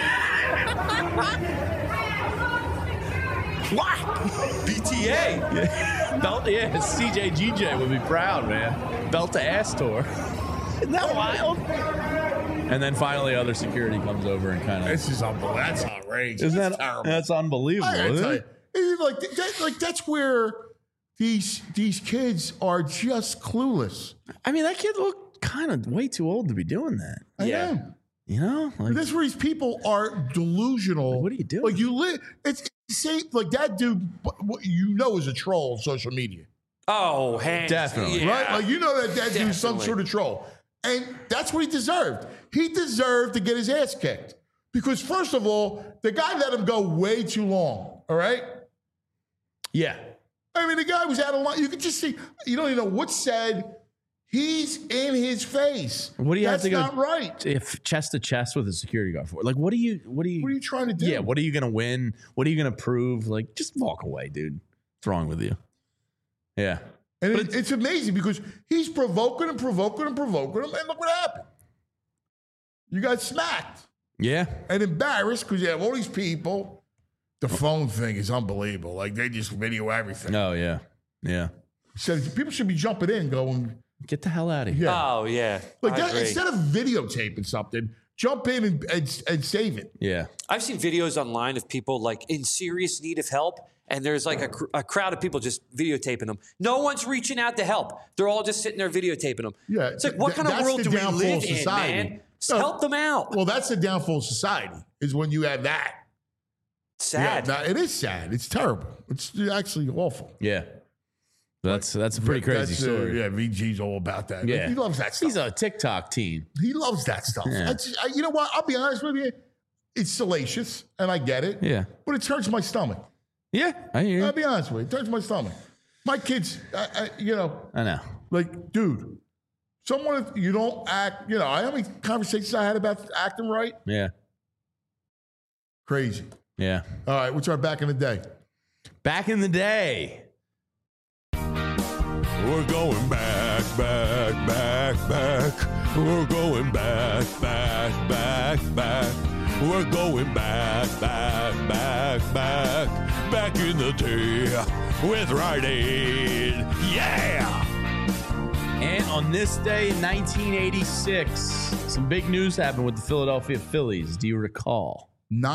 Whack! BTA. Belt, yeah, CJGJ would be proud, man. Belt to ass tour. Isn't that wild? And then finally, other security comes over and kind of. This is unbelievable. That's outrageous. Isn't that terrible? That's unbelievable. I gotta Isn't tell it? you, it's like that's where these kids are just clueless. I mean, that kid looked kind of way too old to be doing that. I Yeah. am. You know, like, That's where these people are delusional. Like, what are you doing? Like you live. It's same. Like that dude. What you know is a troll on social media, Oh, hands. Definitely. Yeah. right? Like you know that dude's some Definitely. sort of troll, and that's what he deserved. He deserved to get his ass kicked because first of all, the guy let him go way too long. All right. yeah, I mean, the guy was out of line. You could just see. You don't even know what's said. He's in his face. What do you That's have to go not right. if chest to chest with a security guard for? Like, what are you? What are you trying to do? Yeah, what are you gonna win? What are you gonna prove? Like, just walk away, dude. What's wrong with you? Yeah, And it's amazing because he's provoking him, and look what happened. You got smacked yeah. and embarrassed because you have all these people. The phone thing is unbelievable. Like they just video everything. Oh yeah, yeah. So people should be jumping in, going, Get the hell out of here. yeah. Oh, yeah. Like I that, agree. instead of videotaping something, jump in and save it. Yeah. I've seen videos online of people like in serious need of help, and there's like a crowd of people just videotaping them. No one's reaching out to help. They're all just sitting there videotaping them. Yeah, It's like, what kind of that's world the do we downfall live of in, society. man? Just No. help them out. Well, that's the downfall of society is when you have that. Sad. Yeah, it is sad. It's terrible. It's actually awful. Yeah. That's a pretty crazy That's, story. Yeah, VG's all about that. Yeah. He loves that stuff. He's a TikTok teen. He loves that stuff. Yeah. You know what? I'll be honest with you. It's salacious, and I get it. Yeah. But it turns my stomach. Yeah, I hear I'll you. be honest with you. It turns my stomach. My kids, you know, I know. like, dude, someone, if you don't act, you know, how many conversations I had about acting right? Yeah. Crazy. Yeah. All right, what's our back in the day? Back in the day. We're going back, back, back, back. We're going back, back, back, back. We're going back, back, back, back. Back in the day with Rite Aid. Yeah! And on this day in 1986, some big news happened with the Philadelphia Phillies. Do you recall?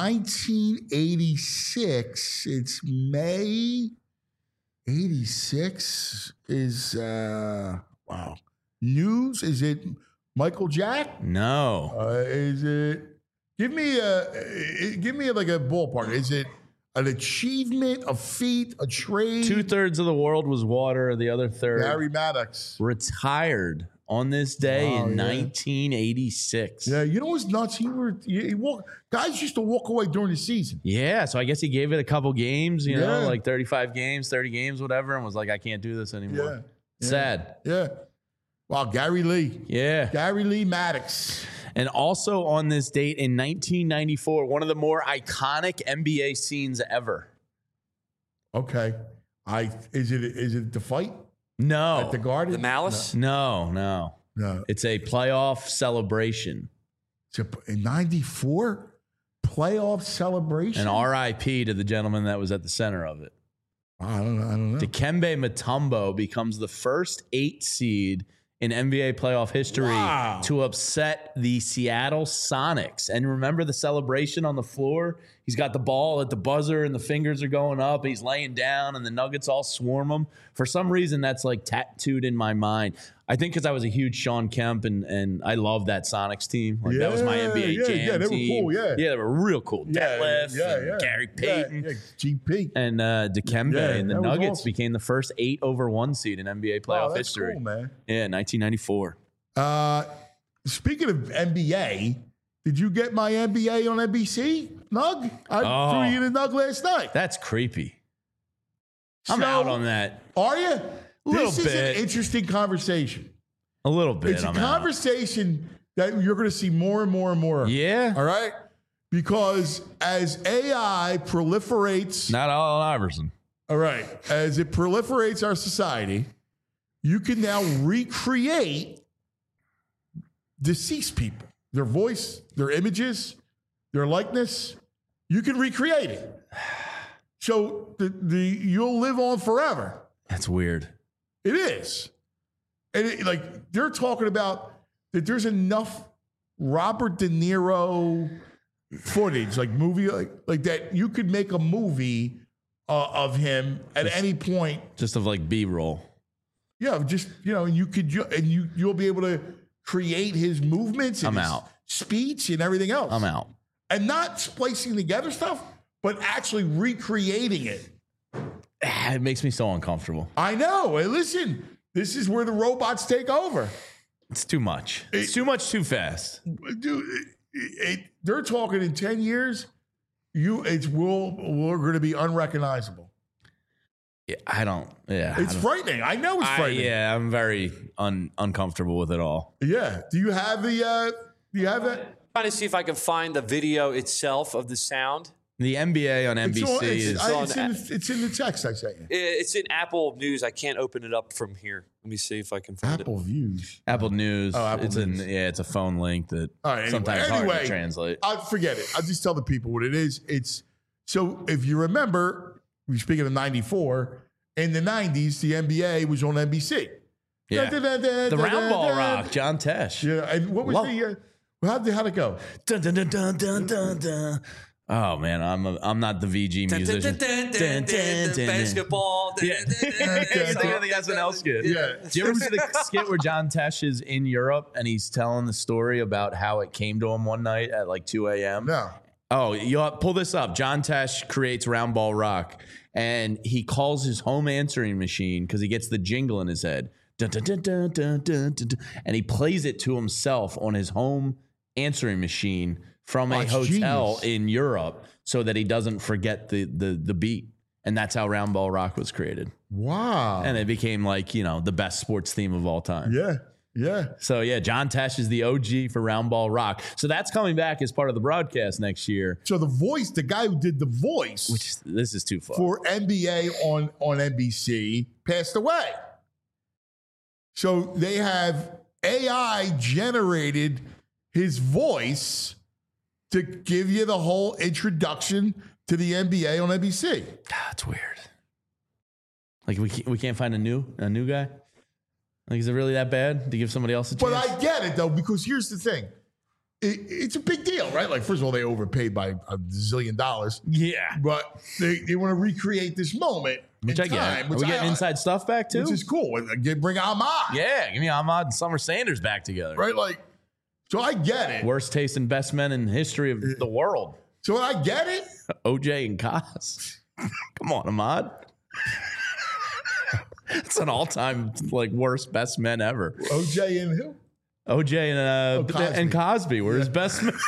1986. It's May 86 is wow. News? Is it Michael Jack? No. Is it? Give me like a ballpark. Is it an achievement, a feat, a trade? 2/3 of the world was water. The other third Barry Maddox. retired on this day Oh, in yeah. 1986. Yeah, you know what's nuts? He guys used to walk away during the season. Yeah, so I guess he gave it a couple games, you know, Yeah. like 35 games, 30 games, whatever, and was like, I can't do this anymore. Yeah. Sad. Yeah. Wow, Gary Lee. Yeah. Gary Lee Maddox. And also on this date in 1994, one of the more iconic NBA scenes ever. Okay. Is it the fight No. at the Garden? The Malice? No. No. It's a playoff celebration. It's in 94 playoff celebration. An RIP to the gentleman that was at the center of it. I don't know. Dikembe Mutombo becomes the first 8 seed in NBA playoff history Wow. to upset the Seattle Sonics. And remember the celebration on the floor? He's got the ball at the buzzer and the fingers are going up. He's laying down and the Nuggets all swarm him. For some reason, that's like tattooed in my mind. I think because I was a huge Sean Kemp and I love that Sonics team. Like that was my NBA Jam they team. Were cool, yeah, they were real cool. Detlef, and Gary Payton, GP, and Dikembe, and the Nuggets awesome. became the first 8-over-1 seed in NBA playoff history. Cool, man. Yeah, 1994. Speaking of NBA, did you get my NBA on NBC, Nug? I threw you the Nug last night. That's creepy. I'm out on that. Are you? This is an interesting conversation. A little bit. It's a conversation that you're going to see more and more and more. Yeah. All right? Because as AI proliferates. Not Allen Iverson. All right. As it proliferates our society, you can now recreate deceased people. Their voice, their images, their likeness. You can recreate it. So you'll live on forever. That's weird. It is. And they're talking about that there's enough Robert De Niro footage, movie, like that you could make a movie of him at any point. Just of B-roll. Yeah, and you'll be able to create his movements and his speech and everything else. I'm out. And not splicing together stuff, but actually recreating it. It makes me so uncomfortable. I know. Hey, listen, this is where the robots take over. It's too much. It's too much too fast. Dude, they're talking in 10 years, we're going to be unrecognizable. Yeah, I don't. Yeah, it's frightening. I know it's frightening. I'm very uncomfortable with it all. Yeah. Do you have that? I'm trying to see if I can find the video itself of the sound. The NBA on NBC it's in the text I sent you. It's in Apple News. I can't open it up from here. Let me see if I can find Apple Views. Apple News. Oh, Apple News. It's a phone link that sometimes hard to translate. I'll forget it. I'll just tell the people what it is. So if you remember, speaking of 94, in the 90s, the NBA was on NBC. Yeah. The round ball rock, John Tesh. Yeah. And what was how'd it go? Dun, dun, dun, dun, dun, dun, dun. Oh man, I'm not the VG musician. Basketball. Yeah, the SNL skit. Yeah. Do you ever see the skit where John Tesh is in Europe and he's telling the story about how it came to him one night at 2 a.m.? No. Oh, you'll pull this up. John Tesh creates Round Ball Rock, and he calls his home answering machine because he gets the jingle in his head. Dun, dun, dun, dun, dun, dun, dun, dun, and he plays it to himself on his home answering machine from a hotel in Europe so that he doesn't forget the beat. And that's how Round Ball Rock was created. Wow. And it became the best sports theme of all time. Yeah. Yeah. So, John Tesh is the OG for Round Ball Rock. So that's coming back as part of the broadcast next year. So the guy who did the voice. Which this is too far. For NBA on NBC passed away. So they have AI generated his voice to give you the whole introduction to the NBA on NBC. That's weird. We can't find a new guy? Is it really that bad to give somebody else a chance? But I get it, though, because here's the thing. It's a big deal, right? First of all, they overpaid by $1 zillion. Yeah. But they want to recreate this moment. Which I get. Are we getting inside stuff back, too? Which is cool. Bring Ahmad. Yeah, give me Ahmad and Summer Sanders back together. Right? So I get it. Worst taste in best men in the history of the world. So I get it. OJ and Kaz. Come on, Ahmad. It's an all-time worst best men ever. OJ and who? OJ and Cosby were his best men.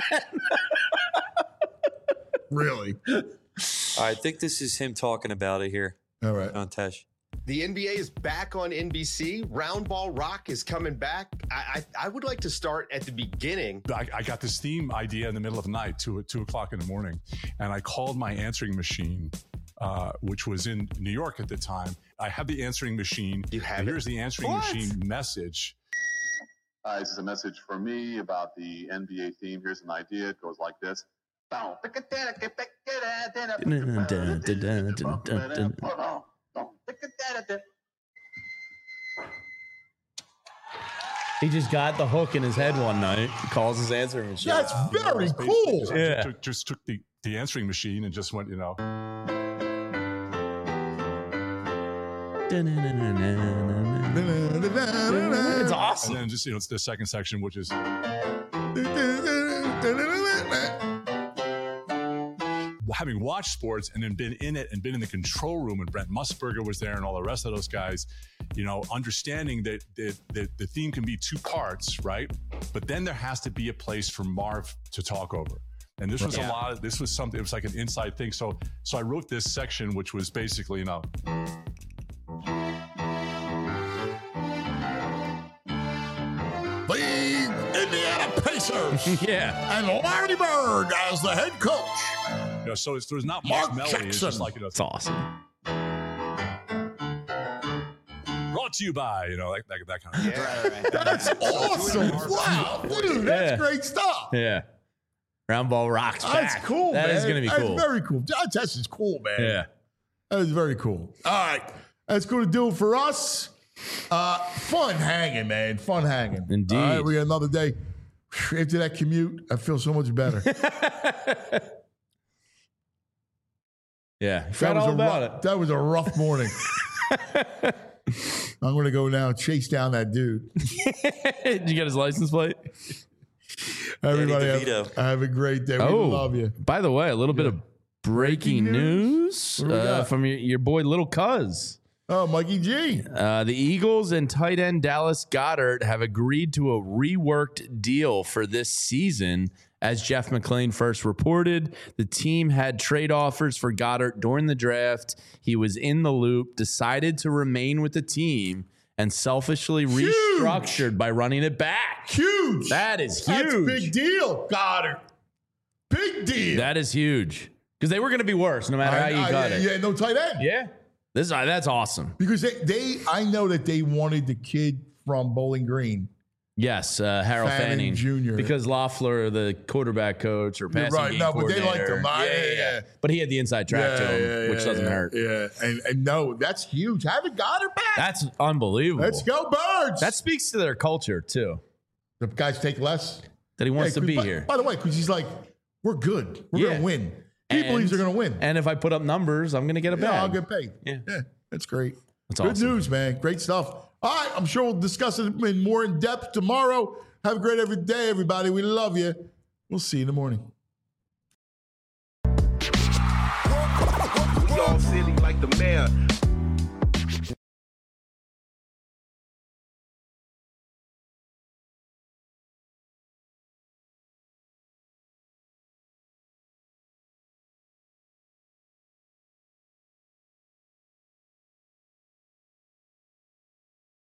Really? I think this is him talking about it here. All right. On Tesh. The NBA is back on NBC. Round Ball Rock is coming back. I would like to start at the beginning. I got this theme idea in the middle of the night, 2 o'clock in the morning, and I called my answering machine, which was in New York at the time. I have the answering machine. You have Here's the answering machine message. This is a message for me about the NBA theme. Here's an idea. It goes like this. He just got the hook in his head one night. He calls his answering machine. That's very cool. Yeah. Just took the answering machine and just went, It's awesome. And then just, it's the second section, which is having watched sports and then been in it and been in the control room, and Brent Musburger was there and all the rest of those guys, understanding that the theme can be two parts, right? But then there has to be a place for Marv to talk over. And this was this was something, it was like an inside thing. So I wrote this section, which was basically, The Indiana Pacers. Yeah. And Larry Bird as the head coach. So there's not Mark much melody. Jackson. It's just like, It's awesome. brought to you by, that kind of thing. Right. That's awesome. Wow. Dude, that's great stuff. Yeah. Round ball rocks back. That's cool, man. That is going to be cool. That's very cool. That's just cool, man. Yeah. That is very cool. All right. That's going to do it for us. Fun hanging, man. Fun hanging. Indeed. All right, we got another day. After that commute, I feel so much better. Yeah. That was a rough morning. I'm going to go now chase down that dude. Did you get his license plate? Everybody have a great day. We love you. By the way, a little bit of breaking news from your boy Little Cuz. Oh, Mikey G. The Eagles and tight end Dallas Goedert have agreed to a reworked deal for this season. As Jeff McClain first reported, the team had trade offers for Goddard during the draft. He was in the loop, decided to remain with the team, and selfishly restructured by running it back. Huge. That is huge. That's a big deal, Goddard. Big deal. That is huge. Because they were going to be worse no matter how you cut it. Yeah, no tight end. Yeah. That's awesome. Because I know that they wanted the kid from Bowling Green. Yes, Harold Fanning Jr. Because Loeffler, the quarterback coach or passing game but they liked him. Yeah. But he had the inside track to him, which doesn't hurt. Yeah, and no, that's huge. Having Goddard back. That's unbelievable. Let's go, Birds. That speaks to their culture, too. The guys take less. That he wants to be here. By the way, because he's like, we're good. We're going to win. He believes they're going to win. And if I put up numbers, I'm going to get a bag. Yeah, I'll get paid. Yeah. That's great. That's good awesome. news, man. Great stuff. All right, I'm sure we'll discuss it more in depth tomorrow. Have a great every day, everybody. We love you. We'll see you in the morning.